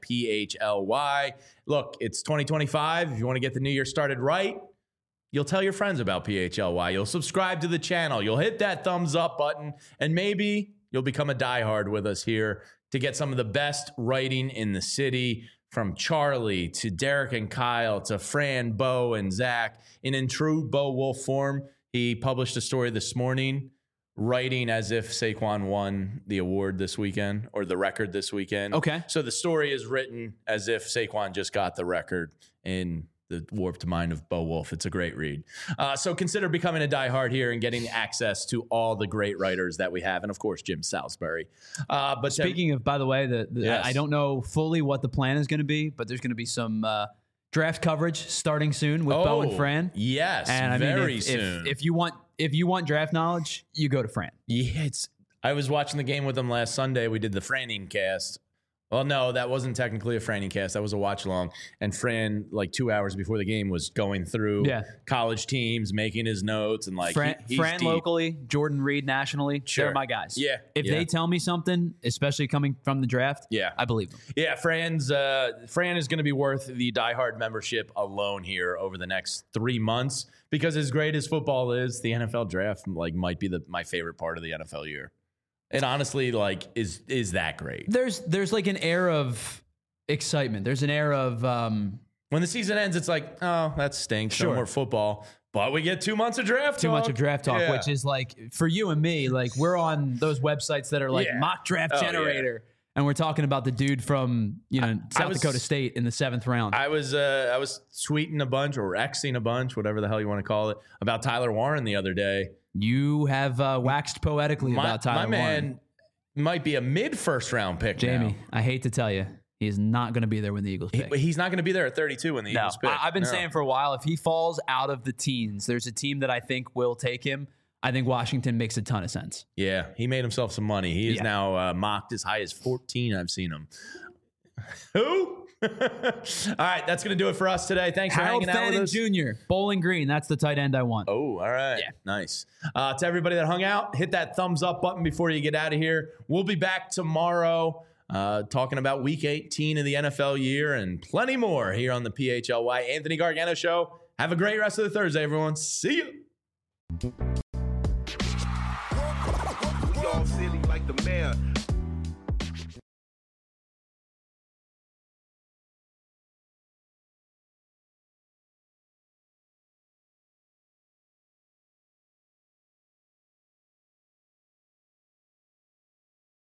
PHLY. Look, it's 2025. If you want to get the new year started right, you'll tell your friends about PHLY. You'll subscribe to the channel. You'll hit that thumbs up button. And maybe you'll become a diehard with us here to get some of the best writing in the city, from Charlie to Derek and Kyle to Fran, Bo, and Zach. And in true Bo Wolf form, he published a story this morning writing as if Saquon won the award this weekend or the record this weekend. Okay. So the story is written as if Saquon just got the record in the warped mind of Bo Wolf. It's a great read. So consider becoming a diehard here and getting access to all the great writers that we have. And of course, Jim Salisbury. But Speaking of, by the way, Yes. I don't know fully what the plan is going to be, but there's going to be some draft coverage starting soon with Bo and Fran. Yes, and I very mean, soon. If you want draft knowledge, you go to Fran. Yeah, I was watching the game with them last Sunday. We did the Franning cast Well, no, that wasn't technically a Franny cast. That was a watch along. And Fran, like 2 hours before the game, was going through college teams, making his notes, and like Fran he's deep. locally, Jordan Reed nationally. Sure. They're my guys. Yeah. If they tell me something, especially coming from the draft, I believe them. Yeah, Fran is going to be worth the diehard membership alone here over the next 3 months, because as great as football is, the NFL draft might be my favorite part of the NFL year. It honestly is that great. There's like an air of excitement. There's an air of when the season ends, it's like, oh, that stinks. No more football. But we get 2 months of draft talk. 2 months of draft talk, which is like, for you and me, like we're on those websites that are like mock draft generator. And we're talking about the dude from South Dakota State in the 7th round. I was tweeting a bunch or Xing a bunch, whatever the hell you want to call it, about Tyler Warren the other day. You have waxed poetically about Tyler Warren. My man might be a mid-first round pick. Jamie, now. I hate to tell you, he is not going to be there when the Eagles pick. He's not going to be there at 32 when the Eagles pick. I've been saying for a while, if he falls out of the teens, there's a team that I think will take him. I think Washington makes a ton of sense. Yeah, he made himself some money. He is now mocked as high as 14. I've seen him. Who? All right, that's going to do it for us today. Thanks for hanging out with us. Jr., Bowling Green. That's the tight end I want. Oh, all right. Yeah. Nice. To everybody that hung out, hit that thumbs up button before you get out of here. We'll be back tomorrow talking about Week 18 of the NFL year and plenty more here on the PHLY Anthony Gargano Show. Have a great rest of the Thursday, everyone. See you.